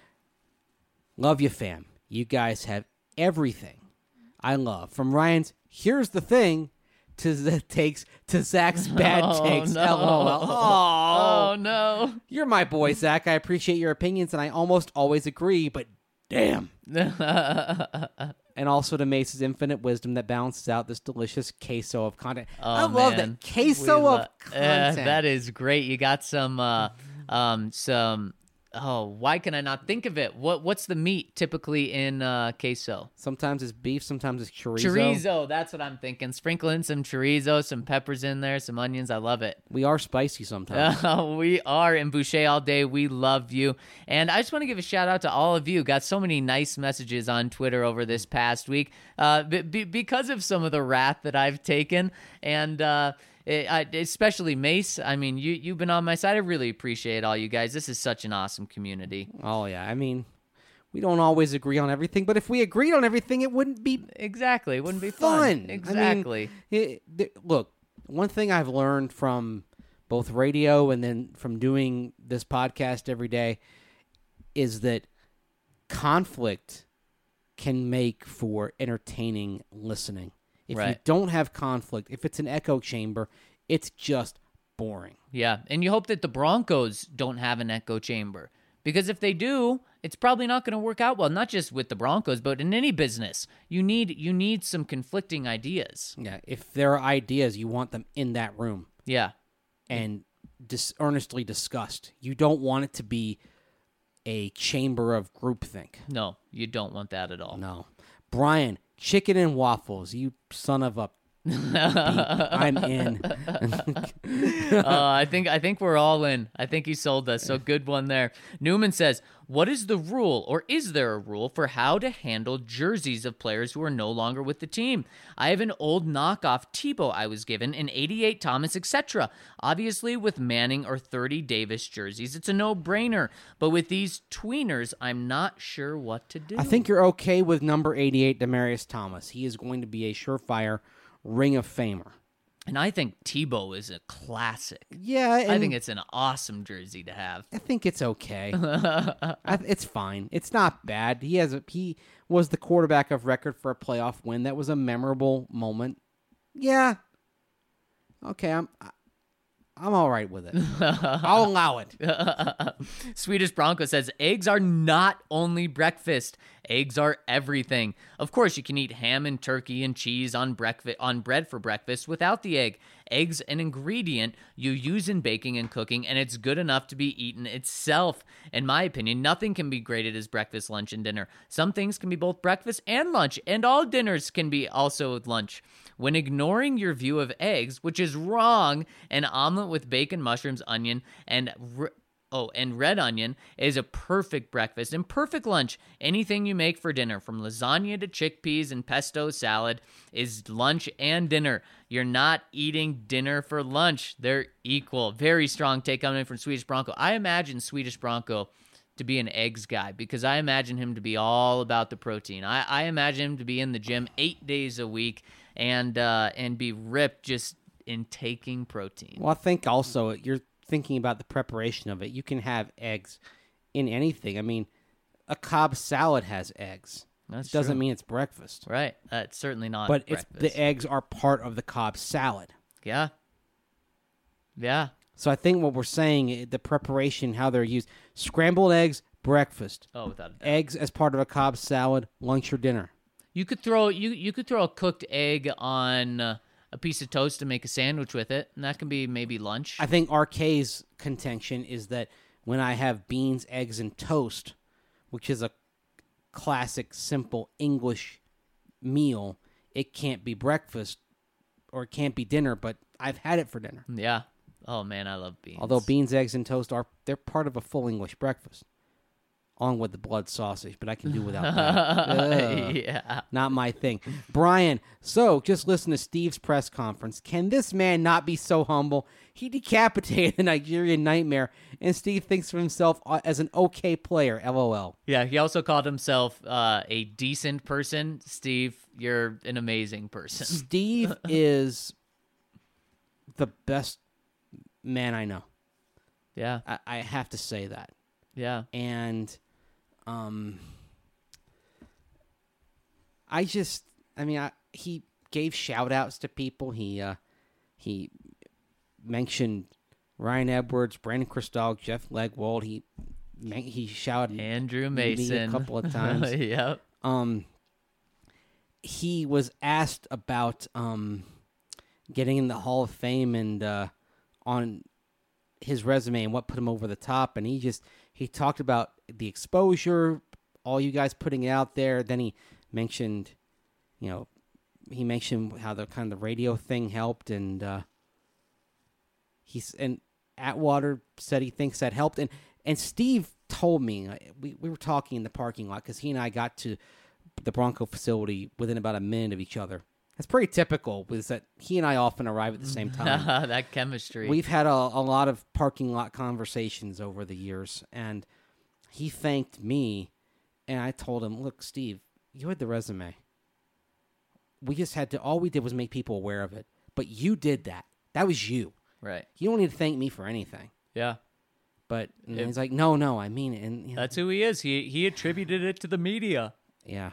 Love you, fam. You guys have everything I love. From Ryan's Here's the Thing to the takes to Zach's bad takes. No. LOL. Oh, no. You're my boy, Zach. I appreciate your opinions, and I almost always agree, but damn. and also to Mace's infinite wisdom that balances out this delicious queso of content. Oh, I love man. that queso of content. That is great. You got some. Oh, why can I not think of it? What's the meat typically in queso? Sometimes it's beef, sometimes it's chorizo. Chorizo, that's what I'm thinking. Sprinkle in some chorizo, some peppers in there, some onions. I love it. We are spicy sometimes. We are in Boucher all day. We love you. And I just want to give a shout out to all of you. Got so many nice messages on Twitter over this past week because of some of the wrath that I've taken. And especially Mace. I mean, you've been on my side. I really appreciate all you guys. This is such an awesome community. Oh, yeah. I mean, we don't always agree on everything, but if we agreed on everything, it wouldn't be exactly. It wouldn't be fun. Exactly. I mean, look, one thing I've learned from both radio and then from doing this podcast every day is that conflict can make for entertaining listening. If you don't have conflict, if it's an echo chamber, it's just boring. Yeah, and you hope that the Broncos don't have an echo chamber. Because if they do, it's probably not going to work out well, not just with the Broncos, but in any business. You need some conflicting ideas. Yeah, if there are ideas, you want them in that room. Yeah. And earnestly discussed. You don't want it to be a chamber of groupthink. No, you don't want that at all. No. Brian, chicken and waffles, you son of a I'm in. I think we're all in. I think you sold us. So good one there. Newman says, what is the rule, or is there a rule, for how to handle jerseys of players who are no longer with the team? I have an old knockoff Tebow I was given, an 88 Thomas, etc. Obviously, with Manning or 30 Davis jerseys, it's a no-brainer. But with these tweeners, I'm not sure what to do. I think you're okay with number 88, Demaryius Thomas. He is going to be a surefire Ring of Famer. And I think Tebow is a classic. Yeah. I think it's an awesome jersey to have. I think it's okay. It's fine. It's not bad. He was the quarterback of record for a playoff win. That was a memorable moment. Yeah. Okay, I'm all right with it. I'll allow it. Swedish Bronco says, eggs are not only breakfast. Eggs are everything. Of course, you can eat ham and turkey and cheese on bread for breakfast without the egg. Eggs an ingredient you use in baking and cooking, and it's good enough to be eaten itself. In my opinion, nothing can be graded as breakfast, lunch, and dinner. Some things can be both breakfast and lunch, and all dinners can be also lunch. When ignoring your view of eggs, which is wrong, an omelet with bacon, mushrooms, onion, and red onion is a perfect breakfast and perfect lunch. Anything you make for dinner, from lasagna to chickpeas and pesto salad, is lunch and dinner. You're not eating dinner for lunch. They're equal. Very strong take coming in from Swedish Bronco. I imagine Swedish Bronco to be an eggs guy, because I imagine him to be all about the protein. I imagine him to be in the gym 8 days a week and be ripped just in taking protein. Well, I think also you're thinking about the preparation of it. You can have eggs in anything. I mean, a Cobb salad has eggs. That doesn't mean it's breakfast. Right. It's certainly not but breakfast. The eggs are part of the Cobb salad. Yeah. Yeah. So I think what we're saying, the preparation, how they're used, scrambled eggs, breakfast. Oh, without a doubt. Eggs as part of a Cobb salad, lunch or dinner. You could throw a cooked egg on a piece of toast to make a sandwich with it, and that can be maybe lunch. I think RK's contention is that when I have beans, eggs, and toast, which is a classic, simple English meal, it can't be breakfast or it can't be dinner, but I've had it for dinner. Yeah. Oh, man, I love beans. Although beans, eggs, and toast they're part of a full English breakfast, along with the blood sausage, but I can do without that. Yeah. Not my thing. Brian, so just listen to Steve's press conference. Can this man not be so humble? He decapitated the Nigerian Nightmare, and Steve thinks of himself as an okay player, LOL. Yeah, he also called himself a decent person. Steve, you're an amazing person. Steve is the best man I know. Yeah. I have to say that. Yeah. And he gave shout outs to people. He mentioned Ryan Edwards, Brandon Kristoff, Jeff Legwold. He shouted Andrew Mason me a couple of times. Yep. he was asked about getting in the Hall of Fame and on his resume and what put him over the top, and he talked about the exposure, all you guys putting it out there. Then he mentioned, how the radio thing helped, and and Atwater said he thinks that helped, and Steve told me we were talking in the parking lot because he and I got to the Bronco facility within about a minute of each other. That's pretty typical, is that he and I often arrive at the same time. That chemistry. We've had a lot of parking lot conversations over the years, and he thanked me, and I told him, look, Steve, you had the resume. We just had to, all we did was make people aware of it. But you did that. That was you. Right. You don't need to thank me for anything. Yeah. But he's like, no, I mean it. And, that's who he is. He attributed it to the media. Yeah.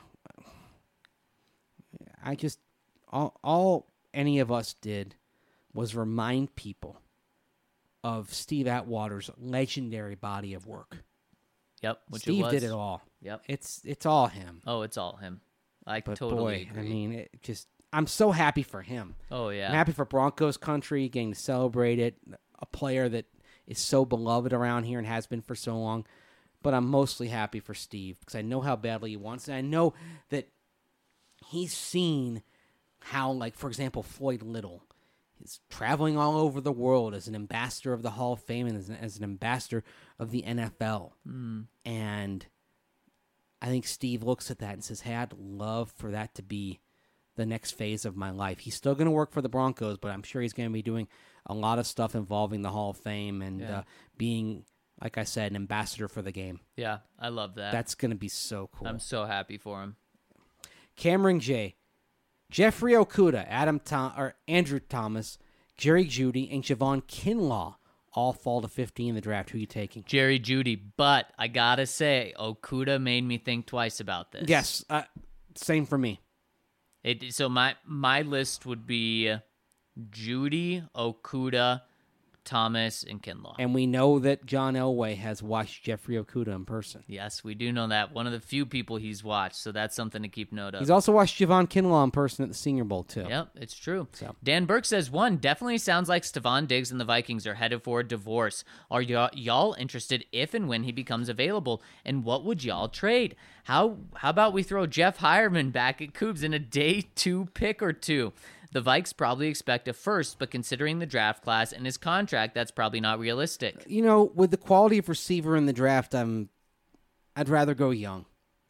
I just, all any of us did was remind people of Steve Atwater's legendary body of work. Yep. Which Steve did it all. Yep. It's all him. Oh, it's all him. But totally boy, agree. I mean, I'm so happy for him. Oh, yeah. I'm happy for Broncos country getting to celebrate it. A player that is so beloved around here and has been for so long. But I'm mostly happy for Steve because I know how badly he wants it. And I know that he's seen how, like, for example, Floyd Little is traveling all over the world as an ambassador of the Hall of Fame and as an ambassador of the NFL. And I think Steve looks at that and says, hey, I'd love for that to be the next phase of my life. He's still going to work for the Broncos, but I'm sure he's going to be doing a lot of stuff involving the Hall of Fame and being, like I said, an ambassador for the game. Yeah, I love that. That's going to be so cool. I'm so happy for him. Cameron J., Jeffrey Okudah, Andrew Thomas, Jerry Jeudy, and Javon Kinlaw all fall to 15 in the draft. Who are you taking? Jerry Jeudy, but I got to say, Okudah made me think twice about this. Yes, same for me. So my list would be Jeudy, Okudah, Thomas, and Kinlaw. And we know that John Elway has watched Jeffrey Okudah in person. Yes, we do know that. One of the few people he's watched, so that's something to keep note of. He's also watched Javon Kinlaw in person at the Senior Bowl, too. Yep, it's true. So. Dan Burke says, definitely sounds like Stephon Diggs and the Vikings are headed for a divorce. Are y'all interested if and when he becomes available? And what would y'all trade? How about we throw Jeff Hireman back at Cougs in a day 2 pick or two? The Vikes probably expect a first, but considering the draft class and his contract, that's probably not realistic. You know, with the quality of receiver in the draft, I'd rather go young.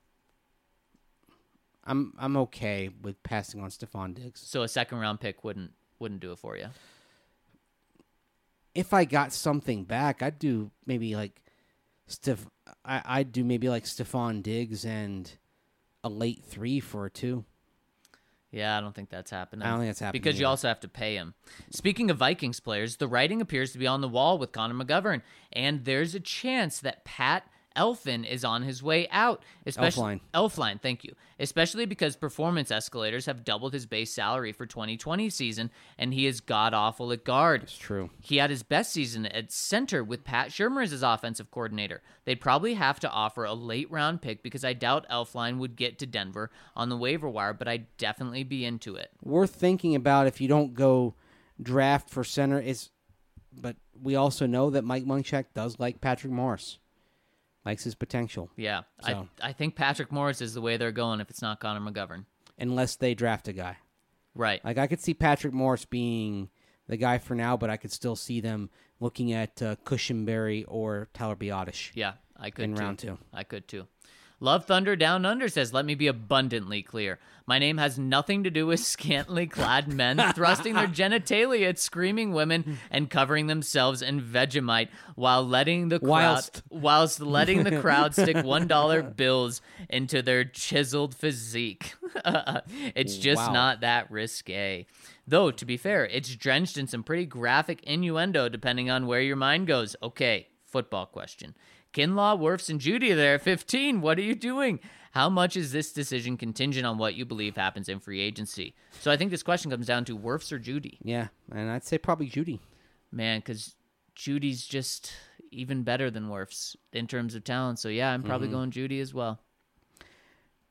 I'm okay with passing on Stephon Diggs. So a second-round pick wouldn't do it for you? If I got something back, I'd do maybe like Stephon Diggs and a late 3 for a 2. Yeah, I don't think that's happening. I don't think that's happening because you either. also have to pay him. Speaking of Vikings players, the writing appears to be on the wall with Connor McGovern, and there's a chance that Pat Elflein is on his way out. Elflein, thank you. Especially because performance escalators have doubled his base salary for 2020 season, and he is god-awful at guard. It's true. He had his best season at center with Pat Shurmur as his offensive coordinator. They'd probably have to offer a late-round pick because I doubt Elflein would get to Denver on the waiver wire, but I'd definitely be into it. Worth thinking about if you don't go draft for center but we also know that Mike Munchak does like Patrick Morris. Likes his potential. Yeah, So. I think Patrick Morris is the way they're going if it's not Connor McGovern. Unless they draft a guy. Right. Like, I could see Patrick Morris being the guy for now, but I could still see them looking at Cushenberry or Tyler Biotish. Yeah, I could in too. round 2. I could too. Love Thunder Down Under says, let me be abundantly clear. My name has nothing to do with scantily clad men thrusting their genitalia at screaming women and covering themselves in Vegemite whilst letting the crowd stick $1 bills into their chiseled physique. It's just not that risque. Though, to be fair, it's drenched in some pretty graphic innuendo depending on where your mind goes. Okay, football question. Kinlaw, Wirfs, and Jeudy are there at 15. What are you doing? How much is this decision contingent on what you believe happens in free agency? So I think this question comes down to Wirfs or Jeudy. Yeah, and I'd say probably Jeudy. Man, because Judy's just even better than Wirfs in terms of talent. So yeah, I'm probably going Jeudy as well.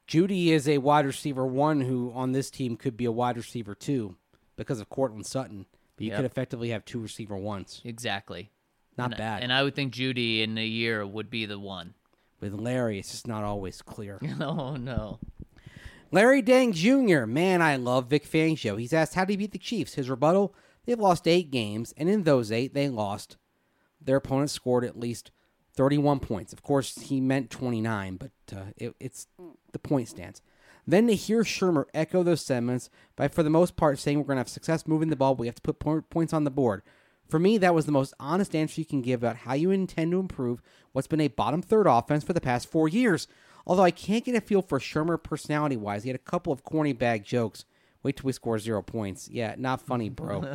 Judy is a wide receiver 1 who on this team could be a wide receiver 2 because of Cortland Sutton. But you could effectively have 2 receiver 1s. Exactly. Not bad. And I would think Judy in a year would be the one. With Larry, it's just not always clear. Oh, no. Larry Dang Jr. Man, I love Vic Fangio. He's asked, how did he beat the Chiefs? His rebuttal, they've lost 8 games, and in those 8, they lost. Their opponent scored at least 31 points. Of course, he meant 29, but it's the point stands. Then to hear Shurmur echo those sentiments by, for the most part, saying we're going to have success moving the ball, we have to put points on the board. For me, that was the most honest answer you can give about how you intend to improve what's been a bottom third offense for the past 4 years. Although I can't get a feel for Shurmur personality-wise. He had a couple of corny bag jokes. Wait till we score 0 points. Yeah, not funny, bro.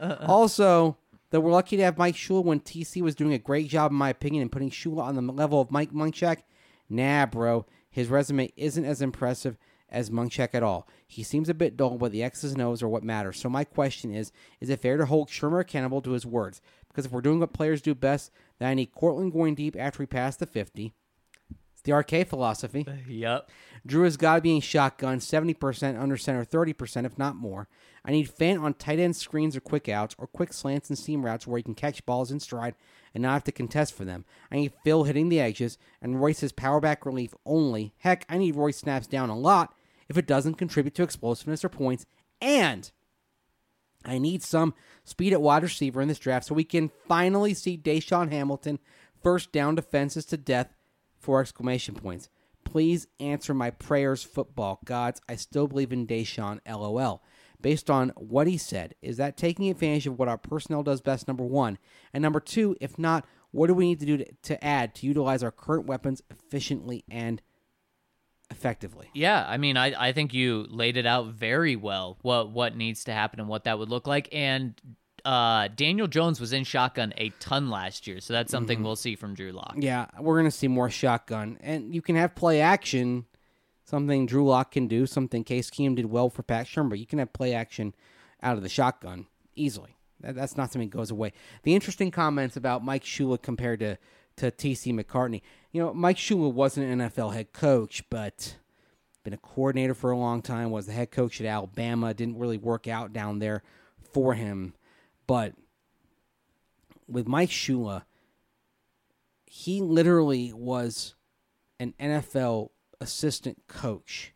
Also, that we're lucky to have Mike Shula when TC was doing a great job, in my opinion, in putting Shula on the level of Mike Munchak. Nah, bro. His resume isn't as impressive as Munchak at all. He seems a bit dull, but the X's and O's are what matter. So my question is it fair to hold Shurmur accountable to his words? Because if we're doing what players do best, then I need Cortland going deep after we pass the 50. It's the RK philosophy. Yep. Drew has got to be in shotgun, 70%, under center, 30%, if not more. I need Fant on tight end screens or quick outs, or quick slants and seam routes where he can catch balls in stride and not have to contest for them. I need Phil hitting the edges, and Royce's power back relief only. Heck, I need Royce snaps down a lot if it doesn't contribute to explosiveness or points. And I need some speed at wide receiver in this draft so we can finally see Deshaun Hamilton first down defenses to death for exclamation points. Please answer my prayers, football gods. I still believe in Deshaun, LOL. Based on what he said, is that taking advantage of what our personnel does best, number 1? And number 2, if not, what do we need to do to add to utilize our current weapons efficiently and effectively? Yeah, I mean, I think you laid it out very well, what needs to happen and what that would look like. And Daniel Jones was in shotgun a ton last year, so that's something we'll see from Drew Lock. Yeah, we're going to see more shotgun. And you can have play action, something Drew Lock can do, something Case Keenum did well for Pat Shurmur, but you can have play action out of the shotgun easily. That's not something that goes away. The interesting comments about Mike Shula compared to T.C. McCartney. You know, Mike Shula wasn't an NFL head coach, but been a coordinator for a long time, was the head coach at Alabama, didn't really work out down there for him. But with Mike Shula, he literally was an NFL assistant coach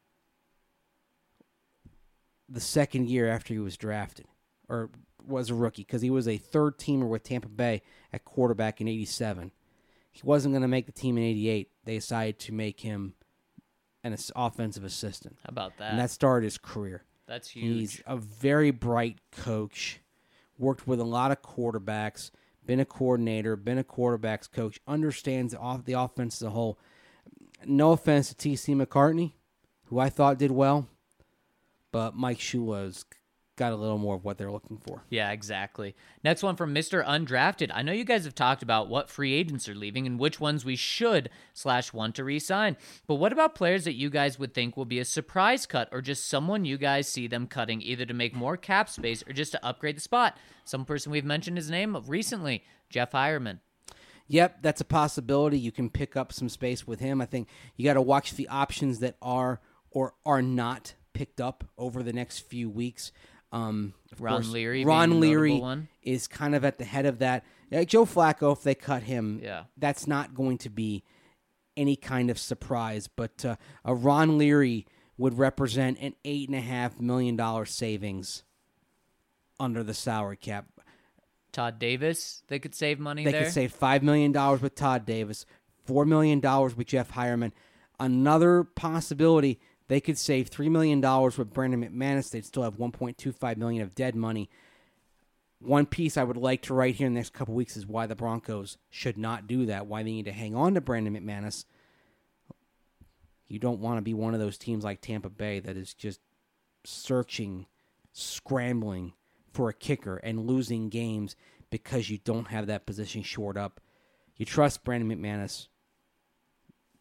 the second year after he was drafted, or was a rookie, because he was a third-teamer with Tampa Bay at quarterback in 87. He wasn't going to make the team in 88. They decided to make him an offensive assistant. How about that? And that started his career. That's huge. He's a very bright coach, worked with a lot of quarterbacks, been a coordinator, been a quarterbacks coach, understands the offense as a whole. No offense to T.C. McCartney, who I thought did well, but Mike Shula's got a little more of what they're looking for. Yeah, exactly. Next one from Mr. Undrafted. I know you guys have talked about what free agents are leaving and which ones we should / want to re-sign, but what about players that you guys would think will be a surprise cut or just someone you guys see them cutting either to make more cap space or just to upgrade the spot? Some person we've mentioned his name recently, Jeff Hireman. Yep, that's a possibility. You can pick up some space with him. I think you got to watch the options that are or are not picked up over the next few weeks. Ron Leary one. Is kind of at the head of that. Joe Flacco, if they cut him, that's not going to be any kind of surprise. But a Ron Leary would represent an $8.5 million savings under the salary cap. Todd Davis, they could save money there. They could save $5 million with Todd Davis, $4 million with Jeff Hireman. Another possibility, they could save $3 million with Brandon McManus. They'd still have $1.25 million of dead money. One piece I would like to write here in the next couple weeks is why the Broncos should not do that, why they need to hang on to Brandon McManus. You don't want to be one of those teams like Tampa Bay that is just searching, scrambling for a kicker and losing games because you don't have that position shored up. You trust Brandon McManus.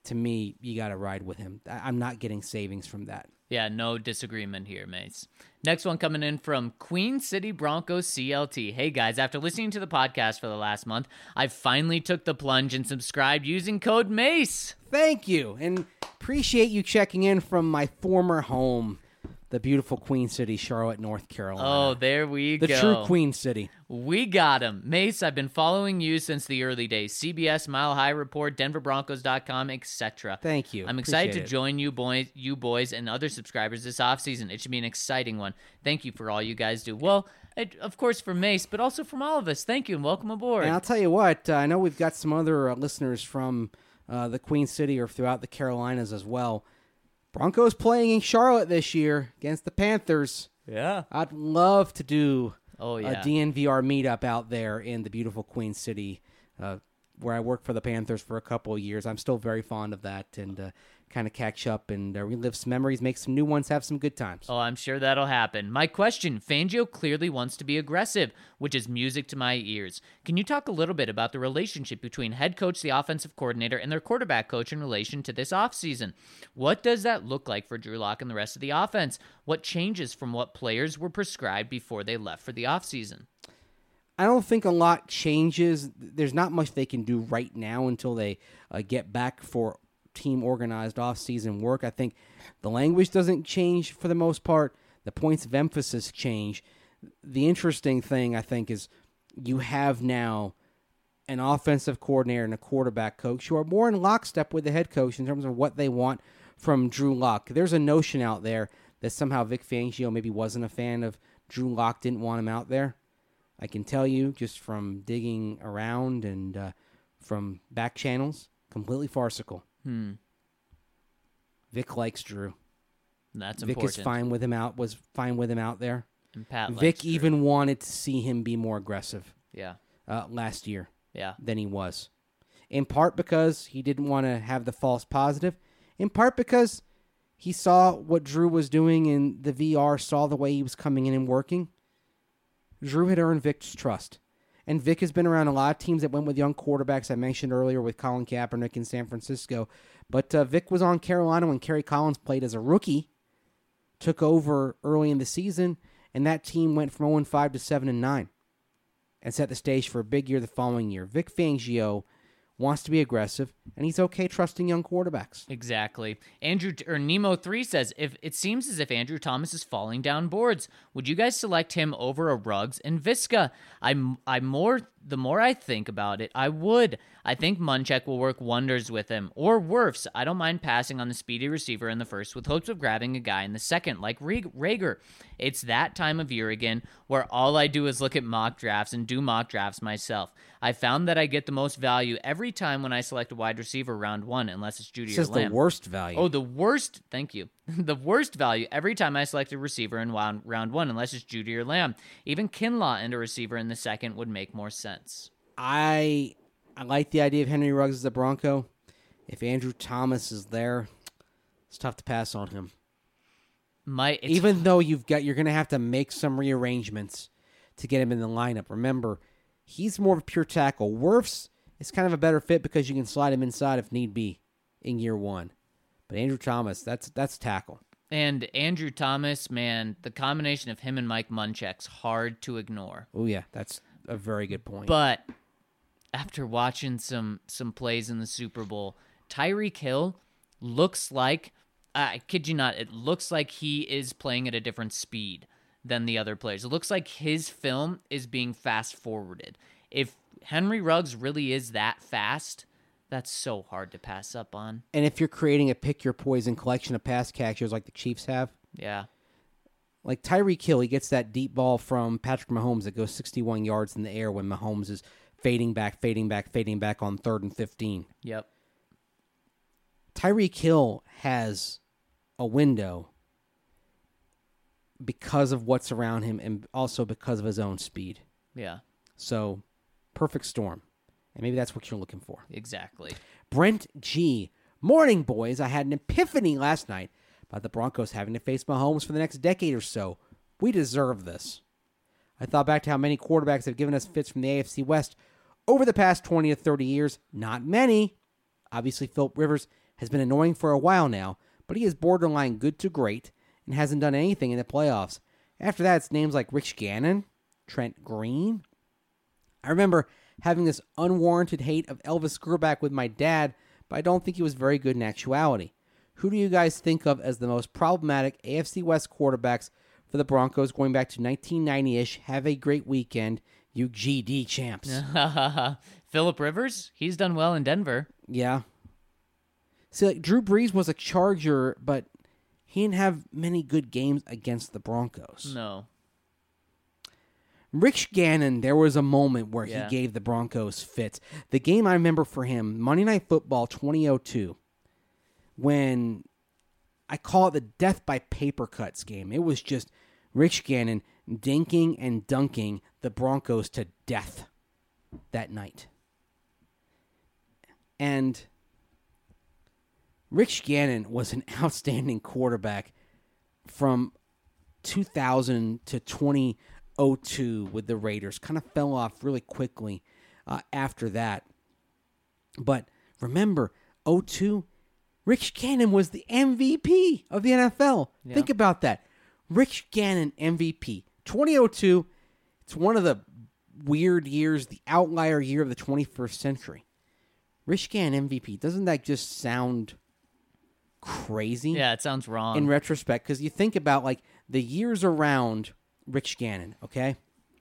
to me, you got to ride with him. I'm not getting savings from that. Yeah, no disagreement here, mates. Next one coming in from Queen City Broncos CLT. Hey guys, after listening to the podcast for the last month, I finally took the plunge and subscribed using code MACE. Thank you, and appreciate you checking in from my former home, the beautiful Queen City, Charlotte, North Carolina. Oh, there we go. The true Queen City. We got him. Mace, I've been following you since the early days. CBS, Mile High Report, DenverBroncos.com, etc. Thank you. I'm excited to Appreciate it. join you boys, and other subscribers this offseason. It should be an exciting one. Thank you for all you guys do. Well, of course for Mace, but also from all of us. Thank you, and welcome aboard. And I'll tell you what, I know we've got some other listeners from the Queen City or throughout the Carolinas as well. Broncos playing in Charlotte this year against the Panthers. Yeah. I'd love to do Oh, yeah. a DNVR meetup out there in the beautiful Queen City, where I worked for the Panthers for a couple of years. I'm still very fond of that, and kind of catch up and relive some memories, make some new ones, have some good times. Oh, I'm sure that'll happen. My question, Fangio clearly wants to be aggressive, which is music to my ears. Can you talk a little bit about the relationship between head coach, the offensive coordinator, and their quarterback coach in relation to this offseason? What does that look like for Drew Lock and the rest of the offense? What changes from what players were prescribed before they left for the offseason? I don't think a lot changes. There's not much they can do right now until they get back for team organized off-season work. I think the language doesn't change for the most part. The points of emphasis change. The interesting thing, I think, is you have now an offensive coordinator and a quarterback coach who are more in lockstep with the head coach in terms of what they want from Drew Lock. There's a notion out there that somehow Vic Fangio maybe wasn't a fan of Drew Lock, didn't want him out there. I can tell you just from digging around and from back channels, completely farcical. Vic likes Drew. That's Vic important. is fine with him out. Was fine with him out there. And Pat likes Vic Drew. even wanted to see him be more aggressive Yeah. last year Yeah. than he was. In part because he didn't want to have the false positive. In part because he saw what Drew was doing in the VR, saw the way he was coming in and working. Drew had earned Vic's trust. And Vic has been around a lot of teams that went with young quarterbacks. I mentioned earlier with Colin Kaepernick in San Francisco. But Vic was on Carolina when Kerry Collins played as a rookie, took over early in the season, and that team went from 0-5 to 7-9 and set the stage for a big year the following year. Vic Fangio wants to be aggressive, and he's okay trusting young quarterbacks. Exactly. Nemo3 says, if it seems as if Andrew Thomas is falling down boards, would you guys select him over a Ruggs and Visca? The more I think about it, I would. I think Munchak will work wonders with him. Or Wirfs. I don't mind passing on the speedy receiver in the first with hopes of grabbing a guy in the second, like Rager. It's that time of year again where all I do is look at mock drafts and do mock drafts myself. I found that I get the most value every time when I select a wide receiver round one, unless it's Judy This or is Lamb. the worst value. Oh, the worst. Thank you. The worst value every time I select a receiver in round one, unless it's Judy or Lamb. Even Kinlaw and a receiver in the second would make more sense. I like the idea of Henry Ruggs as a Bronco. If Andrew Thomas is there, it's tough to pass on him. Even though you're going to have to make some rearrangements to get him in the lineup. Remember, he's more of a pure tackle. Wirfs is kind of a better fit because you can slide him inside if need be in year one. But Andrew Thomas, that's tackle. And Andrew Thomas, man, the combination of him and Mike Munchak's hard to ignore. Oh yeah, that's a very good point. But after watching some plays in the Super Bowl, Tyreek Hill looks like, I kid you not, it looks like he is playing at a different speed than the other players. It looks like his film is being fast-forwarded. If Henry Ruggs really is that fast, that's so hard to pass up on. And if you're creating a pick-your-poison collection of pass catchers like the Chiefs have, Yeah. like Tyreek Hill, he gets that deep ball from Patrick Mahomes that goes 61 yards in the air when Mahomes is fading back on 3rd and 15. Yep. Tyreek Hill has a window because of what's around him and also because of his own speed. Yeah. So, perfect storm. And maybe that's what you're looking for. Exactly. Brent G. Morning, boys. I had an epiphany last night about the Broncos having to face Mahomes for the next decade or so. We deserve this. I thought back to how many quarterbacks have given us fits from the AFC West over the past 20 to 30 years. Not many. Obviously, Philip Rivers has been annoying for a while now, but he is borderline good to great and hasn't done anything in the playoffs. After that, it's names like Rich Gannon, Trent Green. I remember having this unwarranted hate of Elvis Grbac with my dad, but I don't think he was very good in actuality. Who do you guys think of as the most problematic AFC West quarterbacks for the Broncos going back to 1990-ish? Have a great weekend, you GD champs. Phillip Rivers, he's done well in Denver. Yeah. See, like, Drew Brees was a Charger, but he didn't have many good games against the Broncos. No. Rich Gannon, there was a moment where Yeah. he gave the Broncos fits. The game I remember for him, Monday Night Football 2002, when I call it the death by paper cuts game. It was just Rich Gannon dinking and dunking the Broncos to death that night. And Rich Gannon was an outstanding quarterback from 2000 to 2002 with the Raiders. Kind of fell off really quickly after that. But remember, 2002, Rich Gannon was the MVP of the NFL. Yeah. Think about that. Rich Gannon MVP. 2002, it's one of the weird years, the outlier year of the 21st century. Rich Gannon MVP. Doesn't that just sound crazy? Yeah, it sounds wrong. In retrospect, because you think about like the years around Rich Gannon, okay?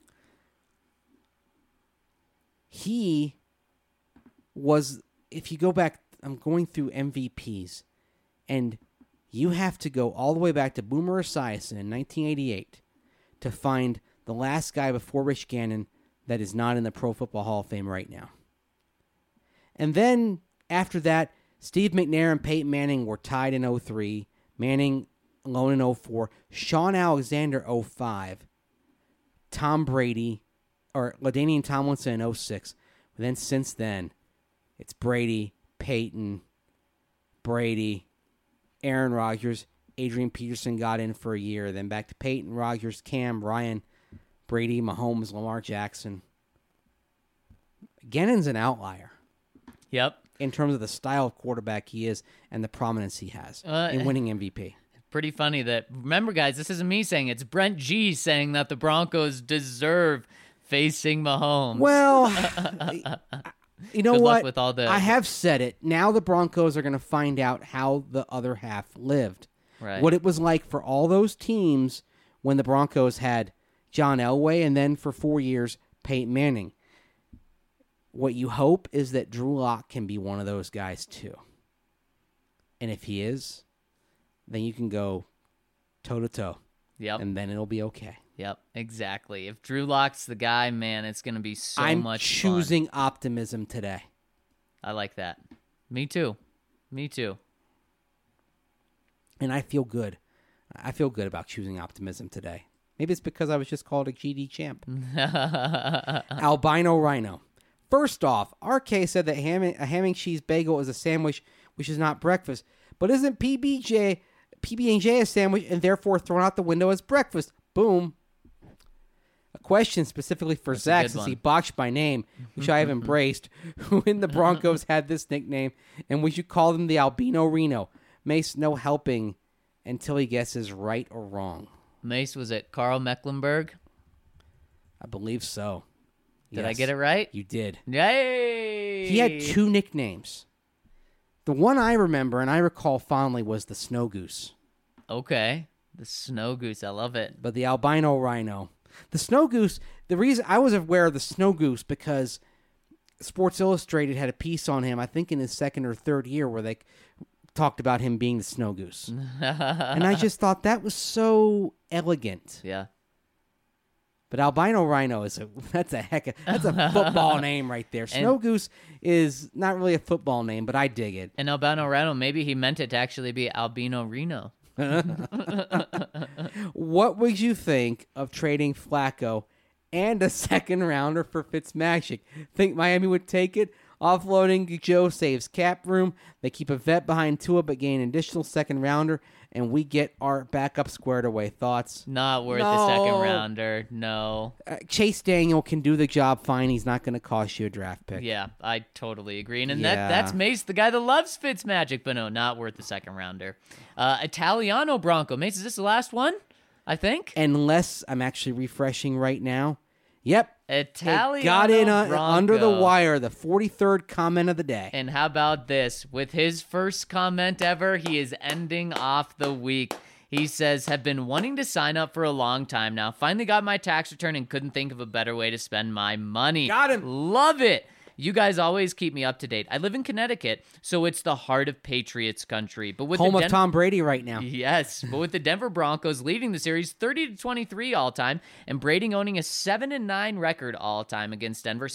He was, if you go back, I'm going through MVPs, and you have to go all the way back to Boomer Esiason in 1988 to find the last guy before Rich Gannon that is not in the Pro Football Hall of Fame right now. And then after that, Steve McNair and Peyton Manning were tied in 2003, Manning alone in 2004, Sean Alexander 2005, Tom Brady, or LaDainian Tomlinson in 2006. But then since then, it's Brady, Peyton, Brady, Aaron Rodgers, Adrian Peterson got in for a year, then back to Peyton, Rodgers, Cam, Ryan, Brady, Mahomes, Lamar Jackson. Gannon's an outlier. Yep. In terms of the style of quarterback he is and the prominence he has in winning MVP. Pretty funny that, remember guys, this isn't me saying, it's Brent G saying that the Broncos deserve facing Mahomes. Well, you know Good luck what? with all the- I have said it. Now the Broncos are going to find out how the other half lived. Right. What it was like for all those teams when the Broncos had John Elway and then for 4 years, Peyton Manning. What you hope is that Drew Lock can be one of those guys too. And if he is, then you can go toe-to-toe. Yep. And then it'll be okay. Yep, exactly. If Drew Lock's the guy, man, it's going to be so I'm much choosing optimism today. fun. I like that. Me too. Me too. And I feel good. I feel good about choosing optimism today. Maybe it's because I was just called a GD champ. Albino Rhino. First off, RK said that a ham and cheese bagel is a sandwich, which is not breakfast. But isn't PB&J a sandwich and therefore thrown out the window as breakfast? Boom. A question specifically for That's a Zach, good since one. he botched my name, which I have embraced. Who in the Broncos had this nickname, and we should call them the Albino Reno? Mace, no helping until he guesses right or wrong. Mace, was it Carl Mecklenburg? I believe so. Did I Yes, get it right? You did. Yay! He had two nicknames. The one I remember and I recall fondly was the Snow Goose. Okay. The Snow Goose. I love it. But the Albino Rhino. The Snow Goose, the reason I was aware of the Snow Goose because Sports Illustrated had a piece on him, I think in his second or third year, where they talked about him being the Snow Goose. And I just thought that was so elegant. Yeah. But Albino Rhino that's a football name right there. Snow Goose is not really a football name, but I dig it. And Albino Rhino, maybe he meant it to actually be Albino Reno. What would you think of trading Flacco and a second rounder for Fitzmagic? Think Miami would take it? Offloading Joe saves cap room. They keep a vet behind Tua but gain an additional second rounder, and we get our backup squared away. Thoughts? Not worth No. the second rounder. No. Chase Daniel can do the job fine. He's not going to cost you a draft pick. Yeah, I totally agree. And Yeah. that's Mace, the guy that loves Fitzmagic, but no, not worth the second rounder. Italiano Bronco. Mace, is this the last one? I think. Unless I'm actually refreshing right now. Yep. Italiano It got in Bronco. under the wire, the 43rd comment of the day. And how about this? With his first comment ever, he is ending off the week. He says, have been wanting to sign up for a long time now. Finally got my tax return and couldn't think of a better way to spend my money. Got him. Love it. You guys always keep me up to date. I live in Connecticut, so it's the heart of Patriots country. But with Home the of Tom Brady right now. Yes, but with the Denver Broncos leading the series 30-23 all time, and Brady owning a 7-9 record all time against Denver,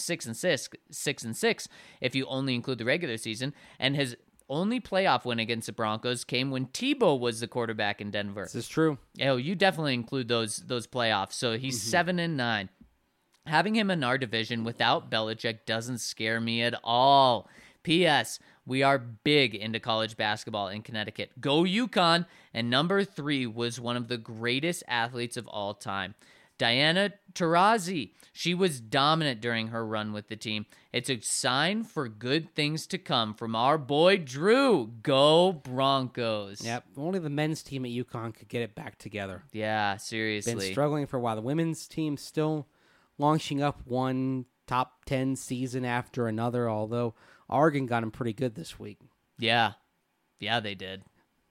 6-6 if you only include the regular season, and his only playoff win against the Broncos came when Tebow was the quarterback in Denver. This is true. Oh, you definitely include those playoffs. So he's 7-9. Having him in our division without Belichick doesn't scare me at all. P.S. We are big into college basketball in Connecticut. Go UConn! And number 3 was one of the greatest athletes of all time. Diana Taurasi. She was dominant during her run with the team. It's a sign for good things to come from our boy Drew. Go Broncos. Yep. Only the men's team at UConn could get it back together. Yeah, seriously. Been struggling for a while. The women's team still launching up one top 10 season after another, although Oregon got them pretty good this week. Yeah. Yeah, they did.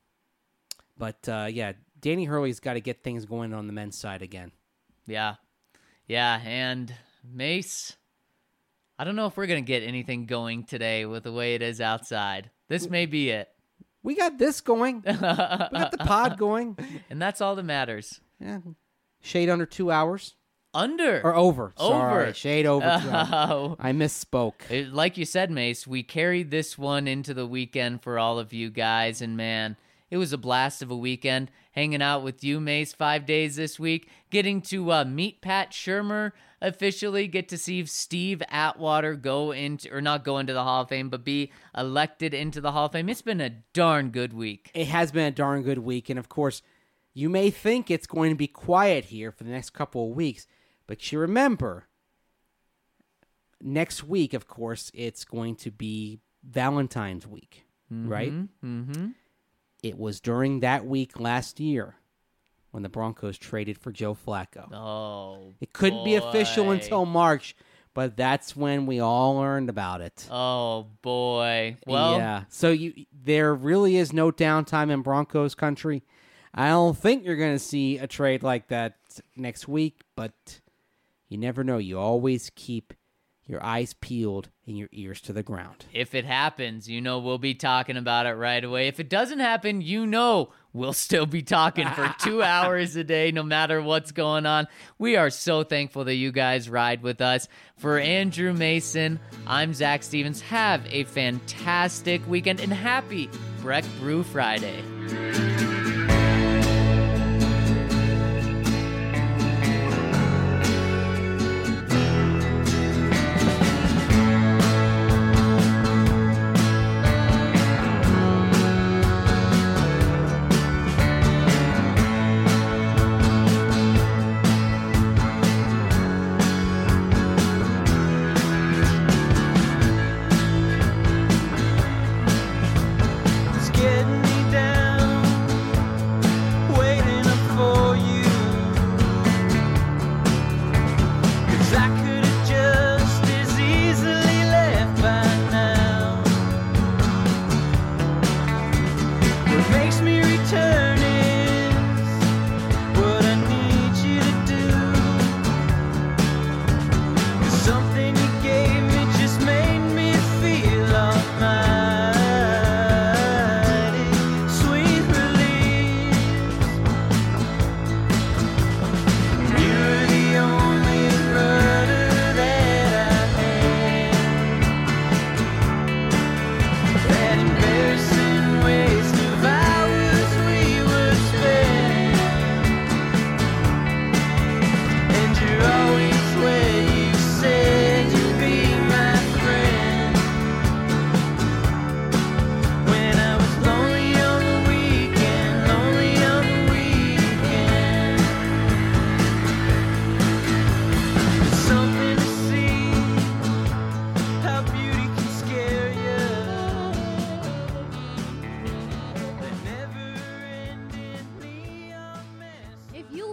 But, yeah, Danny Hurley's got to get things going on the men's side again. Yeah. Yeah, and Mace, I don't know if we're going to get anything going today with the way it is outside. This may be it. We got this going. We got the pod going. And that's all that matters. Yeah. Shade under 2 hours. Under. Or over. Over. Sorry. Shade over 2 hours. I misspoke. Like you said, Mace, we carried this one into the weekend for all of you guys, and man, it was a blast of a weekend hanging out with you, Mace, 5 days this week, getting to meet Pat Shurmur officially, get to see Steve Atwater not go into the Hall of Fame, but be elected into the Hall of Fame. It's been a darn good week. It has been a darn good week, and of course, you may think it's going to be quiet here for the next couple of weeks, but you remember, next week, of course, it's going to be Valentine's week, right? Mm-hmm. It was during that week last year when the Broncos traded for Joe Flacco. Oh, It couldn't be official boy. until March, but that's when we all learned about it. Oh, boy. Well, yeah. So there really is no downtime in Broncos country. I don't think you're going to see a trade like that next week, but you never know. You always keep your eyes peeled and your ears to the ground. if it happens, we'll be talking about it right away. If it doesn't happen, we'll still be talking for 2 hours a day, no matter what's going on. We are so thankful that you guys ride with us. For Andrew Mason, I'm Zach Stevens. Have a fantastic weekend and happy Breck Brew Friday. It's getting me down.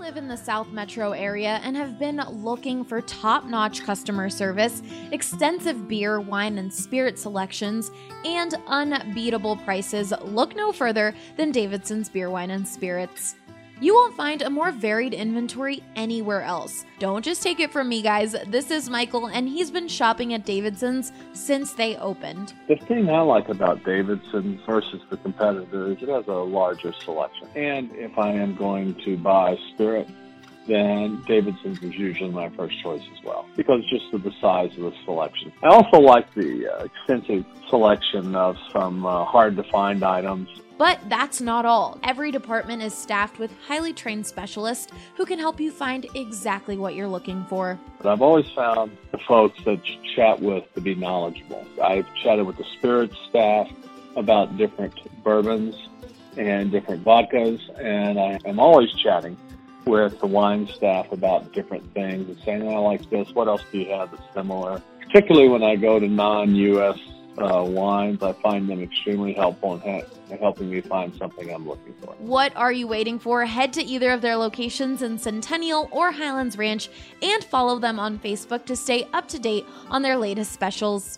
live in the South Metro area and have been looking for top-notch customer service, extensive beer, wine, and spirit selections, and unbeatable prices, look no further than Davidson's Beer, Wine, and Spirits. You won't find a more varied inventory anywhere else. Don't just take it from me, guys. This is Michael, and he's been shopping at Davidson's since they opened. The thing I like about Davidson's versus the competitors, it has a larger selection. And if I am going to buy spirit, then Davidson's is usually my first choice as well, because just of the size of the selection. I also like the extensive selection of some hard-to-find items. But that's not all. Every department is staffed with highly trained specialists who can help you find exactly what you're looking for. But I've always found the folks that you chat with to be knowledgeable. I've chatted with the spirits staff about different bourbons and different vodkas, and I am always chatting with the wine staff about different things and saying, I like this, what else do you have that's similar? Particularly when I go to non-U.S. wines, I find them extremely helpful in helping me find something I'm looking for. What are you waiting for? Head to either of their locations in Centennial or Highlands Ranch and follow them on Facebook to stay up to date on their latest specials.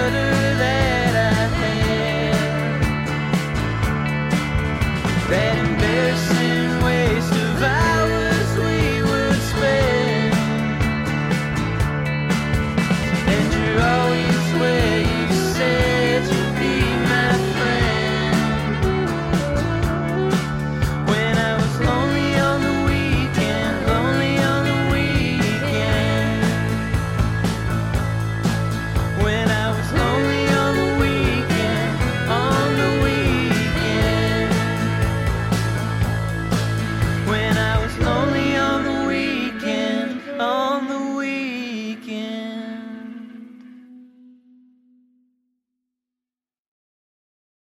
That